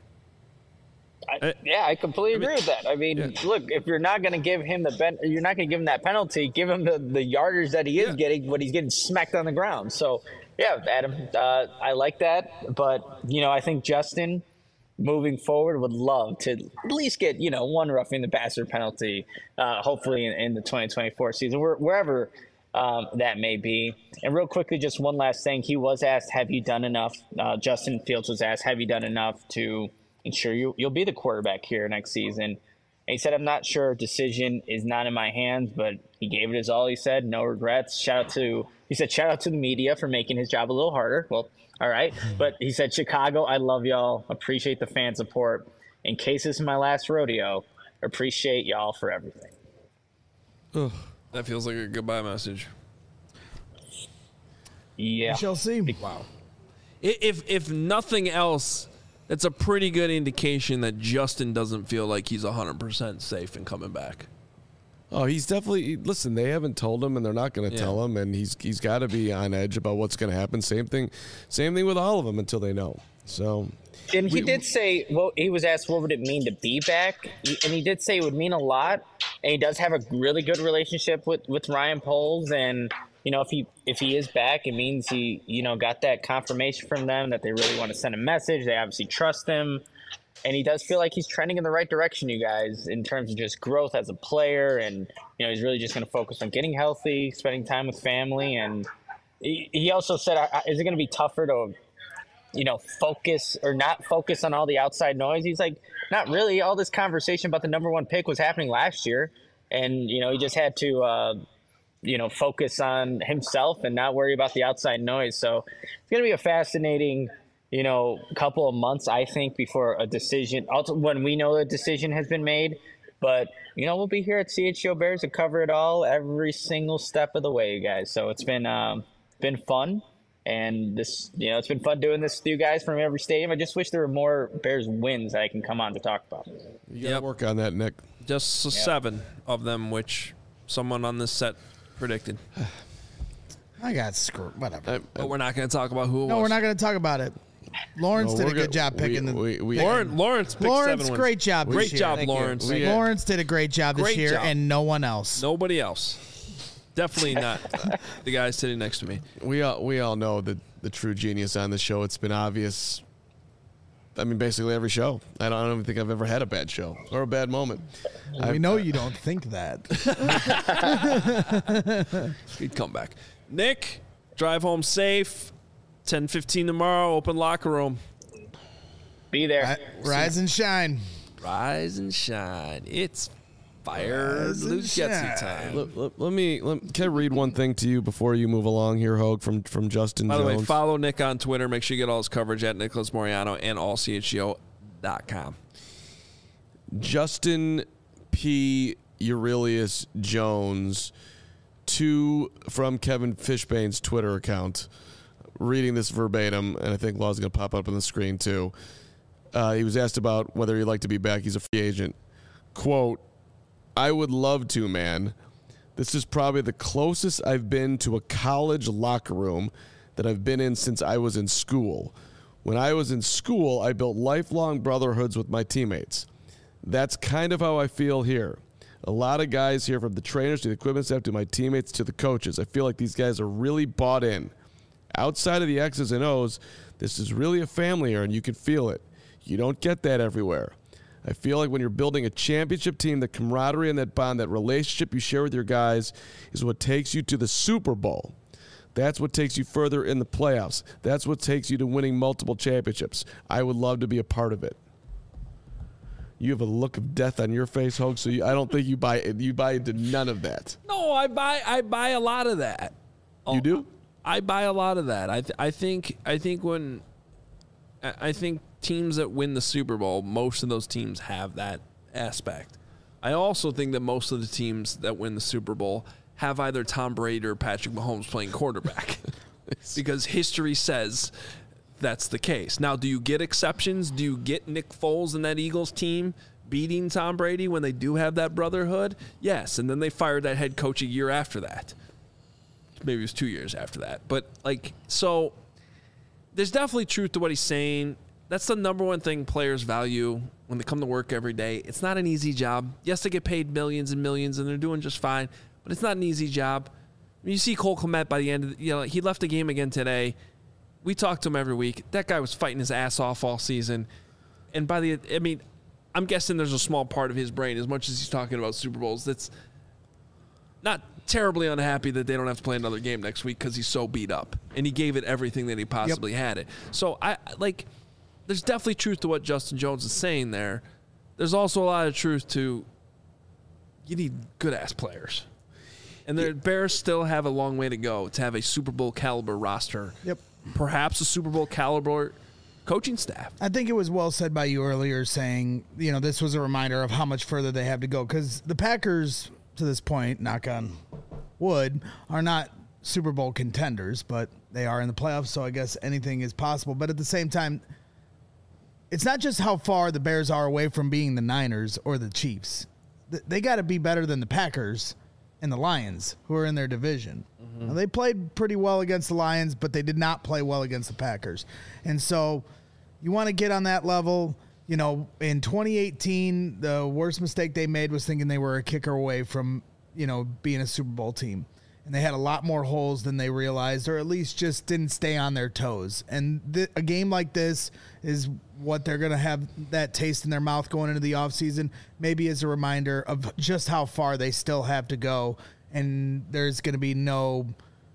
I completely agree with that. I mean, look, if you're not going to give him you're not going to give him that penalty. Give him the yardage that he is getting when he's getting smacked on the ground. So, yeah, Adam, I like that. But I think Justin, moving forward, would love to at least get one roughing the passer penalty. Hopefully in the 2024 season, wherever that may be. And real quickly, just one last thing. He was asked, "Have you done enough?" Justin Fields was asked, "Have you done enough to ensure you'll be the quarterback here next season?" And he said, "I'm not sure. Decision is not in my hands," but he gave it his all. He said, "No regrets." Shout out to the media for making his job a little harder. Well, all right. But he said, "Chicago, I love y'all. Appreciate the fan support. In case this is my last rodeo, appreciate y'all for everything." Ugh, that feels like a goodbye message. Yeah. We shall see. Wow. If nothing else, that's a pretty good indication that Justin doesn't feel like he's 100% safe in coming back. Oh, he's definitely. Listen, they haven't told him, and they're not going to tell him, and he's got to be on edge about what's going to happen. Same thing with all of them until they know. So, and he did say, well, he was asked what would it mean to be back, and he did say it would mean a lot. And he does have a really good relationship with Ryan Poles, and if he is back, it means he got that confirmation from them that they really want to send a message. They obviously trust him. And he does feel like he's trending in the right direction, you guys, in terms of just growth as a player. And, he's really just going to focus on getting healthy, spending time with family. And he also said, is it going to be tougher to, focus or not focus on all the outside noise? He's like, not really. All this conversation about the number one pick was happening last year. And, he just had to, focus on himself and not worry about the outside noise. So it's going to be a fascinating couple of months, I think, before a decision, also when we know a decision has been made. But, we'll be here at CHGO Bears to cover it all every single step of the way, you guys. So it's been fun. And this, it's been fun doing this with you guys from every stadium. I just wish there were more Bears wins that I can come on to talk about. You got to work on that, Nick. Just 7 of them, which someone on this set predicted. I got screwed. Whatever. But we're not going to talk about who it was. No, we're not going to talk about it. Lawrence did a good job picking Lawrence picked 7 wins. Great job this year. Great job, Lawrence. Lawrence did a great job this year, and no one else. Nobody else. Definitely not the guy sitting next to me. We all know the true genius on this show. It's been obvious. I mean, basically every show. I don't even think I've ever had a bad show or a bad moment. We know you don't think that. Good comeback. Nick, drive home safe. 10:15 tomorrow, open locker room. Be there. Rise and shine. Rise and shine. It's fire Luke Getsy time. Can I read one thing to you before you move along here, Hogue, from Justin Jones? By the way, follow Nick on Twitter. Make sure you get all his coverage at Nicholas Moriano and allchgo.com. Justin P. Aurelius Jones from Kevin Fishbane's Twitter account. Reading this verbatim, and I think Law's going to pop up on the screen too. He was asked about whether he'd like to be back. He's a free agent. Quote, "I would love to, man, This is probably the closest I've been to a college locker room that I've been in since I was in school. When I was in school, I built lifelong brotherhoods with my teammates. That's kind of how I feel here. A lot of guys here, from the trainers to the equipment staff to my teammates to the coaches. I feel like these guys are really bought in. Outside of the X's and O's, this is really a family here, and you can feel it. You don't get that everywhere. I feel like when you're building a championship team, the camaraderie and that bond, that relationship you share with your guys is what takes you to the Super Bowl. That's what takes you further in the playoffs. That's what takes you to winning multiple championships. I would love to be a part of it. You have a look of death on your face, Hogue, so I don't think you buy into none of that. No, I buy a lot of that. You do? I buy a lot of that. I think teams that win the Super Bowl, most of those teams have that aspect. I also think that most of the teams that win the Super Bowl have either Tom Brady or Patrick Mahomes playing quarterback because history says that's the case. Now, do you get exceptions? Do you get Nick Foles and that Eagles team beating Tom Brady when they do have that brotherhood? Yes, and then they fired that head coach a year after that. Maybe it was 2 years after that. But, so there's definitely truth to what he's saying. That's the number one thing players value when they come to work every day. It's not an easy job. Yes, they get paid millions and millions, and they're doing just fine, but it's not an easy job. You see Cole Kmet by the end of he left the game again today. We talk to him every week. That guy was fighting his ass off all season. And I'm guessing there's a small part of his brain, as much as he's talking about Super Bowls, that's not terribly unhappy that they don't have to play another game next week because he's so beat up. And he gave it everything that he possibly had it. So, there's definitely truth to what Justin Jones is saying there. There's also a lot of truth to you need good-ass players. And the Bears still have a long way to go to have a Super Bowl caliber roster. Yep. Perhaps a Super Bowl caliber coaching staff. I think it was well said by you earlier saying, this was a reminder of how much further they have to go. Because the Packers, to this point, knock on wood, are not Super Bowl contenders, but they are in the playoffs, so I guess anything is possible. But at the same time, it's not just how far the Bears are away from being the Niners or the Chiefs. They got to be better than the Packers and the Lions, who are in their division. Mm-hmm. Now, they played pretty well against the Lions, but they did not play well against the Packers. And so you want to get on that level. In 2018, the worst mistake they made was thinking they were a kicker away from, being a Super Bowl team. And they had a lot more holes than they realized, or at least just didn't stay on their toes. And a game like this is what they're going to have that taste in their mouth going into the offseason, maybe as a reminder of just how far they still have to go. And there's going to be no,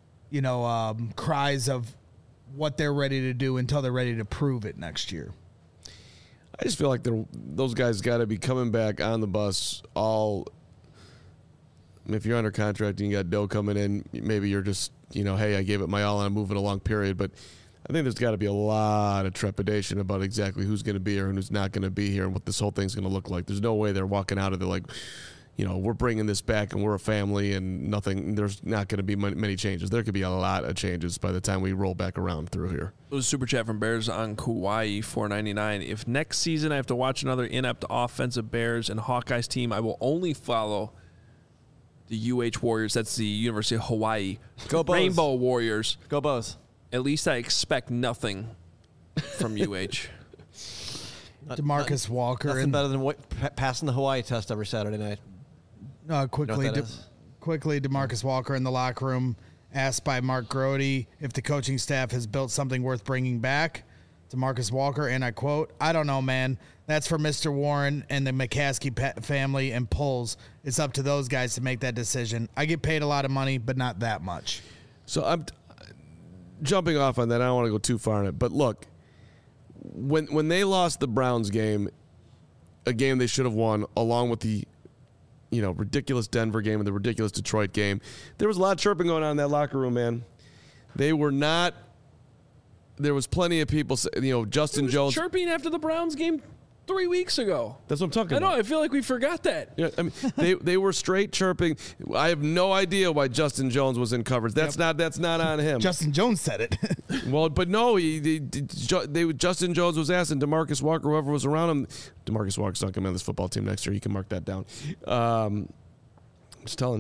cries of what they're ready to do until they're ready to prove it next year. I just feel like those guys got to be coming back on the bus all – if you're under contract and you got dough coming in, maybe you're just, hey, I gave it my all and I'm moving along, period. But I think there's got to be a lot of trepidation about exactly who's going to be here and who's not going to be here and what this whole thing's going to look like. There's no way they're walking out of it like, we're bringing this back and we're a family and nothing. There's not going to be many changes. There could be a lot of changes by the time we roll back around through here. It was a super chat from Bears on Kauai, $4.99. If next season I have to watch another inept offensive Bears and Hawkeyes team, I will only follow the UH Warriors. That's the University of Hawaii. Go Bows. Rainbow Warriors. Go Bows. At least I expect nothing from UH. DeMarcus Walker. Nothing better than passing the Hawaii test every Saturday night. Quickly, DeMarcus Walker in the locker room asked by Mark Grody if the coaching staff has built something worth bringing back. DeMarcus Walker, and I quote, "I don't know, man. That's for Mr. Warren and the McCaskey family and Pulls. It's up to those guys to make that decision. I get paid a lot of money, but not that much." So I'm jumping off on that. I don't want to go too far on it. But look, when they lost the Browns game, a game they should have won, along with the ridiculous Denver game and the ridiculous Detroit game, there was a lot of chirping going on in that locker room, man. They were not – there was plenty of people, Justin Jones – chirping after the Browns game 3 weeks ago. That's what I'm talking about. I know. I feel like we forgot that. Yeah, I mean, they were straight chirping. I have no idea why Justin Jones was in coverage. That's not on him. Justin Jones said it. Well, but no, Justin Jones was asking DeMarcus Walker, whoever was around him. DeMarcus Walker's not coming on this football team next year. You can mark that down. I'm just telling.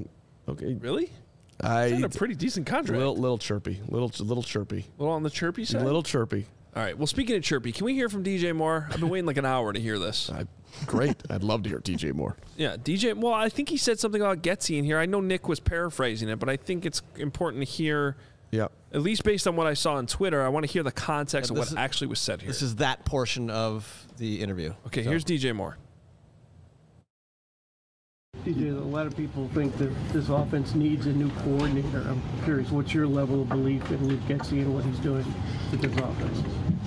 Okay, really? I had a pretty decent contract. Little chirpy, little chirpy. A little on the chirpy side. A little chirpy. All right. Well, speaking of chirpy, can we hear from DJ Moore? I've been waiting like an hour to hear this. Great. I'd love to hear DJ Moore. Yeah, DJ. Well, I think he said something about Getsy in here. I know Nick was paraphrasing it, but I think it's important to hear. Yeah. At least based on what I saw on Twitter, I want to hear the context of what actually was said here. This is that portion of the interview. Okay, here's DJ Moore. DJ, a lot of people think that this offense needs a new coordinator. I'm curious, what's your level of belief in Luke Getsy and what he's doing with this offense?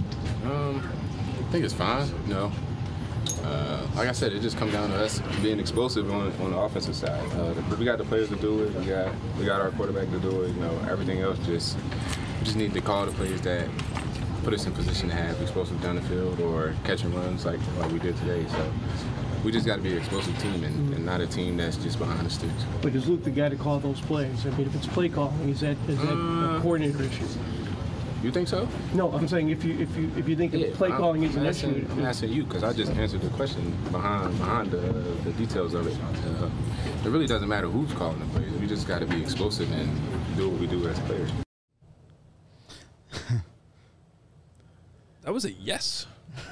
I think it's fine. Like I said, it just comes down to us being explosive on the offensive side. We got the players to do it. We got our quarterback to do it. Everything else we just need to call the plays that put us in position to have explosive down the field or catching runs like we did today. So we just got to be an explosive team and not a team that's just behind the sticks. But is Luke the guy to call those plays? I mean, if it's play calling, is that a coordinator issue? You think so? No, I'm saying if you think play calling is an issue. I'm asking you because I just answered the question behind the details of it. It really doesn't matter who's calling the plays. We just got to be explosive and do what we do as players. That was a yes.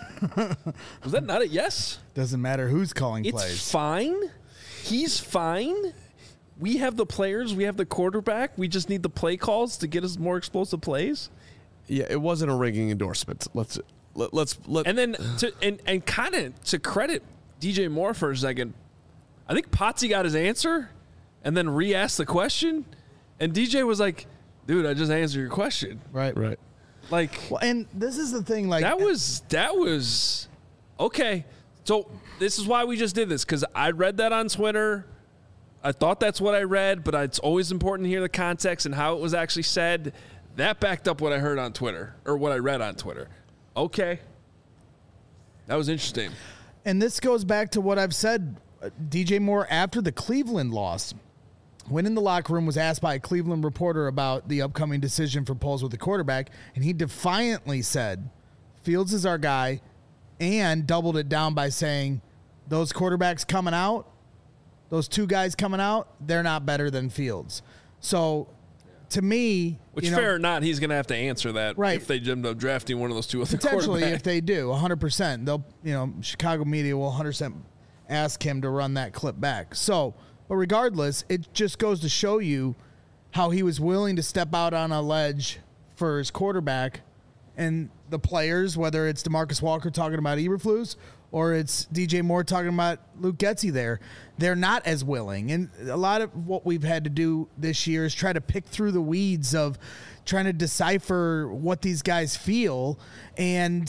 Was that not a yes? Doesn't matter who's calling plays. It's fine. He's fine. We have the players. We have the quarterback. We just need the play calls to get us more explosive plays. Yeah, it wasn't a ringing endorsement. Let's and then and kind of to credit DJ Moore for a second, I think Potsy got his answer and then re-asked the question, and DJ was like, "Dude, I just answered your question." Right. Like, well, and this is the thing. Like that was okay. So this is why we just did this, because I read that on Twitter. I thought that's what I read, but it's always important to hear the context and how it was actually said. That backed up what I heard on Twitter, or what I read on Twitter. Okay. That was interesting. And this goes back to what I've said. DJ Moore, after the Cleveland loss, went in the locker room, was asked by a Cleveland reporter about the upcoming decision for Poles with the quarterback, and he defiantly said, Fields is our guy, and doubled it down by saying, those quarterbacks coming out, those two guys coming out, they're not better than Fields. So, to me, which fair or not, he's going to have to answer that, right? If they end up drafting one of those two other potentially, if they do, 100%, they'll Chicago media will 100% ask him to run that clip back. So, but regardless, it just goes to show you how he was willing to step out on a ledge for his quarterback, and the players, whether it's DeMarcus Walker talking about Eberflus or it's DJ Moore talking about Luke Getsy there, they're not as willing. And a lot of what we've had to do this year is try to pick through the weeds of trying to decipher what these guys feel. And,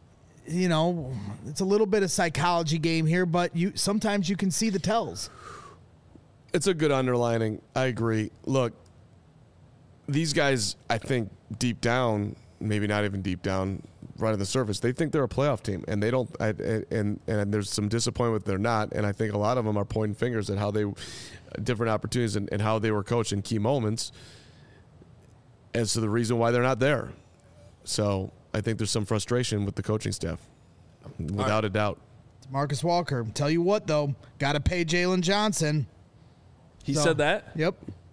it's a little bit of psychology game here, but sometimes you can see the tells. It's a good underlining. I agree. Look, these guys, I think deep down, maybe not even deep down, right on the surface, they think they're a playoff team, and they don't. And there's some disappointment they're not. And I think a lot of them are pointing fingers at how they, different opportunities and how they were coached in key moments, as to the reason why they're not there. So I think there's some frustration with the coaching staff, without a doubt. Marcus Walker, tell you what though, got to pay Jalen Johnson. He said that. Yep.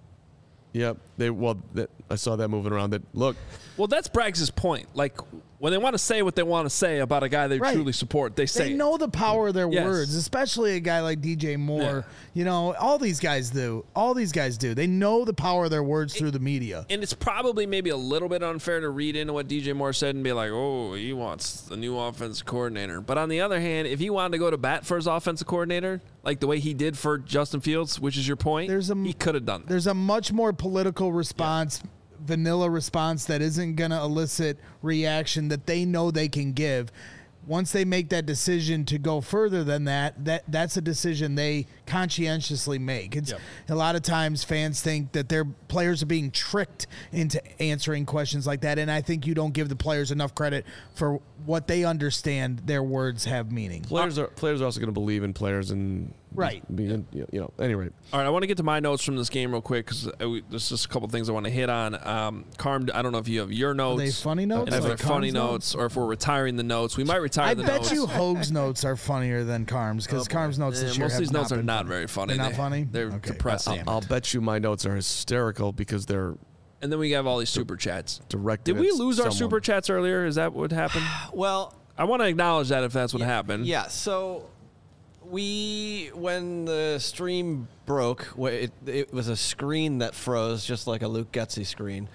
I saw that moving around. Well, that's Braggs' point. Like, when they want to say what they want to say about a guy they truly support, they say they know the power of their words, especially a guy like DJ Moore. Yeah. All these guys do. They know the power of their words through the media. And it's probably maybe a little bit unfair to read into what DJ Moore said and be like, oh, he wants the new offensive coordinator. But on the other hand, if he wanted to go to bat for his offensive coordinator, like the way he did for Justin Fields, which is your point, he could have done that. There's a much more political response, vanilla response that isn't going to elicit reaction that they know they can give. Once they make that decision to go further than that's a decision they conscientiously make. A lot of times fans think that their players are being tricked into answering questions like that, and I think you don't give the players enough credit for what they understand their words have meaning. Players are also going to believe in players and anyway. All right, I want to get to my notes from this game real quick because there's just a couple things I want to hit on. Carm, I don't know if you have your notes. Are they funny notes? And if they're funny notes, or if we're retiring the notes. We might retire the notes. I bet you Hoag's notes are funnier than Carm's, because Carm's notes this year most of these notes are not very funny. They're not funny? They're depressing. I'll bet you my notes are hysterical because they're. And then we have all these super chats. Directed. Did we lose our super chats earlier? Is that what happened? Well, I want to acknowledge that if that's what happened. Yeah. So when the stream broke, it was a screen that froze, just like a Luke Getsy screen.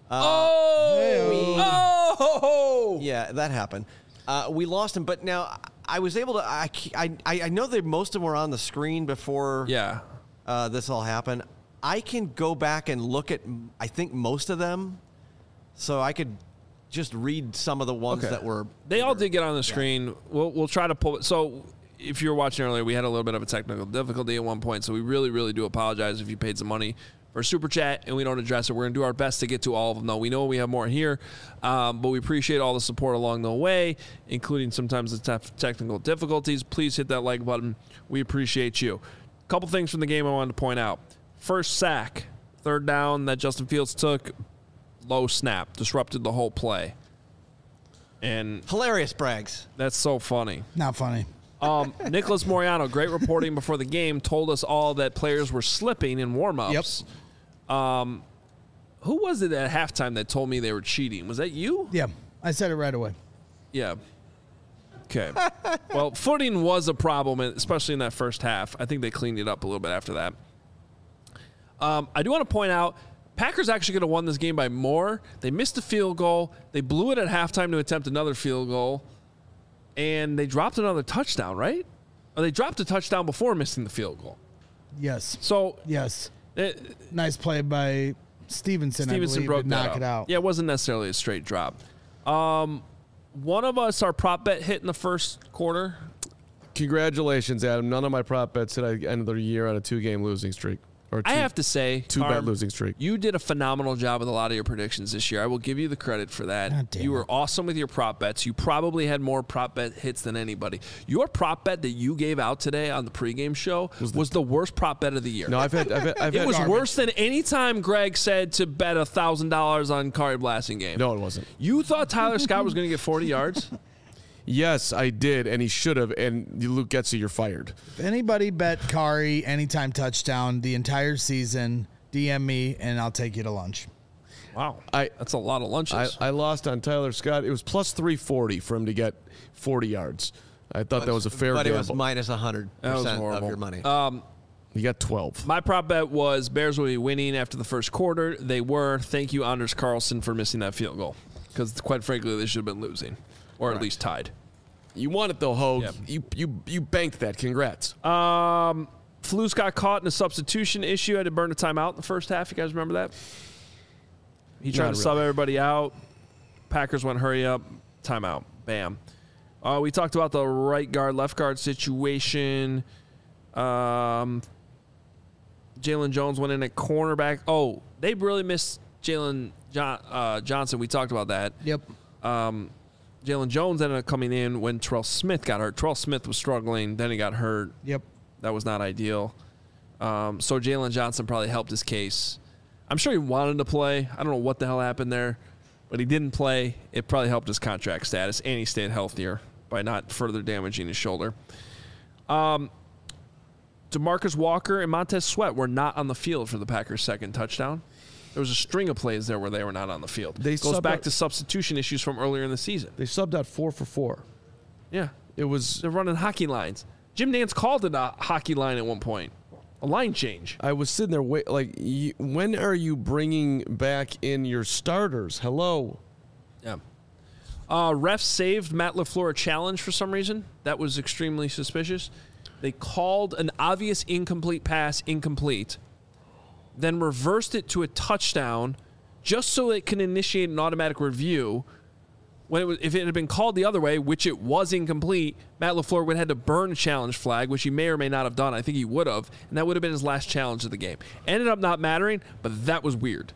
Yeah, that happened. We lost him, but now I was able to. I know that most of them were on the screen before. Yeah. This all happened. I can go back and look at, I think, most of them, so I could just read some of the ones that were. They all did get on the screen. We'll try to pull it. So if you were watching earlier, we had a little bit of a technical difficulty at one point, so we really, really do apologize if you paid some money for a super chat and we don't address it. We're going to do our best to get to all of them, though. We know we have more here, but we appreciate all the support along the way, including sometimes the technical difficulties. Please hit that like button. We appreciate you. A couple things from the game I wanted to point out. First sack, third down that Justin Fields took, low snap, disrupted the whole play. And hilarious, Braggs. That's so funny. Not funny. Nicholas Moriano, great reporting before the game, told us all that players were slipping in warm-ups. Yep. Who was it at halftime that told me they were cheating? Was that you? Yeah, I said it right away. Yeah. Okay. Well, footing was a problem, especially in that first half. I think they cleaned it up a little bit after that. I do want to point out, Packers actually could have won this game by more. They missed a field goal. They blew it at halftime to attempt another field goal. And they dropped another touchdown, right? Or they dropped a touchdown before missing the field goal. Yes. So yes. Nice play by Stevenson, I believe, broke to knock it out. Yeah, it wasn't necessarily a straight drop. One of us, our prop bet hit in the first quarter. Congratulations, Adam. None of my prop bets hit at the end of the year on a 2-game losing streak. I have to say, 2-bet losing streak. You did a phenomenal job with a lot of your predictions this year. I will give you the credit for that. You were awesome with your prop bets. You probably had more prop bet hits than anybody. Your prop bet that you gave out today on the pregame show was the worst prop bet of the year. No, I've had it was worse than any time Greg said to bet $1,000 on Kari Blasting game. No, it wasn't. You thought Tyler Scott was going to get 40 yards? Yes, I did, and he should have. And Luke Getsy, you're fired. If anybody bet Kari anytime touchdown the entire season, DM me and I'll take you to lunch. Wow, that's a lot of lunches. I lost on Tyler Scott. It was plus 340 for him to get 40 yards. I thought that was a fair gamble. But it was minus 100% of your money. You got 12. My prop bet was Bears will be winning after the first quarter. They were. Thank you, Anders Carlson, for missing that field goal. Because, quite frankly, they should have been losing. Or at least tied. You won it, though, Hogue. Yep. You banked that. Congrats. Flus got caught in a substitution issue. Had to burn a timeout in the first half. You guys remember that? He tried to sub everybody out. Packers went hurry up. Timeout. Bam. We talked about the right guard, left guard situation. Jalen Jones went in at cornerback. Oh, they really missed Jalen Johnson. We talked about that. Yep. Jalen Jones ended up coming in when Terrell Smith got hurt. Terrell Smith was struggling. Then he got hurt. Yep. That was not ideal. So Jalen Johnson probably helped his case. I'm sure he wanted to play. I don't know what the hell happened there, but he didn't play. It probably helped his contract status, and he stayed healthier by not further damaging his shoulder. DeMarcus Walker and Montez Sweat were not on the field for the Packers' second touchdown. There was a string of plays there where they were not on the field. It goes back to substitution issues from earlier in the season. They subbed out 4 for 4. Yeah. It was. They're running hockey lines. Jim Nantz called it a hockey line at one point. A line change. I was sitting there, when are you bringing back in your starters? Hello. Yeah. Refs saved Matt LaFleur a challenge for some reason. That was extremely suspicious. They called an obvious incomplete pass incomplete, then reversed it to a touchdown just so it can initiate an automatic review. If it had been called the other way, which it was incomplete, Matt LaFleur would have had to burn a challenge flag, which he may or may not have done. I think he would have, and that would have been his last challenge of the game. Ended up not mattering, but that was weird.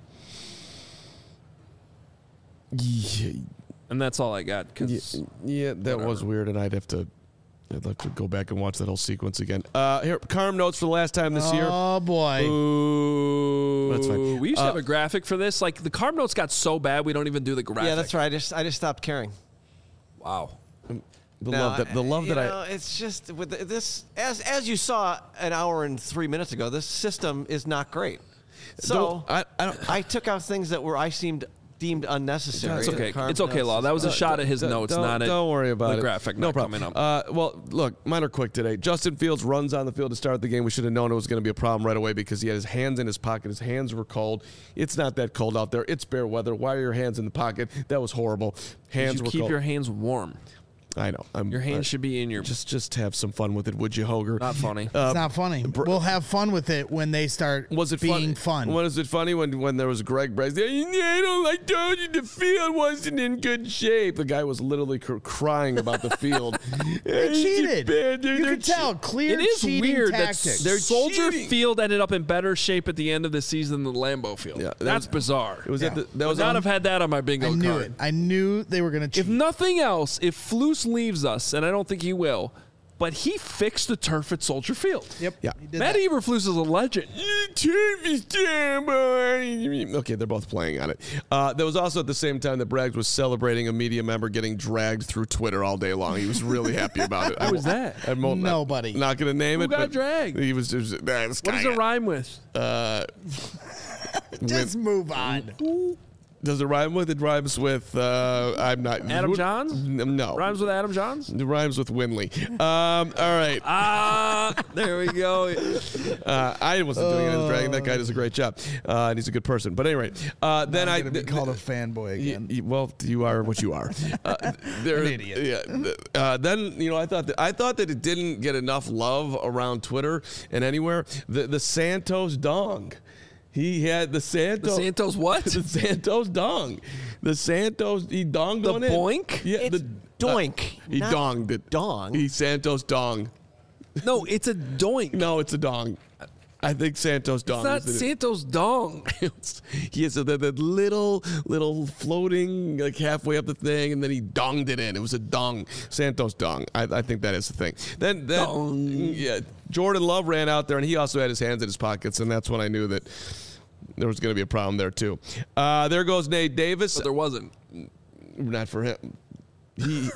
Yeah. And that's all I got. Yeah, that was weird, and I'd have to go back and watch that whole sequence again. Here, Carm notes for the last time this year. Oh, boy. Ooh. That's fine. We used to have a graphic for this. Like, the Carm notes got so bad, we don't even do the graphic. Yeah, that's right. I just stopped caring. Wow. The love that it's just with this, as you saw an hour and 3 minutes ago, this system is not great. So I took out things that I deemed unnecessary. It's okay. It's okay, Law. That was a shot at his notes, not at don't worry about the it. graphic. No problem. Coming up. Well, look, mine are quick today. Justin Fields runs on the field to start the game. We should have known it was going to be a problem right away because he had his hands in his pocket. His hands were cold. It's not that cold out there. It's bear weather. Why are your hands in the pocket? That was horrible. Hands were cold. Keep your hands warm. I know. Your hands should be in your... Just have some fun with it, would you, Hoger? Not funny. It's not funny. We'll have fun with it when they start being fun. Was it funny when there was Greg Braggs? I told you the field wasn't in good shape. The guy was literally crying about the field. They cheated. You can tell. Clear It is weird tactics. that Soldier Field ended up in better shape at the end of the season than the Lambeau Field. Yeah, that's bizarre. It was I would not have had that on my bingo card. It. I knew they were going to cheat. If nothing else, if Flus leaves us, and I don't think he will, but he fixed the turf at Soldier Field. Yep. Yeah. Matt Eberflus is a legend. Turf is terrible. Okay, they're both playing on it. There was also at the same time that Braggs was celebrating a media member getting dragged through Twitter all day long. He was really happy about it. Who was that? Nobody. Not going to name Who it. got but dragged? He was just. What does it rhyme with? Just move on. Does it rhyme with? It rhymes with, I'm not. Adam Johns? No. Rhymes with Adam Johns? It rhymes with Winley. All right. There we go. I wasn't doing it as dragging. That guy does a great job. And he's a good person. But anyway, then I'm going to be called a fanboy again. Well, you are what you are. An idiot. Yeah. Then, I thought that it didn't get enough love around Twitter and anywhere. The Santos dong. He had the Santos. The Santos what? The Santos dong. The Santos, he donged on it. The boink? Yeah, it's doink. He donged it. Dong? He Santos dong. No, it's a doink. No, it's a dong. I think Santos dong. It's not Santos dong. He has that little floating, like halfway up the thing, and then he donged it in. It was a dong. Santos dong. I think that is the thing. Then yeah, Jordan Love ran out there, and he also had his hands in his pockets, and that's when I knew that there was going to be a problem there too. There goes Nate Davis. But there wasn't. Not for him. He.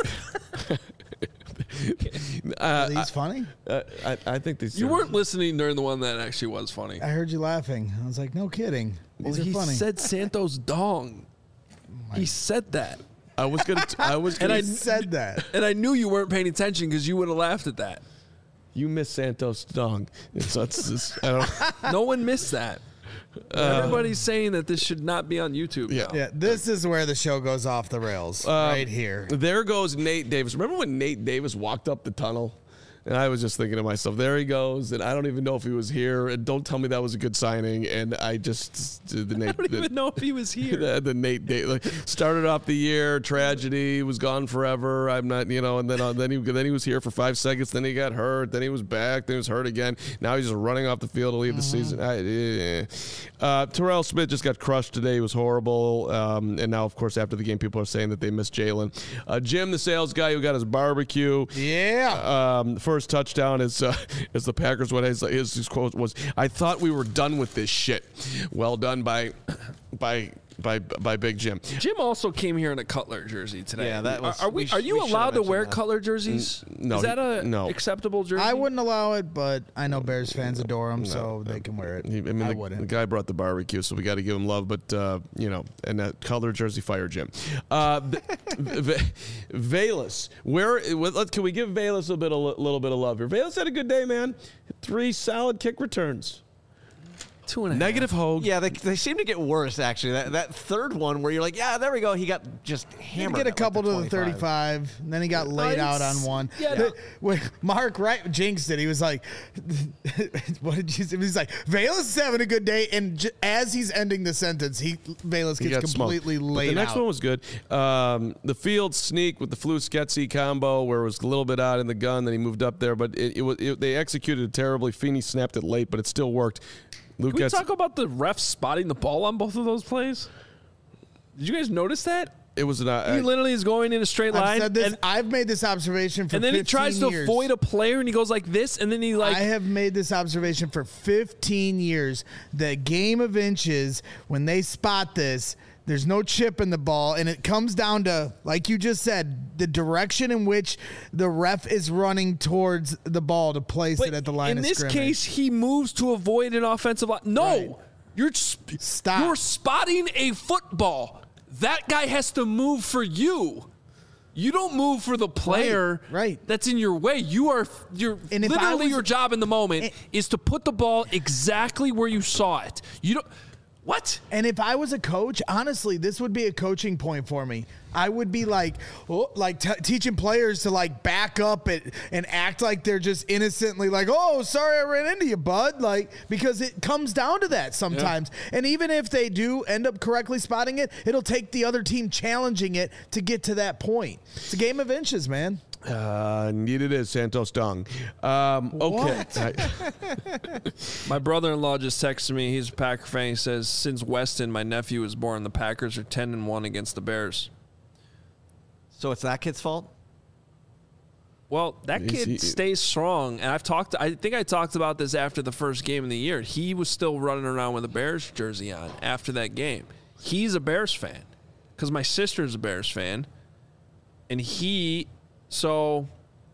He's funny? I think these. You weren't listening during the one that actually was funny. I heard you laughing. I was like, no kidding. These are he funny. said Santos dong. He said that. I was gonna. I said that, and I knew you weren't paying attention because you would have laughed at that. You missed Santos dong. I don't. No one missed that. Everybody's saying that this should not be on YouTube. Yeah. This is where the show goes off the rails. Right here. There goes Nate Davis. Remember when Nate Davis walked up the tunnel? And I was just thinking to myself, there he goes. And I don't even know if he was here. And don't tell me that was a good signing. And I just I don't even know if he was here. The Nate Davis started off the year tragedy, was gone forever. I'm not, and then he was here for 5 seconds. Then he got hurt. Then he was back. Then he was hurt again. Now he's just running off the field to leave the season. Terrell Smith just got crushed today. He was horrible. And now, of course, after the game, people are saying that they miss Jalen. Jim, the sales guy who got his barbecue. Yeah. First touchdown as the Packers went. His quote was, "I thought we were done with this shit." Well done by Big Jim. Jim also came here in a Cutler jersey today. Yeah, that was. Are you allowed to wear Cutler jerseys? No. Is that acceptable jersey? I wouldn't allow it, but I know Bears fans adore him, so they can wear it. I wouldn't. The guy brought the barbecue, so we got to give him love. But and that Cutler jersey, fire Jim. Velus, can we give Velus a little bit of love here? Velus had a good day, man. 3 solid kick returns. 2.5. Negative Hogue. Yeah, they seem to get worse, actually. That third one where you're like, yeah, there we go. He got just hammered. He get a couple to the 35, and then he got laid out on one. Yeah, Mark jinxed it. He was like, what did you say? He's like, Velus is having a good day, and as he's ending the sentence, Velus gets completely laid out. The next one was good. The field sneak with the Flus-Getsy combo where it was a little bit out in the gun, then he moved up there, but they executed it terribly. Feeney snapped it late, but it still worked. Can we talk about the refs spotting the ball on both of those plays? Did you guys notice that? It was he literally is going in a straight line. I've made this observation for 15 years. And then he tries to avoid a player, and he goes like this, and then he I have made this observation for 15 years. The game of inches, when they spot this, There's no chip in the ball, and it comes down to, like you just said, the direction in which the ref is running towards the ball to place it at the line of scrimmage. In this case, he moves to avoid an offensive line. No, right. You're spotting a football. That guy has to move for you. You don't move for the player that's in your way. You're literally your job in the moment is to put the ball exactly where you saw it. You don't. What? And if I was a coach, honestly, this would be a coaching point for me. I would be teaching players to back up and act like they're just innocently sorry I ran into you, bud. Because it comes down to that sometimes. Yeah. And even if they do end up correctly spotting it, it'll take the other team challenging it to get to that point. It's a game of inches, man. Indeed it is, Santos Dung. Okay. My brother-in-law just texted me. He's a Packer fan. He says, since Weston, my nephew, was born, the Packers are 10-1 against the Bears. So it's that kid's fault? Well, that kid stays strong. And I think I talked about this after the first game of the year. He was still running around with a Bears jersey on after that game. He's a Bears fan because my sister's a Bears fan. And so,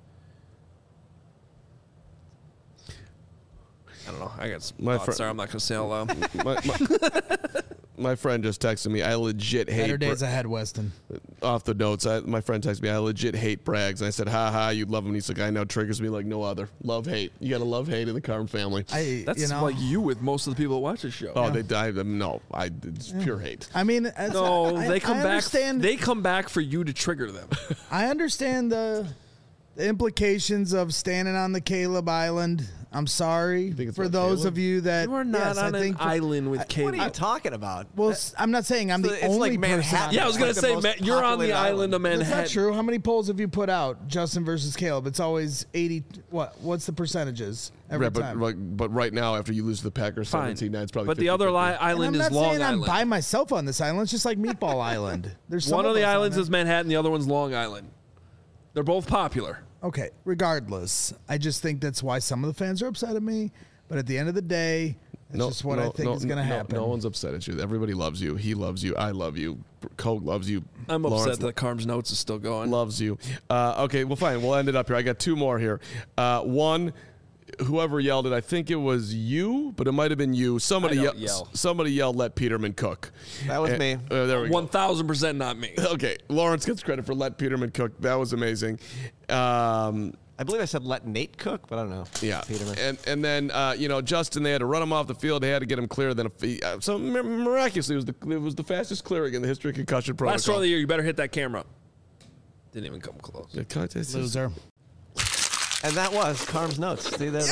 I don't know. I got some thoughts there. I'm not going to say out loud. My friend just texted me. I legit hate. Better days ahead, Weston. Off the notes, my friend texted me. I legit hate Braggs. And I said, "Ha ha, you'd love him." He's like, "I know." Triggers me like no other. Love hate. You got to love hate in the Carm family. That's like you with most of the people that watch the show. Oh, they died. No, it's pure hate. I mean, they come back. They come back for you to trigger them. I understand the implications of standing on the Caleb Island. I'm sorry for those of you that you are not on an island with Caleb. What are you talking about? Well, I'm not saying I'm the only person. Yeah, I was going to say you're on the island of Manhattan. That's not true. How many polls have you put out, Justin versus Caleb? It's always 80. What's the percentages every time? But right now, after you lose to the Packers 17-9, it's probably. But the other island is Long Island. I'm by myself on this island. It's just like Meatball Island. There's one of the islands is Manhattan. The other one's Long Island. They're both popular. Okay, regardless, I just think that's why some of the fans are upset at me. But at the end of the day, it's just what I think is going to happen. No one's upset at you. Everybody loves you. He loves you. I love you. Cole loves you. I'm upset that Carm's notes is still going. Loves you. Okay, well, fine. We'll end it up here. I got two more here. One, whoever yelled it, I think it was you, but it might have been you. Somebody yelled, "Let Peterman cook." That was me. There we go. 1,000% not me. Okay, Lawrence gets credit for "Let Peterman cook." That was amazing. I believe I said "Let Nate cook," but I don't know. Yeah, Peterman. And then Justin, they had to run him off the field. They had to get him clear. Then so miraculously, it was the fastest clearing in the history of concussion protocol. Last throw of the year. You better hit that camera. Didn't even come close. Loser. And that was Carm's notes. See there?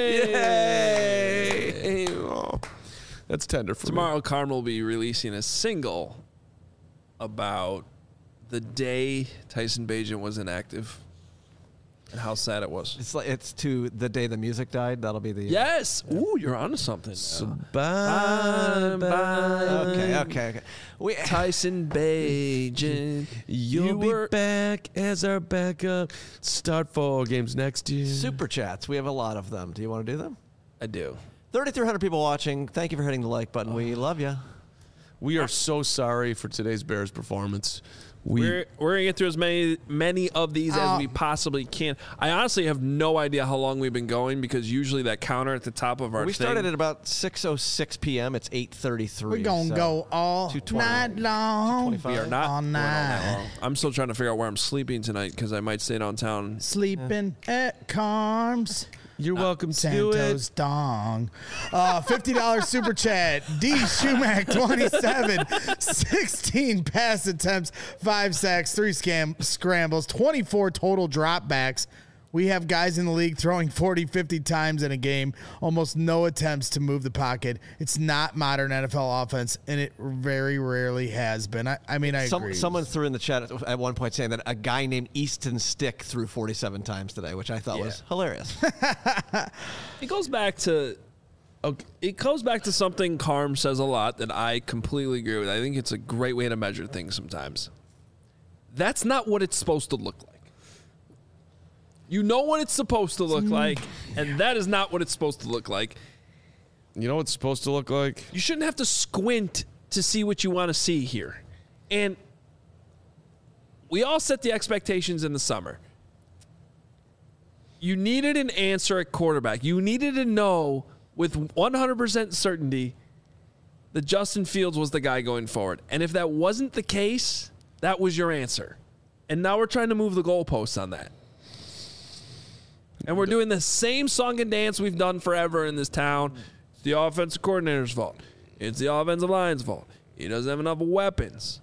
Yay! Oh, that's tender for Tomorrow, me. Carm will be releasing a single about the day Tyson Bagent was inactive and how sad it was. It's to the day the music died. That'll be the yes. Ooh, you're onto something. So bye. Okay. Tyson Bagent, you'll be back as our backup. Start 4 games next year. Super chats. We have a lot of them. Do you want to do them? I do. 3,300 people watching. Thank you for hitting the like button. We love you. We are so sorry for today's Bears performance. We're going to get through as many of these as we possibly can. I honestly have no idea how long we've been going because usually that counter at the top of our We started at about 6:06 p.m. It's 8:33. We're going to go all night long. We are not all night long. I'm still trying to figure out where I'm sleeping tonight because I might stay downtown. Sleeping at Carm's. You're welcome to do it. Santos Dong. $50 super chat. D. Shumack 27. 16 pass attempts, 5 sacks, 3 scrambles, 24 total dropbacks. We have guys in the league throwing 40, 50 times in a game. Almost no attempts to move the pocket. It's not modern NFL offense, and it very rarely has been. I agree. Someone threw in the chat at one point saying that a guy named Easton Stick threw 47 times today, which I thought was hilarious. It goes back to something Carm says a lot that I completely agree with. I think it's a great way to measure things sometimes. That's not what it's supposed to look like. You know what it's supposed to look like, and that is not what it's supposed to look like. You know what it's supposed to look like? You shouldn't have to squint to see what you want to see here. And we all set the expectations in the summer. You needed an answer at quarterback. You needed to know with 100% certainty that Justin Fields was the guy going forward. And if that wasn't the case, that was your answer. And now we're trying to move the goalposts on that. And we're doing the same song and dance we've done forever in this town. It's the offensive coordinator's fault. It's the offensive line's fault. He doesn't have enough weapons.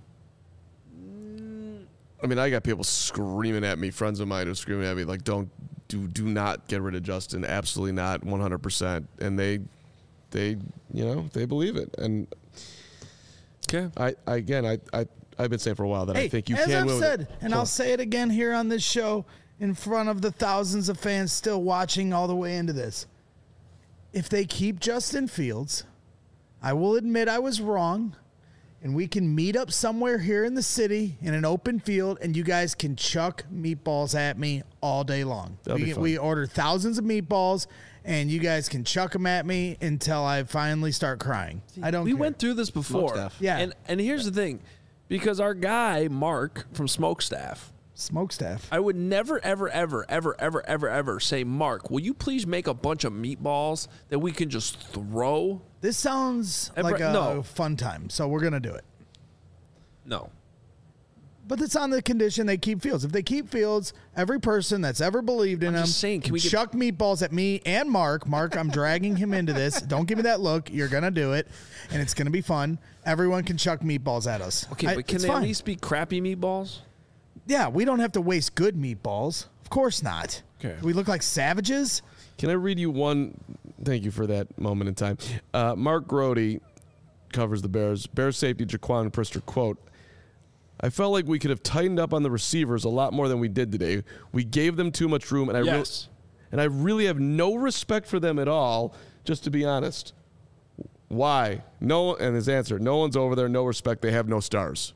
I mean, I got people screaming at me, friends of mine who are screaming at me, like, do not get rid of Justin. Absolutely not, 100%. And they believe it. And okay, I've been saying for a while that I think you can. As I've win said, and I'll say it again here on this show in front of the thousands of fans still watching all the way into this. If they keep Justin Fields, I will admit I was wrong. And we can meet up somewhere here in the city in an open field, and you guys can chuck meatballs at me all day long. We order thousands of meatballs, and you guys can chuck them at me until I finally start crying. I don't care. We went through this before. Yeah. And here's the thing. Because our guy, Mark, from Smokestaff, I would never, ever, ever, ever, ever, ever, ever say, Mark, will you please make a bunch of meatballs that we can just throw? This sounds like a fun time, so we're going to do it. No. But it's on the condition they keep Fields. If they keep Fields, every person that's ever believed in him can chuck meatballs at me and Mark. Mark, I'm dragging him into this. Don't give me that look. You're going to do it, and it's going to be fun. Everyone can chuck meatballs at us. Okay, but can they at least be crappy meatballs? Yeah, we don't have to waste good meatballs. Of course not. Okay. We look like savages. Can I read you one? Thank you for that moment in time. Mark Grody covers the Bears. Bears safety Jaquan Brisker, quote, I felt like we could have tightened up on the receivers a lot more than we did today. We gave them too much room, and I really have no respect for them at all, just to be honest. Why? No, and his answer, no one's over there, no respect, they have no stars.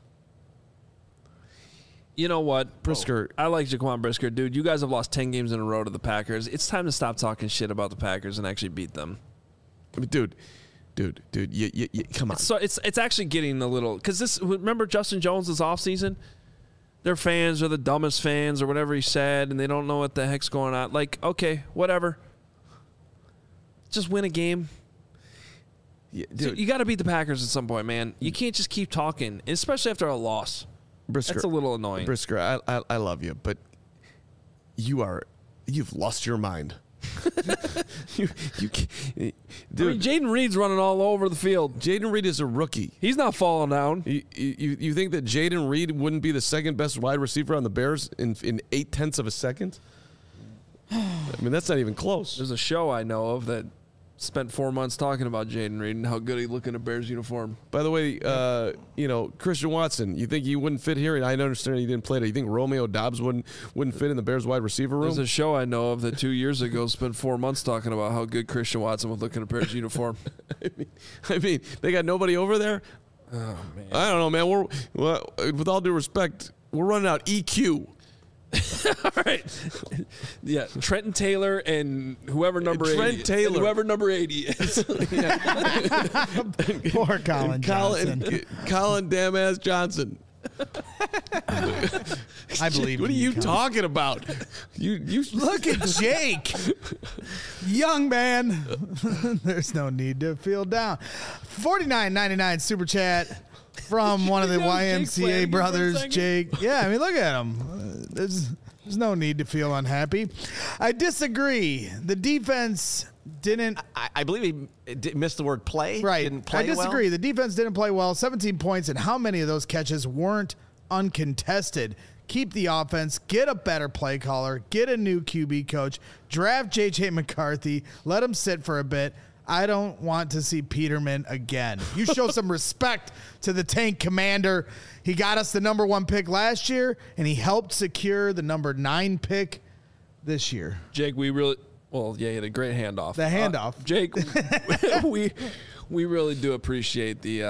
You know what, Brisker? I like Jaquan Brisker, dude. You guys have lost 10 games in a row to the Packers. It's time to stop talking shit about the Packers and actually beat them. I mean, dude, you come on. So it's actually getting a little because remember Justin Jones this offseason? Their fans are the dumbest fans or whatever he said, and they don't know what the heck's going on. Like, okay, whatever. Just win a game. Yeah, dude. So you got to beat the Packers at some point, man. You can't just keep talking, especially after a loss. Brisker, that's a little annoying. Brisker, I love you, but you've lost your mind. Dude, Jaden Reed's running all over the field. Jaden Reed is a rookie. He's not falling down. You think that Jaden Reed wouldn't be the second best wide receiver on the Bears in 0.8 of a second? I mean, that's not even close. There's a show I know of that spent 4 months talking about Jaden Reed and how good he looked in a Bears uniform. By the way, Christian Watson, you think he wouldn't fit here? And I understand he didn't play it. You think Romeo Doubs wouldn't fit in the Bears wide receiver room? There's a show I know of that 2 years ago spent 4 months talking about how good Christian Watson would look in a Bears uniform. I mean, they got nobody over there? Oh, man. I don't know, man. With all due respect, we're running out EQ. All right. Yeah, Trenton Taylor and whoever number 80 is. Poor Colin Johnson. Colin damn-ass Johnson. I believe. What are you talking about? You look at Jake, young man. There's no need to feel down. $49.99 super chat from one of the YMCA brothers, Jake. Yeah, I mean, look at him. There's no need to feel unhappy. I disagree. The defense didn't. I believe he missed the word play. Right. Didn't play I disagree. well. The defense didn't play well. 17 points, and how many of those catches weren't uncontested? Keep the offense. Get a better play caller. Get a new QB coach. Draft J.J. McCarthy. Let him sit for a bit. I don't want to see Peterman again. You show some respect to the Tank Commander. He got us the number 1 pick last year, and he helped secure the number 9 pick this year. Jake, he had a great handoff. The handoff. Jake, we really do appreciate the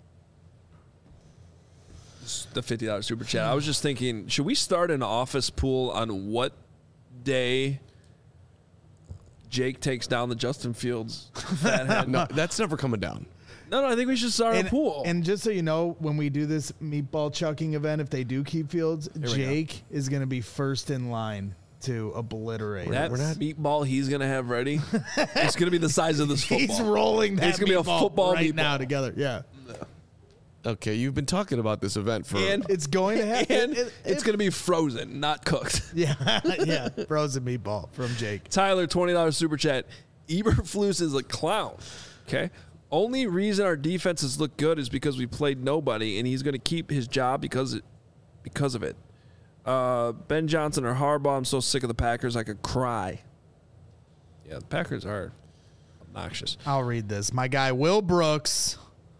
$50 super chat. I was just thinking, should we start an office pool on what day Jake takes down the Justin Fields fathead? No, that's never coming down. No, I think we should start a pool. And just so you know, when we do this meatball chucking event, if they do keep Fields, Jake is going to be first in line to obliterate. That meatball he's going to have ready, it's going to be the size of this football. He's rolling that It's going to be a football right meatball. now together. Yeah. Okay, you've been talking about this event for... And it's going to happen. It's going to be frozen, not cooked. Yeah, yeah. Frozen meatball from Jake. Tyler, $20 super chat. Eberflus is a clown. Okay. Only reason our defenses look good is because we played nobody, and he's going to keep his job because of it. Ben Johnson or Harbaugh, I'm so sick of the Packers, I could cry. Yeah, the Packers are obnoxious. I'll read this. My guy, Will Brooks,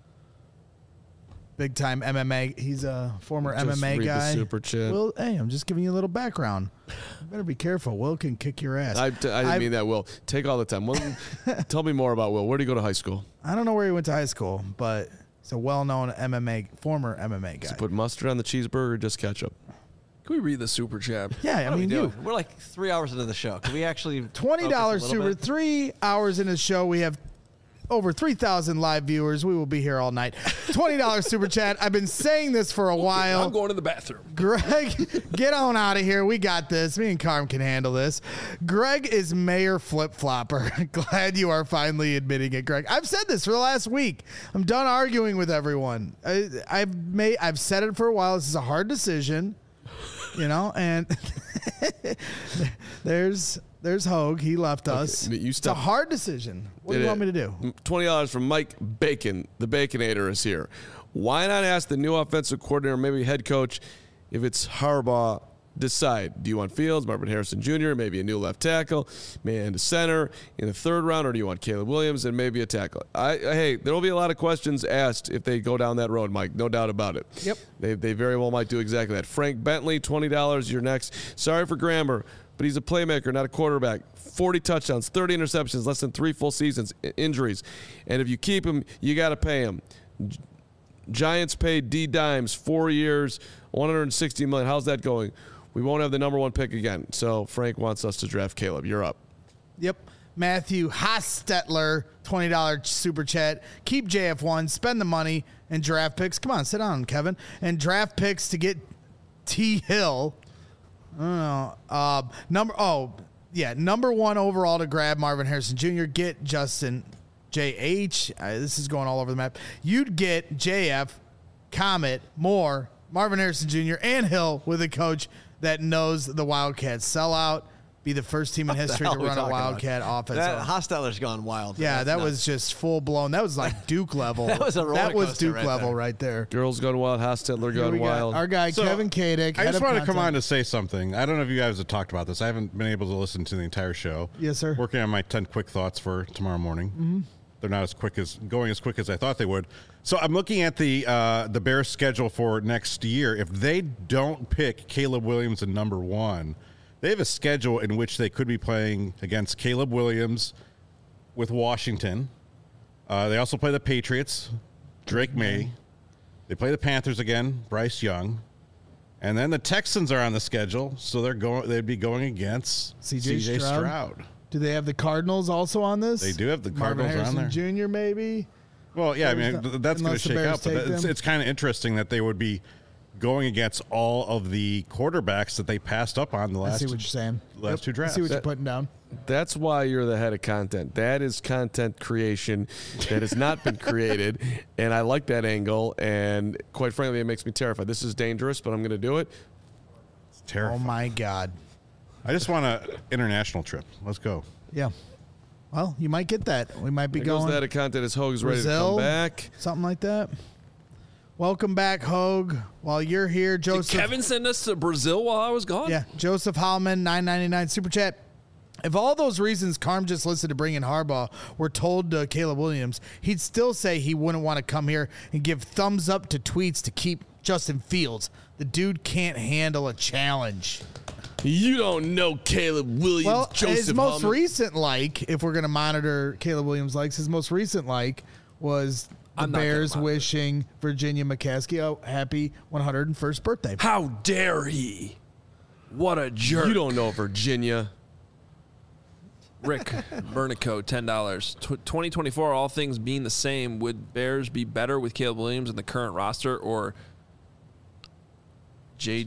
big time MMA. He's a former MMA guy. The super chat. Will, hey, I'm just giving you a little background. You better be careful. Will can kick your ass. I didn't mean that, Will. Take all the time. Will, tell me more about Will. Where did he go to high school? I don't know where he went to high school, but he's a well-known former MMA guy. Does he put mustard on the cheeseburger or just ketchup? Can we read the super chat? Yeah, I mean, we're like 3 hours into the show. Can we actually $20 super? 3 hours into the show, we have over 3,000 live viewers. We will be here all night. $20 super chat. I've been saying this for a while. I'm going to the bathroom. Greg, get on out of here. We got this. Me and Carm can handle this. Greg is Mayor Flip-Flopper. Glad you are finally admitting it, Greg. I've said this for the last week. I'm done arguing with everyone. I've said it for a while. This is a hard decision, and there's Hogue. He left us. It's a hard decision. What do you want me to do? $20 from Mike Bacon. The Baconator is here. Why not ask the new offensive coordinator, maybe head coach, if it's Harbaugh, decide. Do you want Fields, Marvin Harrison Jr., maybe a new left tackle, maybe a center in the third round, or do you want Caleb Williams and maybe a tackle? Hey, there will be a lot of questions asked if they go down that road, Mike. No doubt about it. Yep. They very well might do exactly that. Frank Bentley, $20. You're next. Sorry for grammar, but he's a playmaker, not a quarterback. 40 touchdowns, 30 interceptions, less than 3 full seasons, injuries. And if you keep him, you got to pay him. Giants paid D Dimes 4 years, $160 million. How's that going? We won't have the number 1 pick again. So Frank wants us to draft Caleb. You're up. Yep. Matthew Hostetler, $20 super chat. Keep JF1, spend the money, and draft picks. Come on, sit down, Kevin. And draft picks to get T. Hill. Number 1 overall to grab Marvin Harrison Jr. Get Justin J.H. This is going all over the map. You'd get JF, Comet, Moore, Marvin Harrison Jr., and Hill with a coach that knows the Wildcats. Sell out. Be the first team in history to run a Wildcat offense. That Hostetler's gone wild. Yeah, that was just full blown. That was like Duke level. That was a roller coaster Duke level right there. Girls gone wild. Hostetler gone wild. Our guy Kevin Kadick. I just want to come on to say something. I don't know if you guys have talked about this. I haven't been able to listen to the entire show. Yes, sir. Working on my 10 quick thoughts for tomorrow morning. Mm-hmm. They're not going as quick as I thought they would. So I'm looking at the Bears' schedule for next year. If they don't pick Caleb Williams in number 1, they have a schedule in which they could be playing against Caleb Williams with Washington. They also play the Patriots, Drake May. They play the Panthers again, Bryce Young. And then the Texans are on the schedule, so they'd be going against C.J. Stroud. Do they have the Cardinals also on this? They do have the Cardinals on there. Jr. maybe? Well, yeah, I mean, that's going to shake out. But it's kind of interesting that they would be going against all of the quarterbacks that they passed up on the last. I see what you're saying. Last 2 drafts. I see what you're putting down. That's why you're the head of content. That is content creation that has not been created, and I like that angle. And quite frankly, it makes me terrified. This is dangerous, but I'm going to do it. It's terrifying. Oh my God! I just want an international trip. Let's go. Yeah. Well, you might get that. We might be going. That content is Hogue's ready to come back. Something like that. Welcome back, Hogue. While you're here, Joseph. Did Kevin send us to Brazil while I was gone? Yeah. Joseph Hallman, $9.99 super chat. If all those reasons Carm just listed to bring in Harbaugh were told to Caleb Williams, he'd still say he wouldn't want to come here and give thumbs up to tweets to keep Justin Fields. The dude can't handle a challenge. You don't know Caleb Williams, well, Joseph his most Hallman. recent if we're going to monitor Caleb Williams likes, his most recent was the Bears wishing Virginia McCaskey a happy 101st birthday. How dare he? What a jerk. You don't know Virginia. Rick Bernico, $10. 2024, all things being the same, would Bears be better with Caleb Williams in the current roster or JW?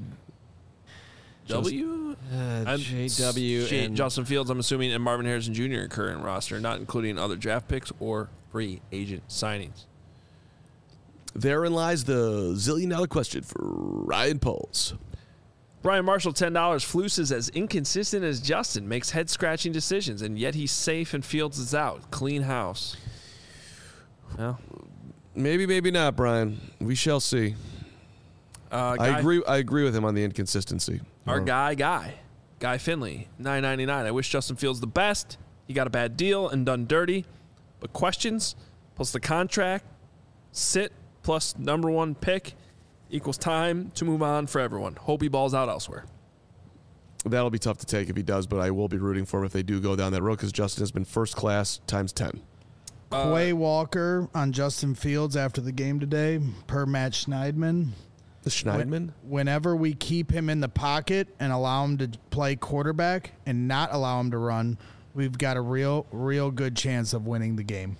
JW and Justin Fields, I'm assuming, and Marvin Harrison Jr. in current roster, not including other draft picks or free agent signings. Therein lies the zillion-dollar question for Ryan Poles. Brian Marshall, $10. Flus is as inconsistent as Justin, makes head-scratching decisions, and yet he's safe and Fields is out. Clean house. Well, maybe, maybe not, Brian. We shall see. I agree with him on the inconsistency. Our Guy Finley, $9.99. I wish Justin Fields the best. He got a bad deal and done dirty, but questions plus the contract, sit plus number one pick equals time to move on for everyone. Hope he balls out elsewhere. That'll be tough to take if he does, but I will be rooting for him if they do go down that road because Justin has been first class times 10. Quay Walker on Justin Fields after the game today, per Matt Schneidman. The Schneidman? Whenever we keep him in the pocket and allow him to play quarterback and not allow him to run, we've got a real good chance of winning the game.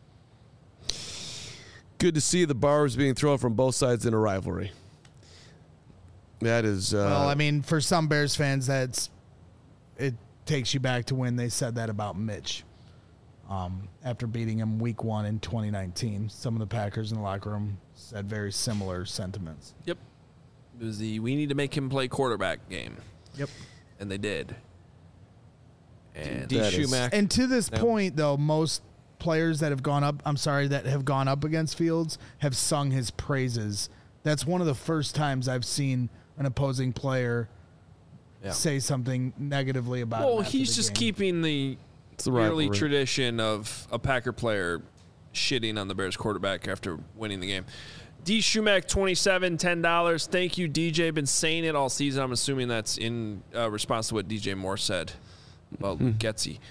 Good to see the bars being thrown from both sides in a rivalry. That is... well, I mean, for some Bears fans, it takes you back to when they said that about Mitch. After beating him week 1 in 2019, some of the Packers in the locker room said very similar sentiments. Yep. It was we need to make him play quarterback game. Yep. And they did. And And to this point, though, most players that have gone up, that have gone up against Fields have sung his praises. That's one of the first times I've seen an opposing player say something negatively about him. Well, he's just keeping the yearly tradition of a Packer player shitting on the Bears quarterback after winning the game. D. Shumack, $27, $10. Thank you, DJ. Been saying it all season. I'm assuming that's in response to what DJ Moore said about Luke Getsy.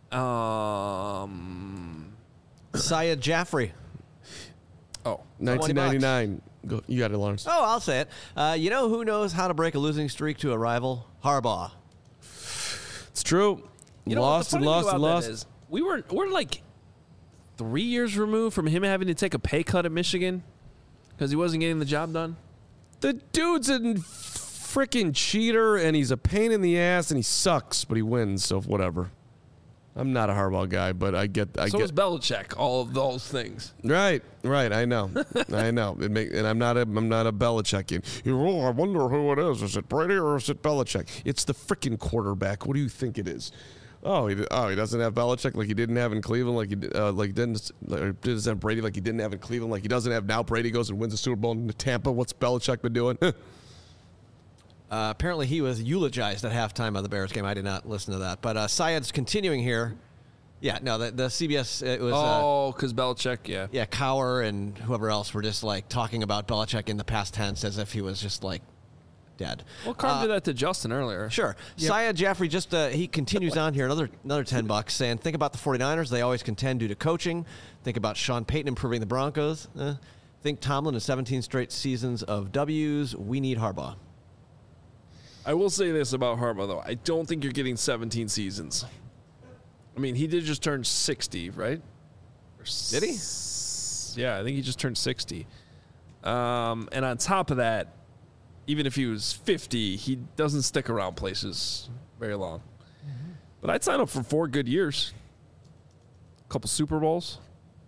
Syed Jaffrey. Oh, 1999. Go, you got it, Lawrence. Oh, I'll say it. You know who knows how to break a losing streak to a rival? Harbaugh. It's true. You know, lost. We're like 3 years removed from him having to take a pay cut at Michigan because he wasn't getting the job done. The dude's a freaking cheater, and he's a pain in the ass, and he sucks, but he wins, so whatever. I'm not a Harbaugh guy, but I get. So is Belichick. All of those things. Right. I know. And I'm not a Belichickian. I wonder who it is. Is it Brady or is it Belichick? It's the freaking quarterback. What do you think it is? He doesn't have Belichick like he didn't have in Cleveland, doesn't have Brady like he didn't have in Cleveland, like he doesn't have now. Brady goes and wins the Super Bowl in Tampa. What's Belichick been doing? Apparently he was eulogized at halftime of the Bears game. I did not listen to that. But Syed's continuing here. Yeah, no, the CBS, it was... because Belichick, yeah. Yeah, Cowher and whoever else were just, talking about Belichick in the past tense as if he was just, dead. Well, Carm did that to Justin earlier. Sure. Yep. Syed Jaffrey he continues on here, another $10, saying, think about the 49ers. They always contend due to coaching. Think about Sean Payton improving the Broncos. Think Tomlin has 17 straight seasons of W's. We need Harbaugh. I will say this about Harbaugh, though. I don't think you're getting 17 seasons. I mean, he did just turn 60, right? Did he? Yeah, I think he just turned 60. And on top of that, even if he was 50, he doesn't stick around places very long. Mm-hmm. But I'd sign up for 4 good years. A couple Super Bowls.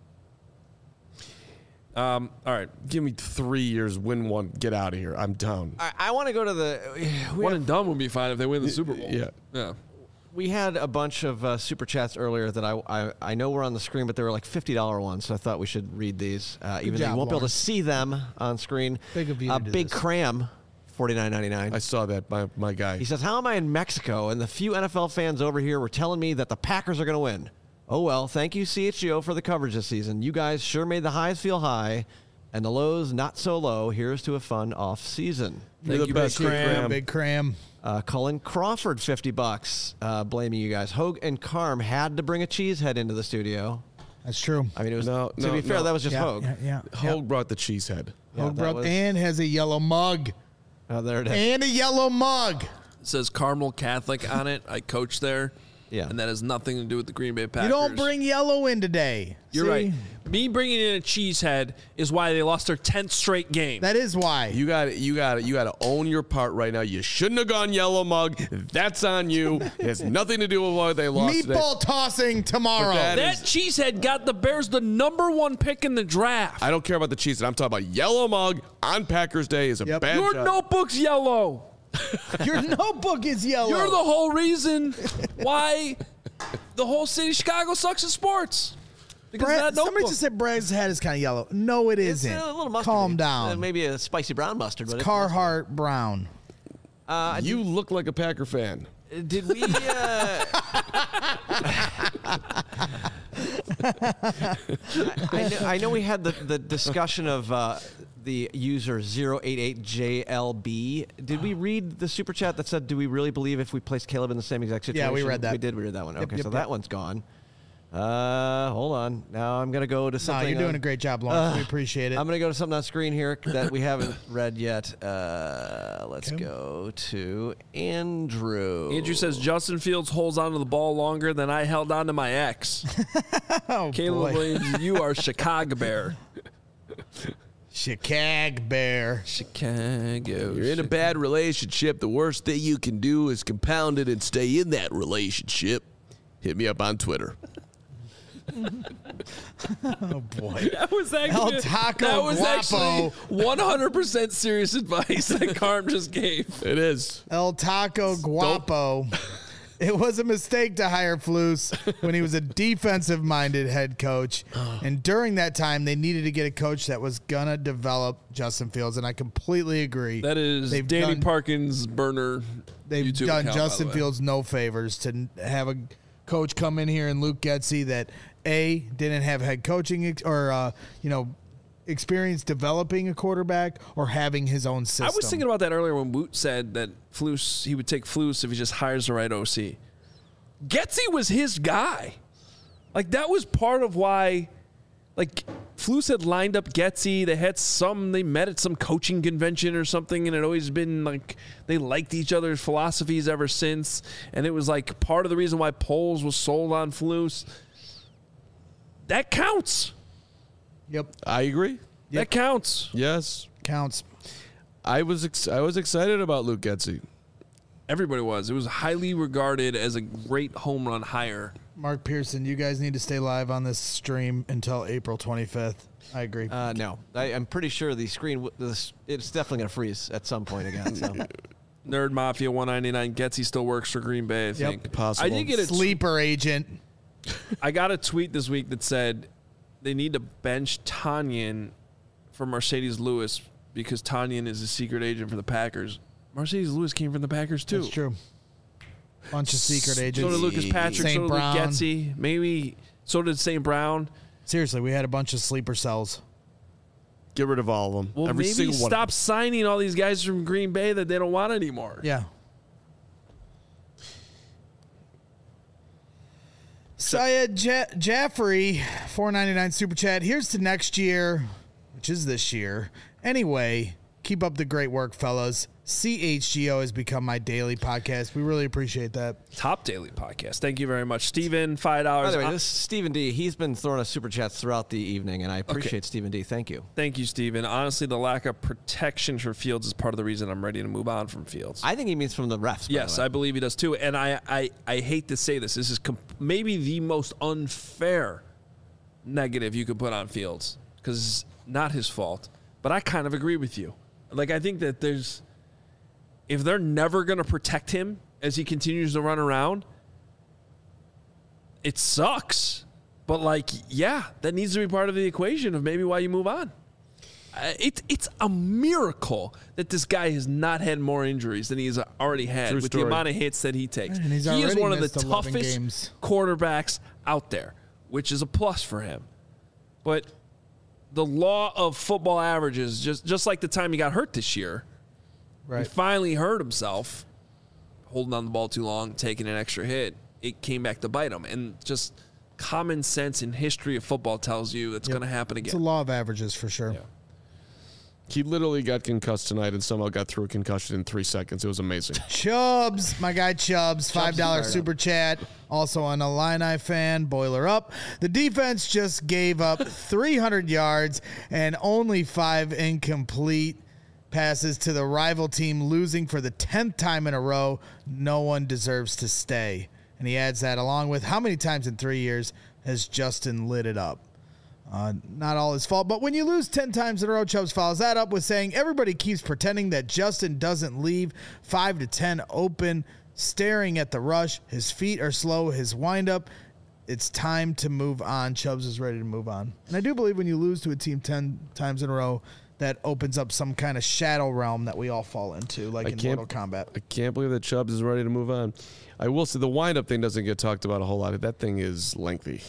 All right. Give me 3 years, win one, get out of here. I'm down. I want to go to the... One and done would be fine if they win the Super Bowl. Yeah. We had a bunch of Super Chats earlier that I know were on the screen, but they were like $50 ones, so I thought we should read these. Even though you won't be able to see them on screen. Big Cram, $49.99. I saw that, my guy. He says, how am I in Mexico? And the few NFL fans over here were telling me that the Packers are going to win. Oh, well, thank you, CHGO, for the coverage this season. You guys sure made the highs feel high and the lows not so low. Here's to a fun off season. Thank you, Big Cram. Big Cram. Cullen Crawford, $50, blaming you guys. Hogue and Carm had to bring a cheesehead into the studio. That's true. I mean, it was to be fair, that was just Hogue. Yeah. Hogue brought the cheesehead. And has a yellow mug. Oh, there it is. And a yellow mug. It says Carmel Catholic on it. I coach there. Yeah. And that has nothing to do with the Green Bay Packers. You don't bring yellow in today. You're See? right. Me bringing in a cheesehead is why they lost their 10th straight game. That is why. You got to own your part right now. You shouldn't have gone yellow mug. That's on you. It has nothing to do with why they lost. Meatball tossing tomorrow. That cheesehead got the Bears the #1 pick in the draft. I don't care about the cheesehead. I'm talking about yellow mug on Packers Day is a bad Your job. notebook's yellow. Your notebook is yellow. You're the whole reason why the whole city of Chicago sucks at sports. Because of that somebody notebook. just said Bragg's hat is kind of yellow. No, it It's isn't. a little mustard. Calm down. Maybe a spicy brown mustard. But Carhartt brown. You look like a Packer fan. Did we? I know we had the discussion of the user 088JLB. Did we read the super chat that said, "Do we really believe if we placed Caleb in the same exact situation?" Yeah, we read that. We did. We read that one. Yep, Okay, yep, so yep. that one's gone. Hold on. Now I'm gonna go to something. You're doing a great job, Lawrence. We appreciate it. I'm gonna go to something on screen here that we haven't read yet. Let's go to Andrew. Andrew says Justin Fields holds onto the ball longer than I held on to my ex. Oh, Caleb boy. Williams, you are Chicago Bear. Chicago Bear. Chicago. You're in a bad relationship. The worst thing you can do is compound it and stay in that relationship. Hit me up on Twitter. Oh boy. That was El Taco Guapo. 100% serious advice that Carm just gave. It is. El Taco Guapo. It was a mistake to hire Flus when he was a defensive-minded head coach. And during that time, they needed to get a coach that was going to develop Justin Fields, and I completely agree. That is Danny Parkins' burner. They've YouTube done account, Justin by the way. Fields no favors to have a coach come in here and Luke Getsy that, A, didn't have head coaching experience developing a quarterback or having his own system. I was thinking about that earlier when Woot said that Flus, he would take Flus if he just hires the right OC. Getsy was his guy. Like, that was part of why, like, Flus had lined up Getsy. They met at some coaching convention or something, and it always been like they liked each other's philosophies ever since. And it was like part of the reason why Poles was sold on Flus. That counts. Yep. I agree. That counts. Yes. Counts. I was excited about Luke Getsy. Everybody was. It was highly regarded as a great home run hire. Mark Pearson, you guys need to stay live on this stream until April 25th. I agree. No, I'm pretty sure the screen. It's definitely going to freeze at some point again. So. Nerd Mafia 199. Getsy still works for Green Bay, I think. Possible. I did get a Sleeper agent. I got a tweet this week that said they need to bench Tanyan for Mercedes Lewis because Tanyan is a secret agent for the Packers. Mercedes Lewis came from the Packers too. That's true. Bunch of secret agents. So did Lucas Patrick. St. So did Brown. Luke Getsy. Maybe so did St. Brown. Seriously, we had a bunch of sleeper cells. Get rid of all of them. Well, Every maybe single one. stop signing all these guys from Green Bay that they don't want anymore. Yeah. Syed Jaffrey, $4.99 super chat. Here's to next year, which is this year. Anyway, keep up the great work, fellas. CHGO has become my daily podcast. We really appreciate that. Top daily podcast. Thank you very much, Steven. $5. By the way, this is Stephen D. He's been throwing us super chats throughout the evening, and I appreciate Stephen D. Thank you. Thank you, Steven. Honestly, the lack of protection for Fields is part of the reason I'm ready to move on from Fields. I think he means from the refs. Yes, I believe he does too. And I hate to say this. This is maybe the most unfair negative you could put on Fields because it's not his fault. But I kind of agree with you. Like, I think that if they're never going to protect him as he continues to run around, it sucks. But, like, yeah, that needs to be part of the equation of maybe why you move on. It's a miracle that this guy has not had more injuries than he's already had with the amount of hits that he takes. And he's He is already one of the missed 11 toughest games. quarterbacks out there, which is a plus for him. But the law of football averages, just like the time he got hurt this year, Right. he finally hurt himself, holding on the ball too long, taking an extra hit. It came back to bite him. And just common sense in history of football tells you it's going to happen It's again. a law of averages for sure. Yeah. He literally got concussed tonight and somehow got through a concussion in 3 seconds. It was amazing. Chubbs, my guy Chubbs, $5 super chat. Also an Illini fan, boiler up. The defense just gave up 300 yards and only 5 incomplete passes to the rival team, losing for the 10th time in a row. No one deserves to stay. And he adds that along with how many times in 3 years has Justin lit it up? Not all his fault, but when you lose 10 times in a row, Chubbs follows that up with saying everybody keeps pretending that Justin doesn't leave 5 to 10 open, staring at the rush. His feet are slow, his windup. It's time to move on. Chubbs is ready to move on. And I do believe when you lose to a team 10 times in a row, that opens up some kind of shadow realm that we all fall into, like in Mortal Kombat. I can't believe that Chubbs is ready to move on. I will say the windup thing doesn't get talked about a whole lot. That thing is lengthy.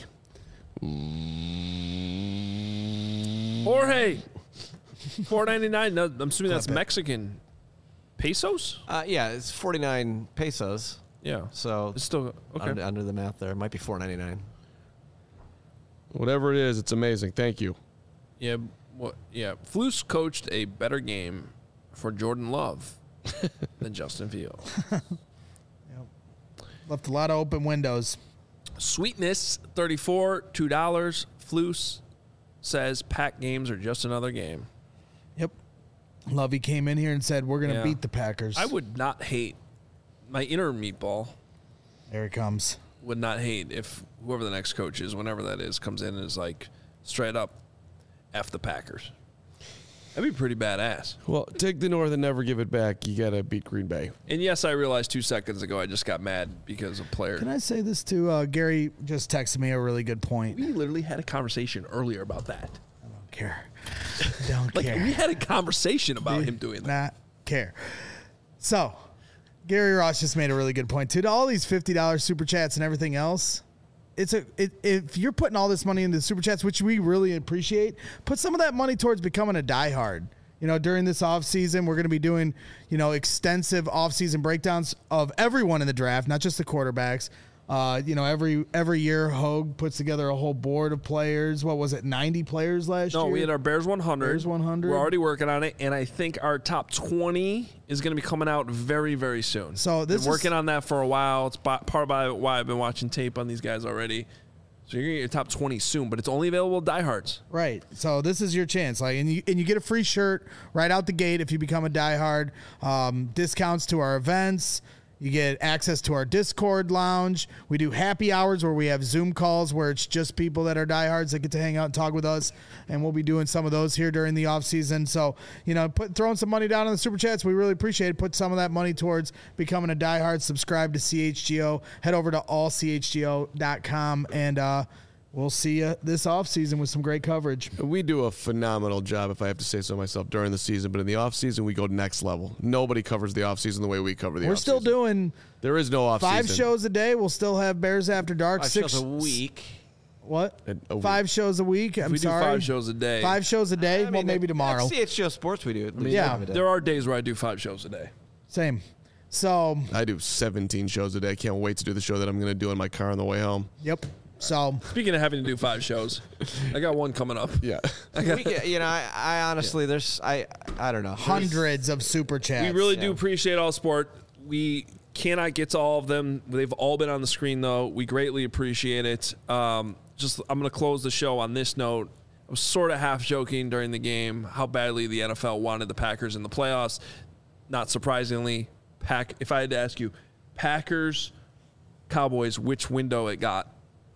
Jorge, $4.99. No, I'm assuming that's Mexican pesos. Yeah, it's 49 pesos. Yeah, so it's still okay. Under the math there, it might be $4.99. Whatever it is, it's amazing. Thank you. Yeah, Flus coached a better game for Jordan Love than Justin Fields. Left a lot of open windows. Sweetness, $34, $2. Flus says Pack games are just another game. Yep. Lovey came in here and said, we're going to beat the Packers. I would not hate my inner meatball. There he comes. Would not hate if whoever the next coach is, whenever that is, comes in and is like straight up F the Packers. That'd be pretty badass. Well, take the North and never give it back. You got to beat Green Bay. And yes, I realized 2 seconds ago I just got mad because of player. Can I say this too? Gary just texted me a really good point. We literally had a conversation earlier about that. I don't care. Don't care. We had a conversation about him doing that. Not care. So, Gary Ross just made a really good point too. To all these $50 super chats and everything else, if you're putting all this money into the super chats, which we really appreciate, put some of that money towards becoming a diehard. During this offseason, we're going to be doing, extensive offseason breakdowns of everyone in the draft, not just the quarterbacks. Every year, Hogue puts together a whole board of players. What was it, 90 players last year? No, we had our Bears 100. Bears 100. We're already working on it, and I think our top 20 is going to be coming out very, very soon. So this been working on that for a while. It's part of why I've been watching tape on these guys already. So you're going to get your top 20 soon, but it's only available to diehards. Right. So this is your chance. And you get a free shirt right out the gate if you become a diehard. Discounts to our events. You get access to our Discord lounge. We do happy hours where we have Zoom calls where it's just people that are diehards that get to hang out and talk with us. And we'll be doing some of those here during the off season. So, throwing some money down on the super chats, we really appreciate it. Put some of that money towards becoming a diehard. Subscribe to CHGO. Head over to allchgo.com and we'll see you this offseason with some great coverage. We do a phenomenal job, if I have to say so myself, during the season. But in the offseason, we go next level. Nobody covers the offseason the way we cover the offseason. We're still doing... There is no offseason. 5 shows a day. We'll still have Bears After Dark. 5 shows a week. What? 5 shows a week? We do 5 shows a day. 5 shows a day? Well, maybe tomorrow. CHGO Sports we do. There are days where I do 5 shows a day. Same. So... I do 17 shows a day. I can't wait to do the show that I'm going to do in my car on the way home. Yep. So speaking of having to do 5 shows, I got one coming up. Yeah, I honestly, I don't know, hundreds of super chats. We really do appreciate all support. We cannot get to all of them. They've all been on the screen though. We greatly appreciate it. I'm going to close the show on this note. I was sort of half joking during the game how badly the NFL wanted the Packers in the playoffs. Not surprisingly, if I had to ask you, Packers, Cowboys, which window it got?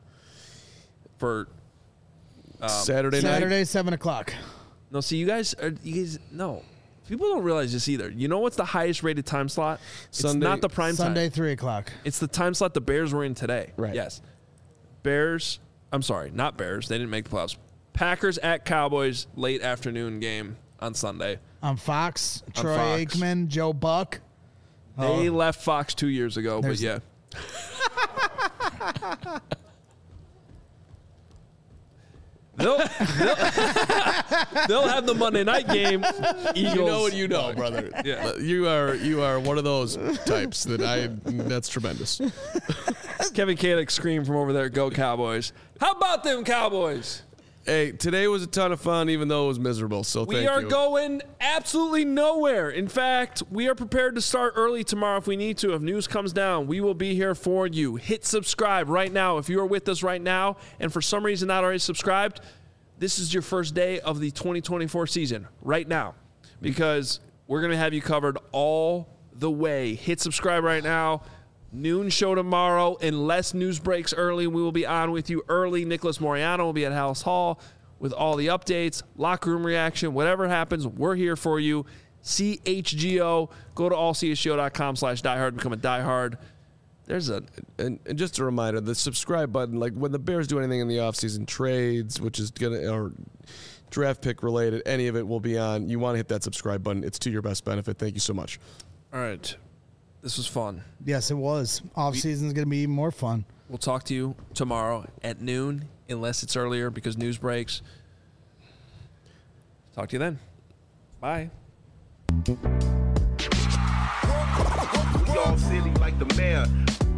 For Saturday night? Saturday, 7 o'clock. No, see, you guys, no. People don't realize this either. You know what's the highest rated time slot? Sunday, it's not the prime time. Sunday, 3 o'clock. It's the time slot the Bears were in today. Right. Yes. Bears, I'm sorry, not Bears. They didn't make the playoffs. Packers at Cowboys, late afternoon game on Sunday. On Fox, Troy Aikman, Joe Buck. They left Fox 2 years ago, but yeah. They'll have the Monday night game. Eagles. You know what you know, brother. Yeah. You are one of those types that's tremendous. Kevin Kalick screamed from over there, "Go Cowboys." How about them Cowboys? Hey, today was a ton of fun, even though it was miserable. So thank you. We are going absolutely nowhere. In fact, we are prepared to start early tomorrow if we need to. If news comes down, we will be here for you. Hit subscribe right now. If you are with us right now and for some reason not already subscribed, this is your first day of the 2024 season right now, because we're going to have you covered all the way. Hit subscribe right now. Noon show tomorrow. Unless news breaks early, we will be on with you early. Nicholas Moriano will be at House Hall with all the updates, locker room reaction, whatever happens, we're here for you. CHGO. Go to allchgo.com/diehard. Become a diehard. And just a reminder, the subscribe button, like when the Bears do anything in the offseason, trades, which is or draft pick related, any of it will be on. You want to hit that subscribe button. It's to your best benefit. Thank you so much. All right. This was fun. Yes, it was. Off season is going to be even more fun. We'll talk to you tomorrow at noon, unless it's earlier because news breaks. Talk to you then. Bye. We all silly like the mayor.